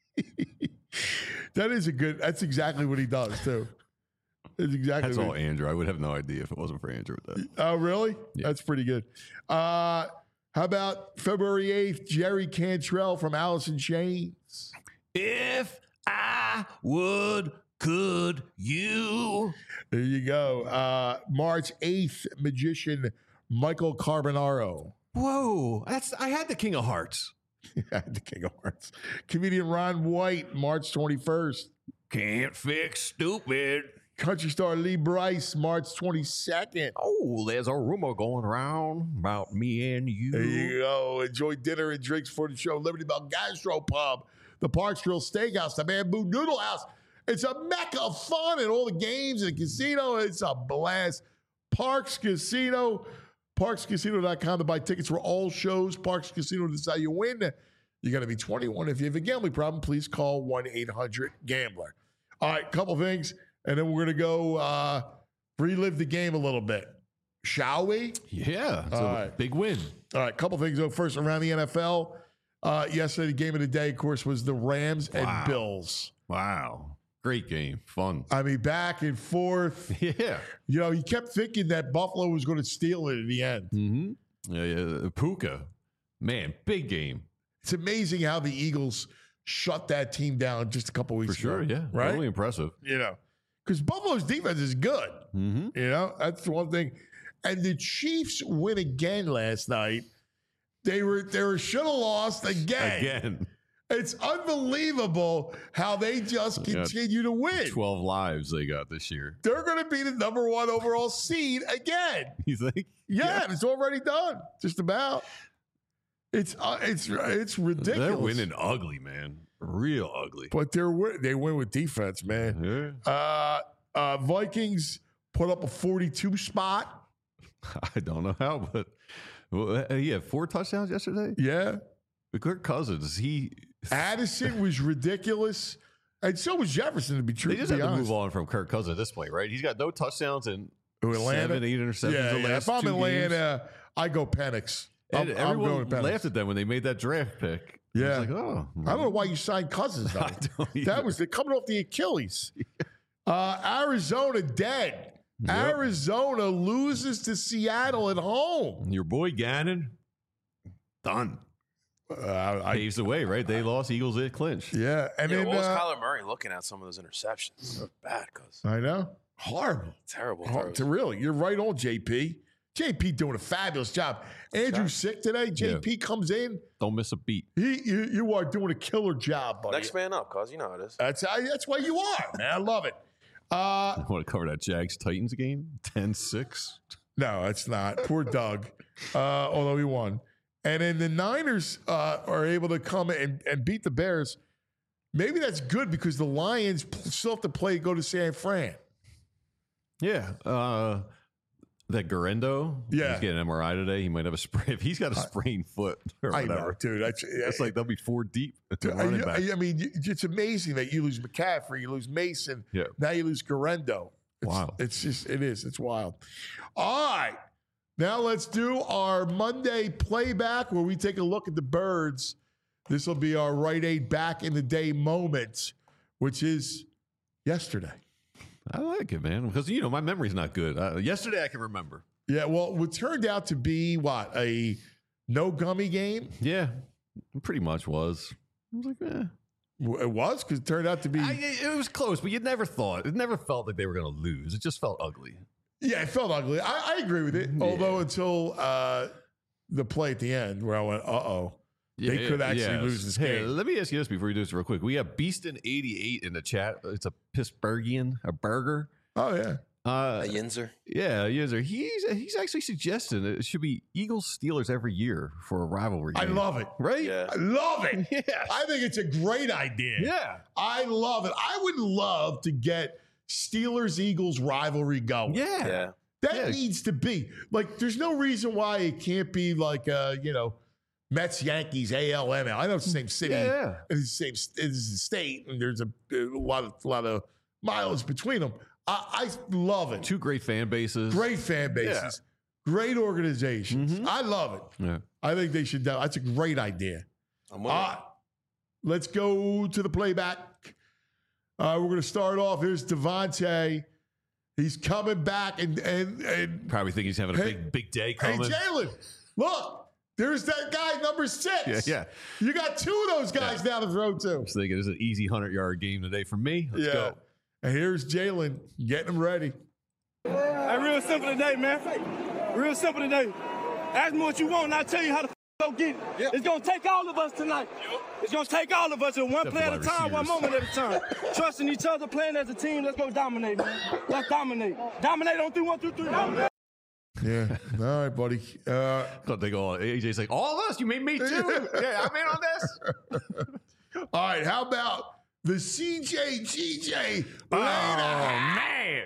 That is a good, that's exactly what he does, too. That's exactly That's what all he, Andrew. I would have no idea if it wasn't for Andrew with that. Oh, really? Yeah. That's pretty good. Uh, how about February eighth, Jerry Cantrell from Alice in Chains? If I would, could you? There you go. Uh, March eighth, magician Michael Carbonaro. Whoa, that's I had the King of Hearts. The King of Hearts. Comedian Ron White, March twenty-first. Can't fix stupid. Country star Lee Brice, March twenty-second. Oh, there's a rumor going around about me and you. There you go. Enjoy dinner and drinks for the show. Liberty Bell Gastropub, the Parks Grill Steakhouse, the Bamboo Noodle House. It's a mecca of fun and all the games and the casino. It's a blast. Parks Casino, parks casino dot com to buy tickets for all shows. Parks Casino is how you win. You got to be twenty-one. If you have a gambling problem, please call one eight hundred gambler. All right, couple things, and then we're going to go uh, relive the game a little bit. Shall we? Yeah, it's All a right. big win. All right, couple things though. First, around the N F L, uh, yesterday the game of the day, of course, was the Rams Wow. and Bills. Wow, great game, fun. I mean, back and forth. Yeah. You know, you kept thinking that Buffalo was going to steal it at the end. Mm-hmm. Yeah, yeah. Puka, man, big game It's amazing how the Eagles shut that team down just a couple weeks for sure. ago. Yeah, right. really impressive. You know, because Buffalo's defense is good. Mm-hmm. You know, that's the one thing. And the Chiefs win again last night. They were they were should have lost again. Again. It's unbelievable how they just continue to win. twelve lives they got this year. They're going to be the number one overall seed again. You think? Yeah, yeah. It's already done. Just about. It's uh, it's it's ridiculous. They're winning ugly, man. Real ugly. But they're win- they win with defense, man. Yeah. Uh, uh, Vikings put up a forty-two spot. I don't know how, but well, he had four touchdowns yesterday. Yeah. Kirk Cousins, he Addison was ridiculous. And so was Jefferson, to be true. they just to be have to honest. move on from Kirk Cousins at this point, right? He's got no touchdowns and Who, Atlanta? seven, eight interceptions Yeah, the yeah. last If I'm two Atlanta, games. I go Penix. I'm, And I'm everyone going Penix. laughed at them when they made that draft pick. Yeah. I was like, oh. I don't know why you signed Cousins, though. I don't either. That was the, coming off the Achilles. Uh, Arizona dead. Yep. Arizona loses to Seattle at home. Your boy Gannon, done. Uh, I, Paves the way, right? They lost. Eagles at clinch. yeah, and Yeah, then what was uh, Kyler Murray looking at some of those interceptions? So bad, cuz I know horrible. terrible. Hor- throws. to really, you're right on, J P. J P doing a fabulous job. Andrew sick today. J P comes in. Don't miss a beat. He, you, you are doing a killer job, buddy. Next man up, cuz you know how it is. That's how, that's why you are, man. I love it. Uh, I want to cover that Jags Titans game ten six. no, it's not. Poor Doug. Uh, although he won. And then the Niners uh, are able to come and, and beat the Bears. Maybe that's good because the Lions p- still have to play go to San Fran. Yeah. Uh, that Garendo, Yeah. he's getting an M R I today. He might have a sprain. If he's got a sprained foot or I whatever, know, dude. That's, it's like they'll be four deep at the I, running back. I mean, it's amazing that you lose McCaffrey, you lose Mason, Yeah. now you lose Garendo. It's, Wow. It's just, it is. It's wild. All right. Now let's do our Monday playback where we take a look at the Birds. This will be our Rite Aid back in the day moment, which is yesterday. I like it, man, because, you know, my memory's not good. Uh, yesterday I can remember. Yeah, well, what turned out to be, what, a no gummy game? Yeah, it pretty much was. I was like, eh. It was, because it turned out to be... I, it was close, but you never thought, it never felt like they were going to lose. It just felt ugly. Yeah, it felt ugly. I, I agree with it. Yeah. Although until uh, the play at the end where I went, uh-oh. They Yeah, could actually yes. lose this Hey, game. let me ask you this before we do this real quick. We have Beaston eighty-eight in the chat. It's a Pittsburghian, a burger. Oh, yeah. Uh, A Yinzer. yeah, yes, sir. He's he's actually suggesting it should be Eagles Steelers every year for a rivalry I game. love it. Right? Yeah. I love it. Yeah. I think it's a great idea. Yeah. I love it. I would love to get Steelers-Eagles rivalry going. Yeah. Yeah. That Yeah. needs to be. Like, there's no reason why it can't be like, uh, you know, Mets, Yankees, A L, M L. I know it's the same city. Yeah. It's the same it's the state, and there's a, a lot of a lot of miles between them. I, I love it. Two great fan bases. Great fan bases, great organizations. Mhm. I love it. Yeah. I think they should. do- That's a great idea. I'm with All it. right, let's go to the playback. Uh, we're going to start off. Here's Devontae. He's coming back, and and and Probably think he's having a Hey- big big day hey, coming. Jalen, look. There's that guy, number six. Yeah, yeah. You got two of those guys down the throw, too. I was thinking it's an easy hundred yard game today for me. Let's yeah. go. And here's Jalen getting him ready. Hey, real simple today, man. Real simple today. Ask me what you want, and I'll tell you how to go get it. It's going to take all of us tonight. It's going to take all of us, and one Except play the at a wide time, one receivers. moment at a time. Trusting each other, playing as a team. Let's go dominate, man. Let's dominate. Dominate on three, one, two, three. Dominate. Yeah. All right, buddy. Uh, Thought they go. A J's like, all of us. You made me too. Yeah, I'm in on this. all right. How about the C J G J? Oh man.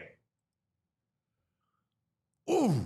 Ooh.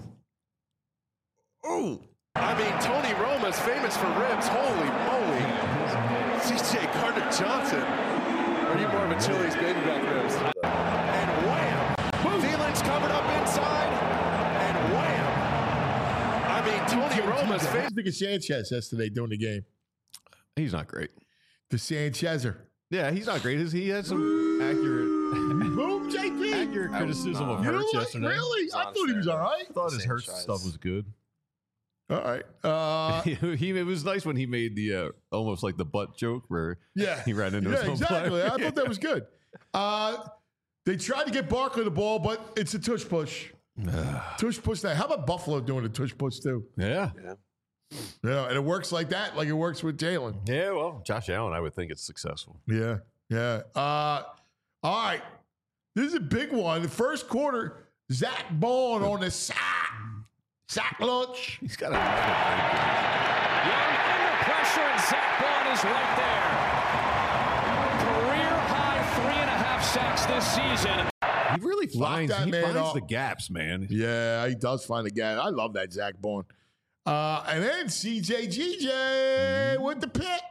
Ooh. I mean, Tony Roma's famous for ribs. Holy moly. C J Carter-Johnson. Are you more of a Chili's baby back ribs? And wham! Thielens covered up inside. And wham! I mean, Tony Roma's What famous. do you think of Sanchez yesterday doing the game? He's not great. The Sanchezer. Yeah, he's not great. He had some accurate, Boom, J P. accurate criticism of You know Hurts what? yesterday. Really? I thought he was all right. I thought his Hurts Sanchez. stuff was good. All right. Uh, he it was nice when he made the uh, almost like the butt joke where yeah. he ran into yeah, his own exactly. player. I thought that was good. Uh, They tried to get Barkley the ball, but it's a tush push. tush push that. How about Buffalo doing a tush push too? Yeah. Yeah. Yeah, and it works like that, like it works with Jalen. Yeah, well, Josh Allen, I would think it's successful. Yeah, yeah. Uh, all right. This is a big one. The first quarter, Zach Bond on the sack. Sack lunch. He's got a Young under pressure, and Zach Bond is right there. Career high three and a half sacks this season. He really finds, that he man finds up. the gaps, man. Yeah, he does find the gap. I love that Zach Bond. Uh, and then C J G J with the pick.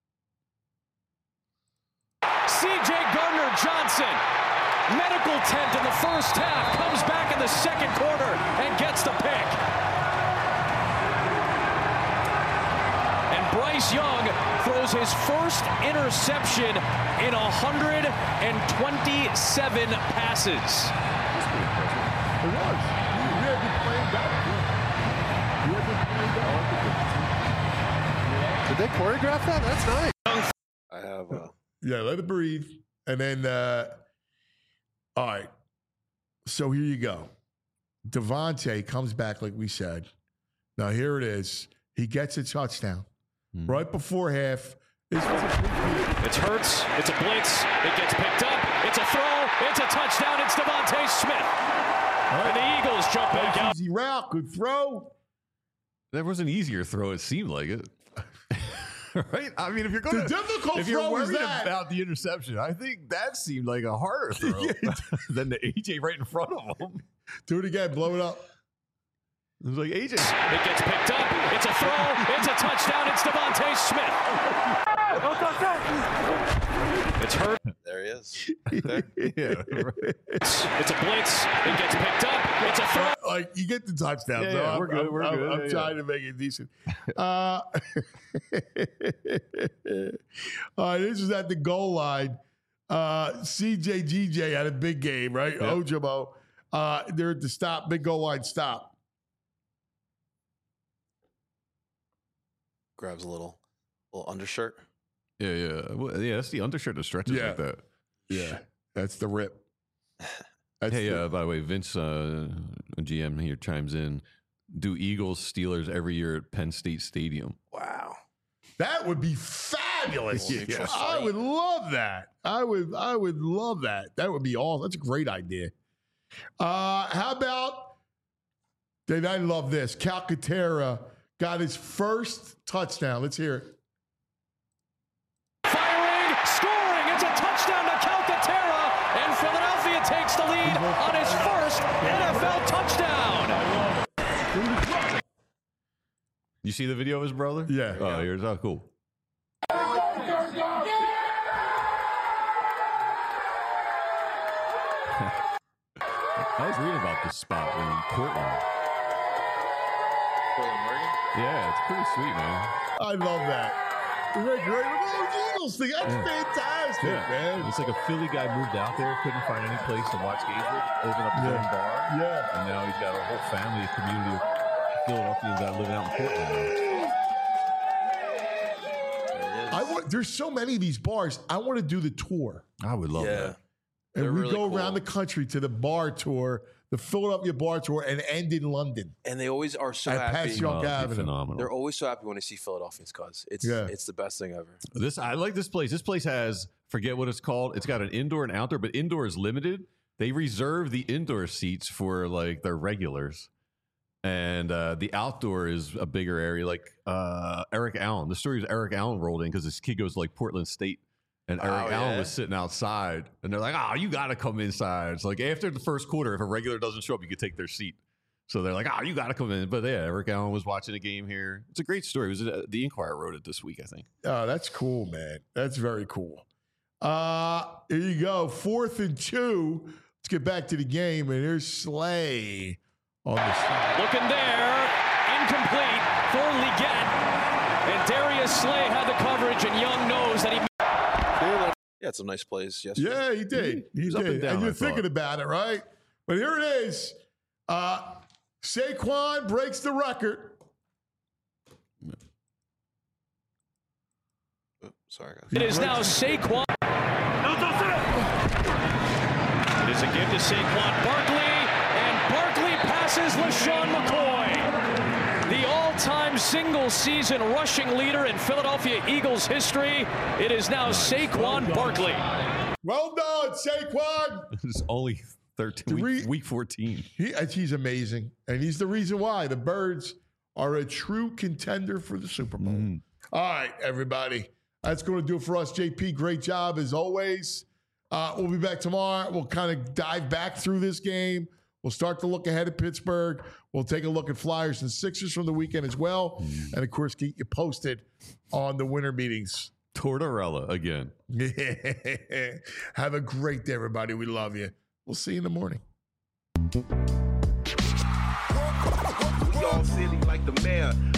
C J Gardner-Johnson, medical tent in the first half, comes back in the second quarter and gets the pick. And Bryce Young throws his first interception in one hundred twenty-seven passes. It was. We had been playing better. We had been playing better. Did they choreograph that? That's nice. I have. Uh, Yeah, let it breathe. And then, uh, all right. So here you go. Devontae comes back, like we said. Now, here it is. He gets a touchdown mm. right before half. It's, it's Hurts. It's a blitz. It gets picked up. It's a throw. It's a touchdown. It's Devontae Smith. Right. And the Eagles jump back out. Easy route. Good throw. That was an easier throw. It seemed like it. Right? I mean, if you're going the to, difficult if you're throw worried is that. about the interception, I think that seemed like a harder throw than the A J right in front of him. Do it again. Blow it up. It was like A J. It gets picked up. It's a throw. It's a touchdown. It's Devontae Smith. It's hurt. There he is. There. Yeah. Right. It's, it's a blitz. It gets picked up. It's a throw. Like, you get the touchdown. Yeah, so yeah, I'm, we're good. I'm, We're I'm, good. I'm yeah, trying yeah. to make it decent. Uh, all right, this is at the goal line. Uh, C J G J had a big game, right? Yep. Ojabo. Uh, they're at the stop, big goal line stop. Grabs a little, little undershirt. Yeah, yeah. Well, yeah, that's the undershirt that stretches Yeah. like that. Yeah, that's the rip. That's Hey, the, uh, by the way, Vince, uh, G M here, chimes in. Do Eagles Steelers every year at Penn State Stadium? Wow. that would be fabulous. Yeah. Yeah. I would love that. I would. I would love that. That would be awesome. That's a great idea. Uh, how about? Dave, I love this. Calcaterra got his first touchdown. Let's hear it. Firing, scoring. It's a touchdown to Calcaterra, and Philadelphia takes the lead on his first N F L touchdown. You see the video of his brother? Yeah. Oh, here's how cool. I was reading about this spot in Portland. Portland, Oregon? Yeah, it's pretty sweet, man. I love that. Great, great. Oh, Eagles thing. That's Yeah. fantastic, Yeah, man. It's like a Philly guy moved out there, couldn't find any place to watch games with, opened up his Yeah. own bar, Yeah. and now he's got a whole family, a community of Philadelphians that are living out in Portland now. I want. There's so many of these bars. I want to do the tour. I would love Yeah. that. And They're we really go cool. around the country to the bar tour, the Philadelphia bar tour, and end in London. And they always are so At happy. Passyunk Oh, it'd be Avenue. phenomenal. They're always so happy when they see Philadelphians, cuz it's Yeah. it's the best thing ever. This I like this place. This place has forget what it's called. It's got an indoor and outdoor, but indoor is limited. They reserve the indoor seats for like their regulars, and uh, the outdoor is a bigger area. Like uh, Eric Allen. The story is Eric Allen rolled in because this kid goes to like Portland State, and Eric Oh, Allen yeah? was sitting outside, and they're like, "Oh, you got to come inside." It's like after the first quarter, if a regular doesn't show up, you could take their seat. So they're like, "Oh, you got to come in." But yeah, Eric Allen was watching a game here. It's a great story. It was uh, the Inquirer wrote it this week, I think. Oh, that's cool, man. That's very cool. Uh, here you go. Fourth and two. Let's get back to the game. And here's Slay on the side. Looking there, incomplete for Leggett. And Darius Slay had the coverage, and Young knows that he. He had some nice plays yesterday. Yeah, he did. He, was did. up and down, you're I thinking thought. about it, right? But here it is. Uh, Saquon breaks the record. Oops, sorry, guys. It is now Saquon. It is There's a give to Saquon Barkley, and Barkley passes LaShawn McCoy. The all-time single-season rushing leader in Philadelphia Eagles history. It is now Saquon Barkley. Well done, Saquon. It's only thirteen, week, week fourteen. He, he's amazing, and he's the reason why the Birds are a true contender for the Super Bowl. Mm. All right, everybody. That's going to do it for us. J P, great job as always. Uh, we'll be back tomorrow. We'll kind of dive back through this game. We'll start to look ahead at Pittsburgh. We'll take a look at Flyers and Sixers from the weekend as well. Mm. And, of course, keep you posted on the winter meetings. Tortorella again. Have a great day, everybody. We love you. We'll see you in the morning. We all silly like the mayor.